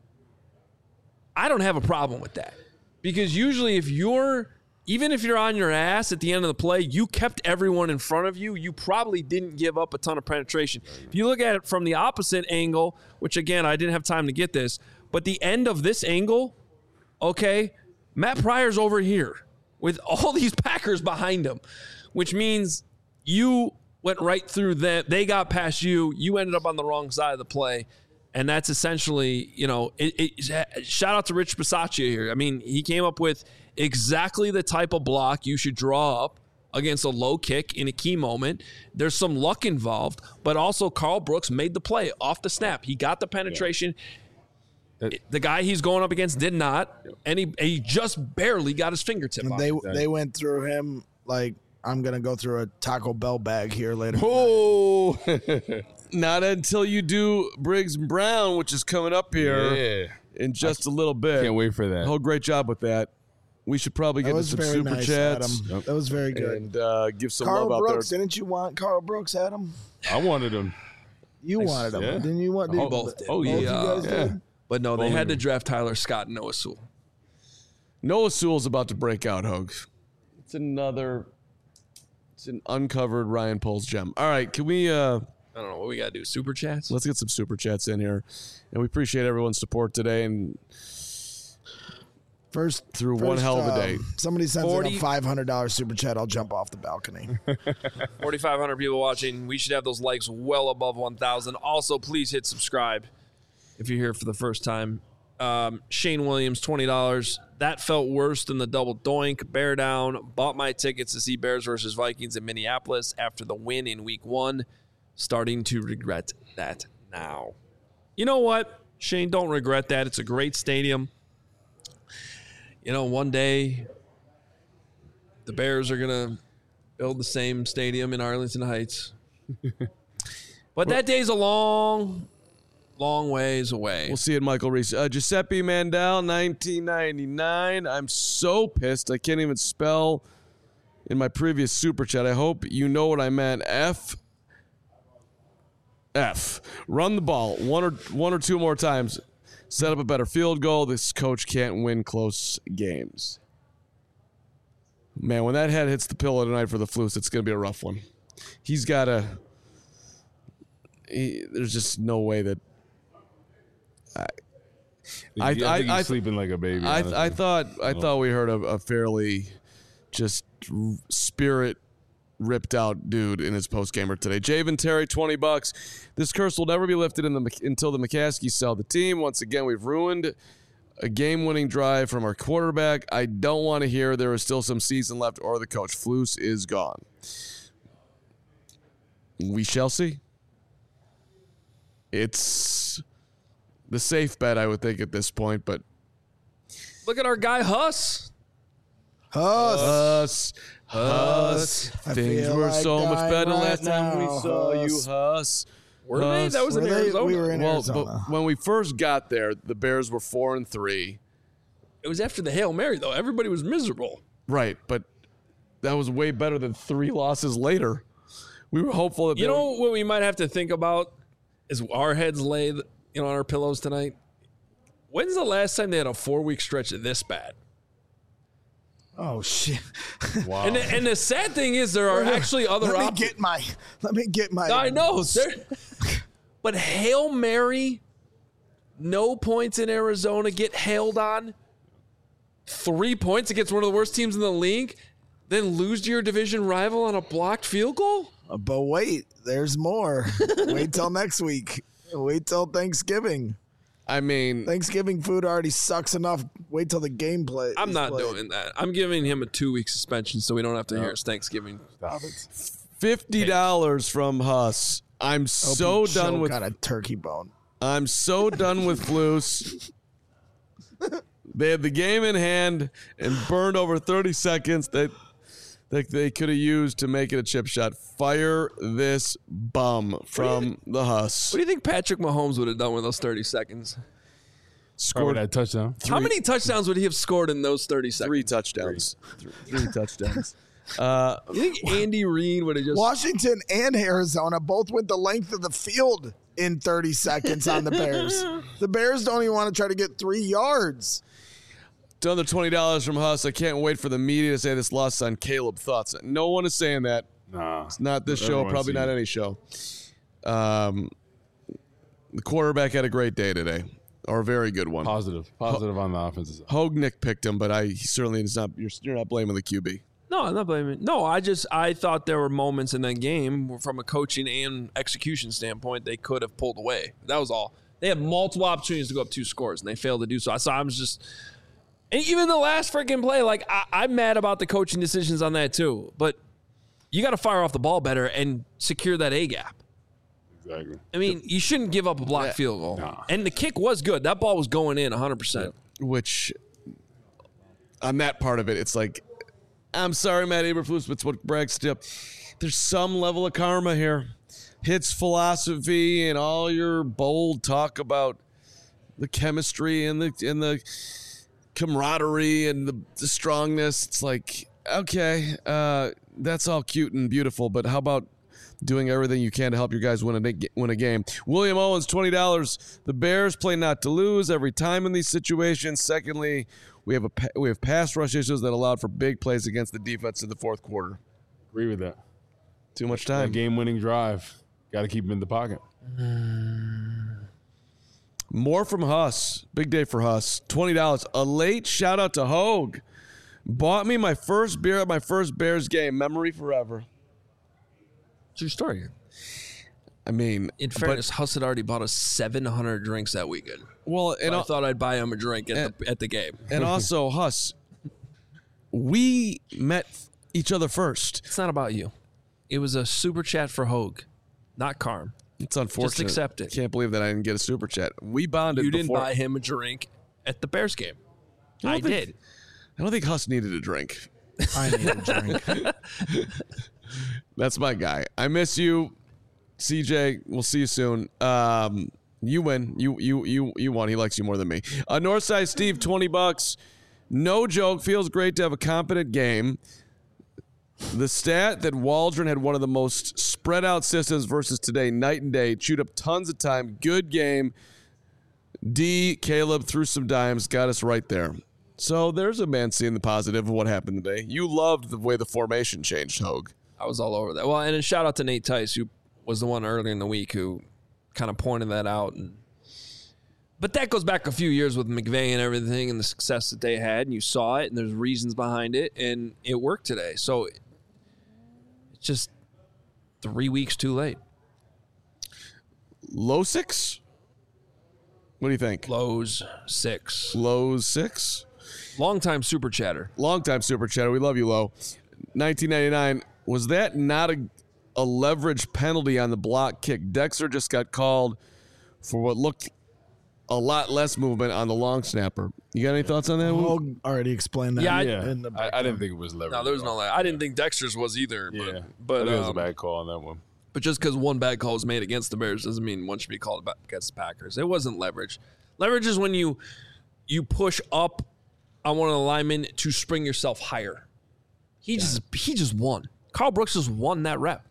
I don't have a problem with that. Because usually if you're, even if you're on your ass at the end of the play, you kept everyone in front of you. You probably didn't give up a ton of penetration. If you look at it from the opposite angle, which again, I didn't have time to get this, but the end of this angle, okay, Matt Pryor's over here with all these Packers behind him, which means you went right through them. They got past you. You ended up on the wrong side of the play. And that's essentially, you know, it, it, shout out to Rich Bisaccia here. I mean, he came up with exactly the type of block you should draw up against a low kick in a key moment. There's some luck involved, but also Carl Brooks made the play off the snap. He got the penetration. Yeah. The guy he's going up against did not, and he, he just barely got his fingertip on They it. they went through him like I'm gonna go through a Taco Bell bag here later. Oh, not until you do Briggs and Brown, which is coming up here Yeah. in just a little bit. Can't wait for that. Oh, great job with that. We should probably That get into was some very super nice, chats. Adam. That was very good. And uh, give some Carl love Brooks, out there. didn't you want Carl Brooks, Adam? I wanted him. You wanted him, Yeah. didn't you want? We did- both did. both you guys yeah. did? But no, they Only had to him. draft Tyler Scott and Noah Sewell. Noah Sewell's about to break out, Hogs. It's another. It's an uncovered Ryan Poles gem. All right, can we? Uh, I don't know what we got to do. Super chats? Let's get some super chats in here, and we appreciate everyone's support today. And First, through first, one hell of a um, day. Somebody sends in forty a five hundred dollars super chat. I'll jump off the balcony. forty-five hundred people watching. We should have those likes well above one thousand. Also, please hit subscribe if you're here for the first time. Um, Shane Williams, twenty dollars. That felt worse than the double doink. Bear down. Bought my tickets to see Bears versus Vikings in Minneapolis after the win in week one. Starting to regret that now. You know what, Shane? Don't regret that. It's a great stadium. You know, one day the Bears are going to build the same stadium in Arlington Heights. But that day's a long, long ways away. We'll see it, Michael Reese. Uh, Giuseppe Mandel, nineteen ninety-nine. I'm so pissed. I can't even spell in my previous super chat. I hope you know what I meant. F. F. Run the ball one or one or two more times. Set up a better field goal. This coach can't win close games. Man, when that head hits the pillow tonight for the Flus, it's going to be a rough one. He's got to... He, there's just no way that... I, I, I, I think I, he's I, sleeping like a baby. I, honestly. I thought I Oh. thought we heard a, a fairly just spirit ripped out dude in his post gamer today. Javen Terry, twenty bucks. This curse will never be lifted in the until the McCaskies sell the team. Once again, we've ruined a game-winning drive from our quarterback. I don't want to hear there is still some season left or the coach. Flus is gone. We shall see. It's the safe bet, I would think, at this point, but look at our guy Huss. Huss. Huss. Huss. I Things feel were like so much dying better right last time we now, saw you, Huss. Huss. Were they? Huss. That was in Were they? Arizona. We were in well, Arizona. but when we first got there, the Bears were four and three. It was after the Hail Mary, though. Everybody was miserable. Right, but that was way better than three losses later. We were hopeful that You they know would- what we might have to think about is our heads laid, you know, on our pillows tonight. When's the last time they had a four-week stretch this bad? Oh shit! Wow. And the, and the sad thing is, there are actually other Let me options. get my. Let me get my. I know, there- but Hail Mary, no points in Arizona, get hailed on. Three points against one of the worst teams in the league, then lose to your division rival on a blocked field goal? But wait, there's more. Wait till next week. Wait till Thanksgiving. I mean, Thanksgiving food already sucks enough. Wait till the game play. I'm is not played. doing that. I'm giving him a two-week suspension so we don't have to hear his Thanksgiving. fifty dollars from Huss. I'm Hope so you done choke with on a turkey bone. I'm so done with Flus. They had the game in hand and burned over thirty seconds that that they could have used to make it a chip shot. Fire this bum from the Huss. What do you think Patrick Mahomes would have done with those thirty seconds? Scored that touchdown. How many touchdowns would he have scored in those thirty seconds? Three touchdowns. Three, three touchdowns. Uh, You think Andy Reid would have just Washington and Arizona both went the length of the field in thirty seconds on the Bears. The Bears don't even want to try to get three yards. Another twenty dollars from Huss. I can't wait for the media to say this loss on Caleb. Thoughts? No one is saying that. Nah. It's not this But show, everyone's probably seen not it. any show. Um, the quarterback had a great day today, or a very good one. Positive. Positive on the offensive side. Hogue Nick picked him, but I he certainly is not. You're, you're not blaming the Q B. No, I'm not blaming. No, I just I thought there were moments in that game where from a coaching and execution standpoint they could have pulled away. That was all. They had multiple opportunities to go up two scores and they failed to do so. So I was just, and even the last freaking play, like I, I'm mad about the coaching decisions on that too. But you got to fire off the ball better and secure that A gap. Exactly. I mean, you shouldn't give up a blocked field goal. And the kick was good. That ball was going in one hundred percent. Which, on that part of it, it's like, I'm sorry, Matt Eberflus, but it's what brags to. There's some level of karma here. Hits philosophy and all your bold talk about the chemistry and the and the camaraderie and the, the strongness. It's like, okay, uh, that's all cute and beautiful, but how about doing everything you can to help your guys win a win a game? William Owens, twenty dollars. The Bears play not to lose every time in these situations. Secondly, we have a we have pass rush issues that allowed for big plays against the defense in the fourth quarter. Agree with that. Too much time. Game-winning drive. Got to keep him in the pocket. More from Huss. Big day for Huss. twenty dollars. A late shout out to Hogue. Bought me my first beer at my first Bears game. Memory forever. True story. I mean, in fairness, Huss had already bought us seven hundred drinks that weekend. Well, and So I al- thought I'd buy him a drink at, and- the, at the game. And also, Huss, we met each other first. It's not about you. It was a super chat for Hogue, not Carm. It's unfortunate. Just accept it. Can't believe that I didn't get a super chat. We bonded You didn't before. buy him a drink at the Bears game. I I don't think- did. I don't think Huss needed a drink. I need a drink. That's my guy. I miss you, C J. We'll see you soon. Um, you win. You you you you won. He likes you more than me. Uh, Northside Steve, twenty bucks. No joke. Feels great to have a competent game. The stat that Waldron had one of the most spread out systems versus today, night and day. Chewed up tons of time. Good game. D, Caleb threw some dimes, got us right there. So there's a man seeing the positive of what happened today. You loved the way the formation changed, Hogue. I was all over that. Well, and a shout out to Nate Tice, who was the one earlier in the week who kind of pointed that out. And but that goes back a few years with McVay and everything and the success that they had, and you saw it, and there's reasons behind it, and it worked today. So it's just three weeks too late. Low six? What do you think? Lows six. Lows six? Longtime super chatter. Longtime super chatter. We love you, Low. nineteen ninety-nine. Was that not a, a leverage penalty on the block kick? Dexter just got called for what looked a lot less movement on the long snapper. You got any thoughts on that? Hogue already explained that. Yeah, I, Yeah, I, I didn't think it was leverage. No, there was no. I didn't think Dexter's was either. But, Yeah, but I think it was a um, bad call on that one. But just because one bad call was made against the Bears doesn't mean one should be called against the Packers. It wasn't leverage. Leverage is when you you push up on one of the linemen to spring yourself higher. He just he just won. Carl Brooks just won that rep.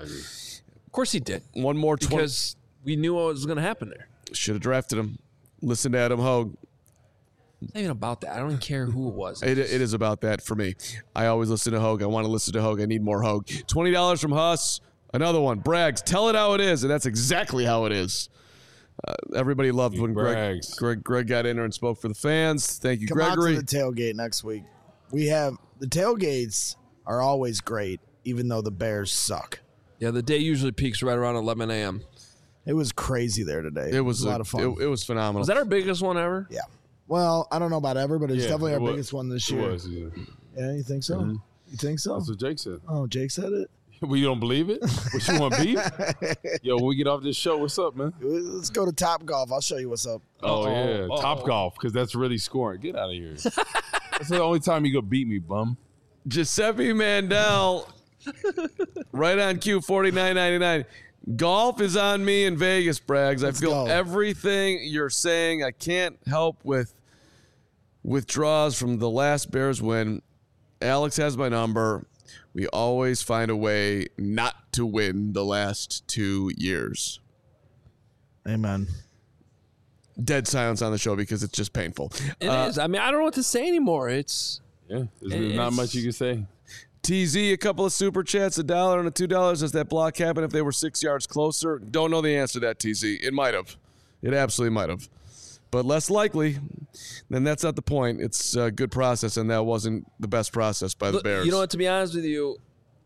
Of course he did. One more twenty. Because we knew what was going to happen there. Should have drafted him. Listen to Adam Hogue. It's not even about that. I don't even care who it was. It, it is about that for me. I always listen to Hogue. I want to listen to Hogue. I need more Hogue. twenty dollars from Huss. Another one. Braggs. Tell it how it is. And that's exactly how it is. Uh, everybody loved when Greg, Greg Greg got in there and spoke for the fans. Thank you, Come Gregory. out to the tailgate next week. We have the tailgates are always great, even though the Bears suck. Yeah, the day usually peaks right around eleven a.m. It was crazy there today. It was a, a lot of fun. It, it was phenomenal. Was that our biggest one ever? Yeah. Well, I don't know about ever, but it's Yeah, definitely it our was. biggest one this It year. was, yeah. Yeah, you think so? Mhm. You think so? That's what Jake said. Oh, Jake said it? Well, you don't believe it? What, you want beef? Yo, when we get off this show, what's up, man? Let's go to Top Golf. I'll show you what's up. Oh, yeah. Uh-oh. Top Golf, because that's really scoring. Get out of here. That's the only time you go beat me, bum. Giuseppe Mandel, right on cue, forty-nine ninety-nine. Golf is on me in Vegas, Braggs. I Let's feel go. everything you're saying. I can't help with withdrawals from the last Bears win. Alex has my number. We always find a way not to win the last two years. Amen. Dead silence on the show because it's just painful. It Uh, is. I mean, I don't know what to say anymore. It's Yeah, there's It- not it's- much you can say. T Z, a couple of super chats, a dollar and a two dollars. Does that block happen if they were six yards closer? Don't know the answer to that, T Z. It might have. It absolutely might have. But less likely, then that's not the point. It's a good process, and that wasn't the best process by the Look, Bears. You know what? To be honest with you,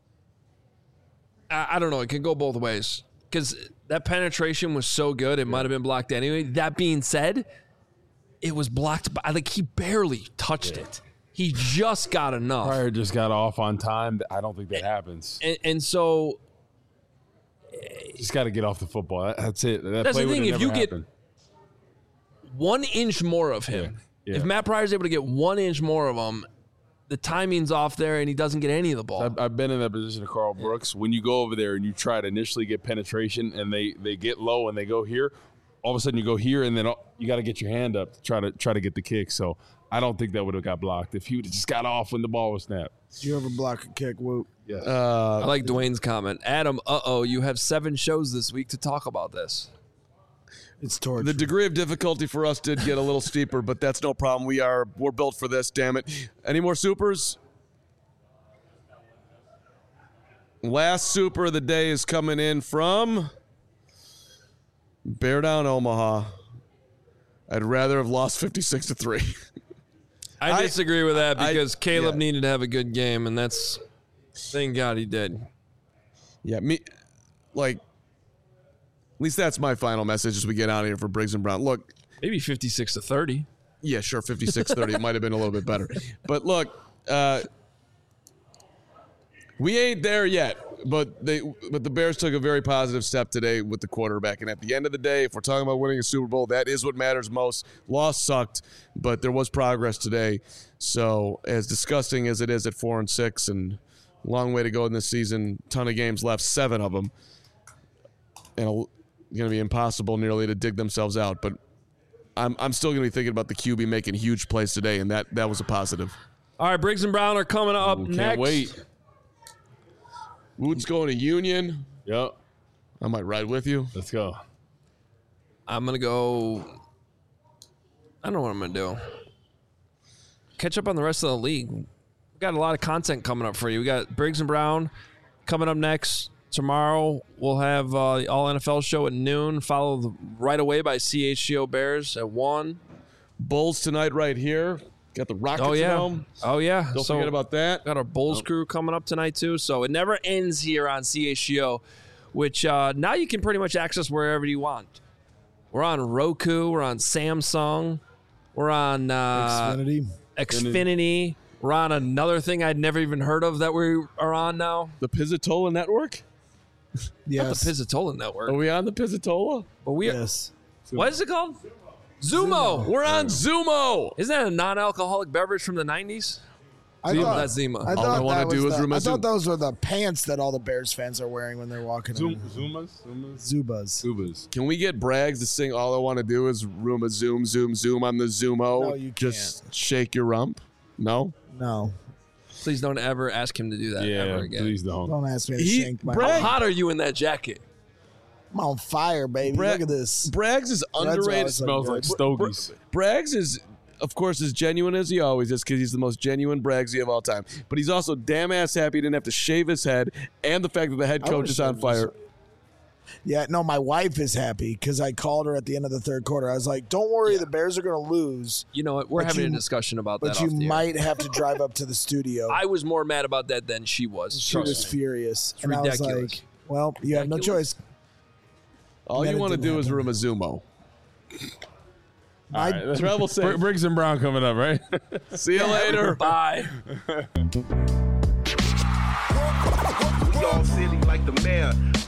I, I don't know. It can go both ways because that penetration was so good. It might have been blocked anyway. That being said, it was blocked by like he barely touched it. He just got enough. Pryor just got off on time. I don't think that happens. And, and so Just got to get off the football. That- That's it. That That's play the thing, would've if never you get- happened. one inch more of him. Yeah, yeah. If Matt Pryor's able to get one inch more of him, the timing's off there and he doesn't get any of the ball. I've, I've been in that position of Carl Brooks. When you go over there and you try to initially get penetration and they, they get low and they go here, all of a sudden you go here and then all- you got to get your hand up to try to try to get the kick. So I don't think that would have got blocked if he would have just got off when the ball was snapped. Did you ever block a kick, Whoop? Yeah. Uh, I like Dwayne's comment. Adam, uh-oh, you have seven shows this week to talk about this. It's torture. The degree of difficulty for us did get a little steeper, but that's no problem. We are we're built for this. Damn it! Any more supers? Last super of the day is coming in from Bear Down Omaha. I'd rather have lost fifty-six to three. I, I- disagree with that I- because Caleb yeah. needed to have a good game, and that's thank God he did. Yeah, me like at least that's my final message as we get out of here for Briggs and Brown. Look, maybe fifty-six to thirty. Yeah, sure, fifty-six thirty. It might have been a little bit better. But look, uh, we ain't there yet. But they, but the Bears took a very positive step today with the quarterback. And at the end of the day, if we're talking about winning a Super Bowl, that is what matters most. Loss sucked, but there was progress today. So as disgusting as it is at four and six, and long way to go in this season, ton of games left, seven of them, and it's going to be impossible nearly to dig themselves out. But I'm I'm still going to be thinking about the Q B making huge plays today, and that that was a positive. All right, Briggs and Brown are coming up Can't next. wait. Wood's going to Union. Yep. I might ride with you. Let's go. I'm going to go. I don't know what I'm going to do. Catch up on the rest of the league. We got a lot of content coming up for you. We got Briggs and Brown coming up next. Tomorrow, we'll have uh, the All N F L show at noon, followed right away by C H G O Bears at one. Bulls tonight right here. Got the Rockets Oh yeah, at home. oh yeah. Don't So, forget about that. Got our Bulls crew coming up tonight too. So it never ends here on C H G O, which uh, now you can pretty much access wherever you want. We're on Roku. We're on Samsung. We're on uh, Xfinity. Xfinity. We're on another thing I'd never even heard of that we are on now. The Pizzatola Network? Yes. Not the Pizzatola Network. Are we on the Pizzatola? But we yes. What is it called? Zumo. We're on Zumo. Isn't that a non-alcoholic beverage from the nineties? I Zima. thought, That's Zima. I All thought I wanna that was do is the- Ruma I Zoom. thought those were the pants that all the Bears fans are wearing when they're walking. Zoom, in. Zumas, Zumas, Zubas. Zubas. Can we get Braggs to sing All I Want to Do is Rooma Zoom, Zoom, Zoom on the Zumo? No, you Just shake your rump? No? No. Please don't ever ask him to do that Yeah, ever again. please don't. Don't ask me to He- shank my. Bragg- How hot are you in that jacket? I'm on fire, baby. Bra- Look at this. Braggs is why I underrated. was like, Smells good. like stogies. Braggs is, of course, as genuine as he always is because he's the most genuine Braggsy of all time. But he's also damn ass happy he didn't have to shave his head, and the fact that the head I coach would've is on shaved fire. Yeah, no, my wife is happy because I called her at the end of the third quarter. I was like, "Don't worry, the Bears are going to lose, You know what? We're But having you- a discussion about but that. you off the air. might have to drive up to the studio." I was more mad about that than she was. She Trust was me. furious, It's and I was ridiculous. like, "Well, you have no Ridiculous. choice." All And you then it want to didn't do is happen. Rooma Zumo. All right, let's- Travel safe. Br- Briggs and Brown coming up, right? See you later. Bye. We all silly like the mayor.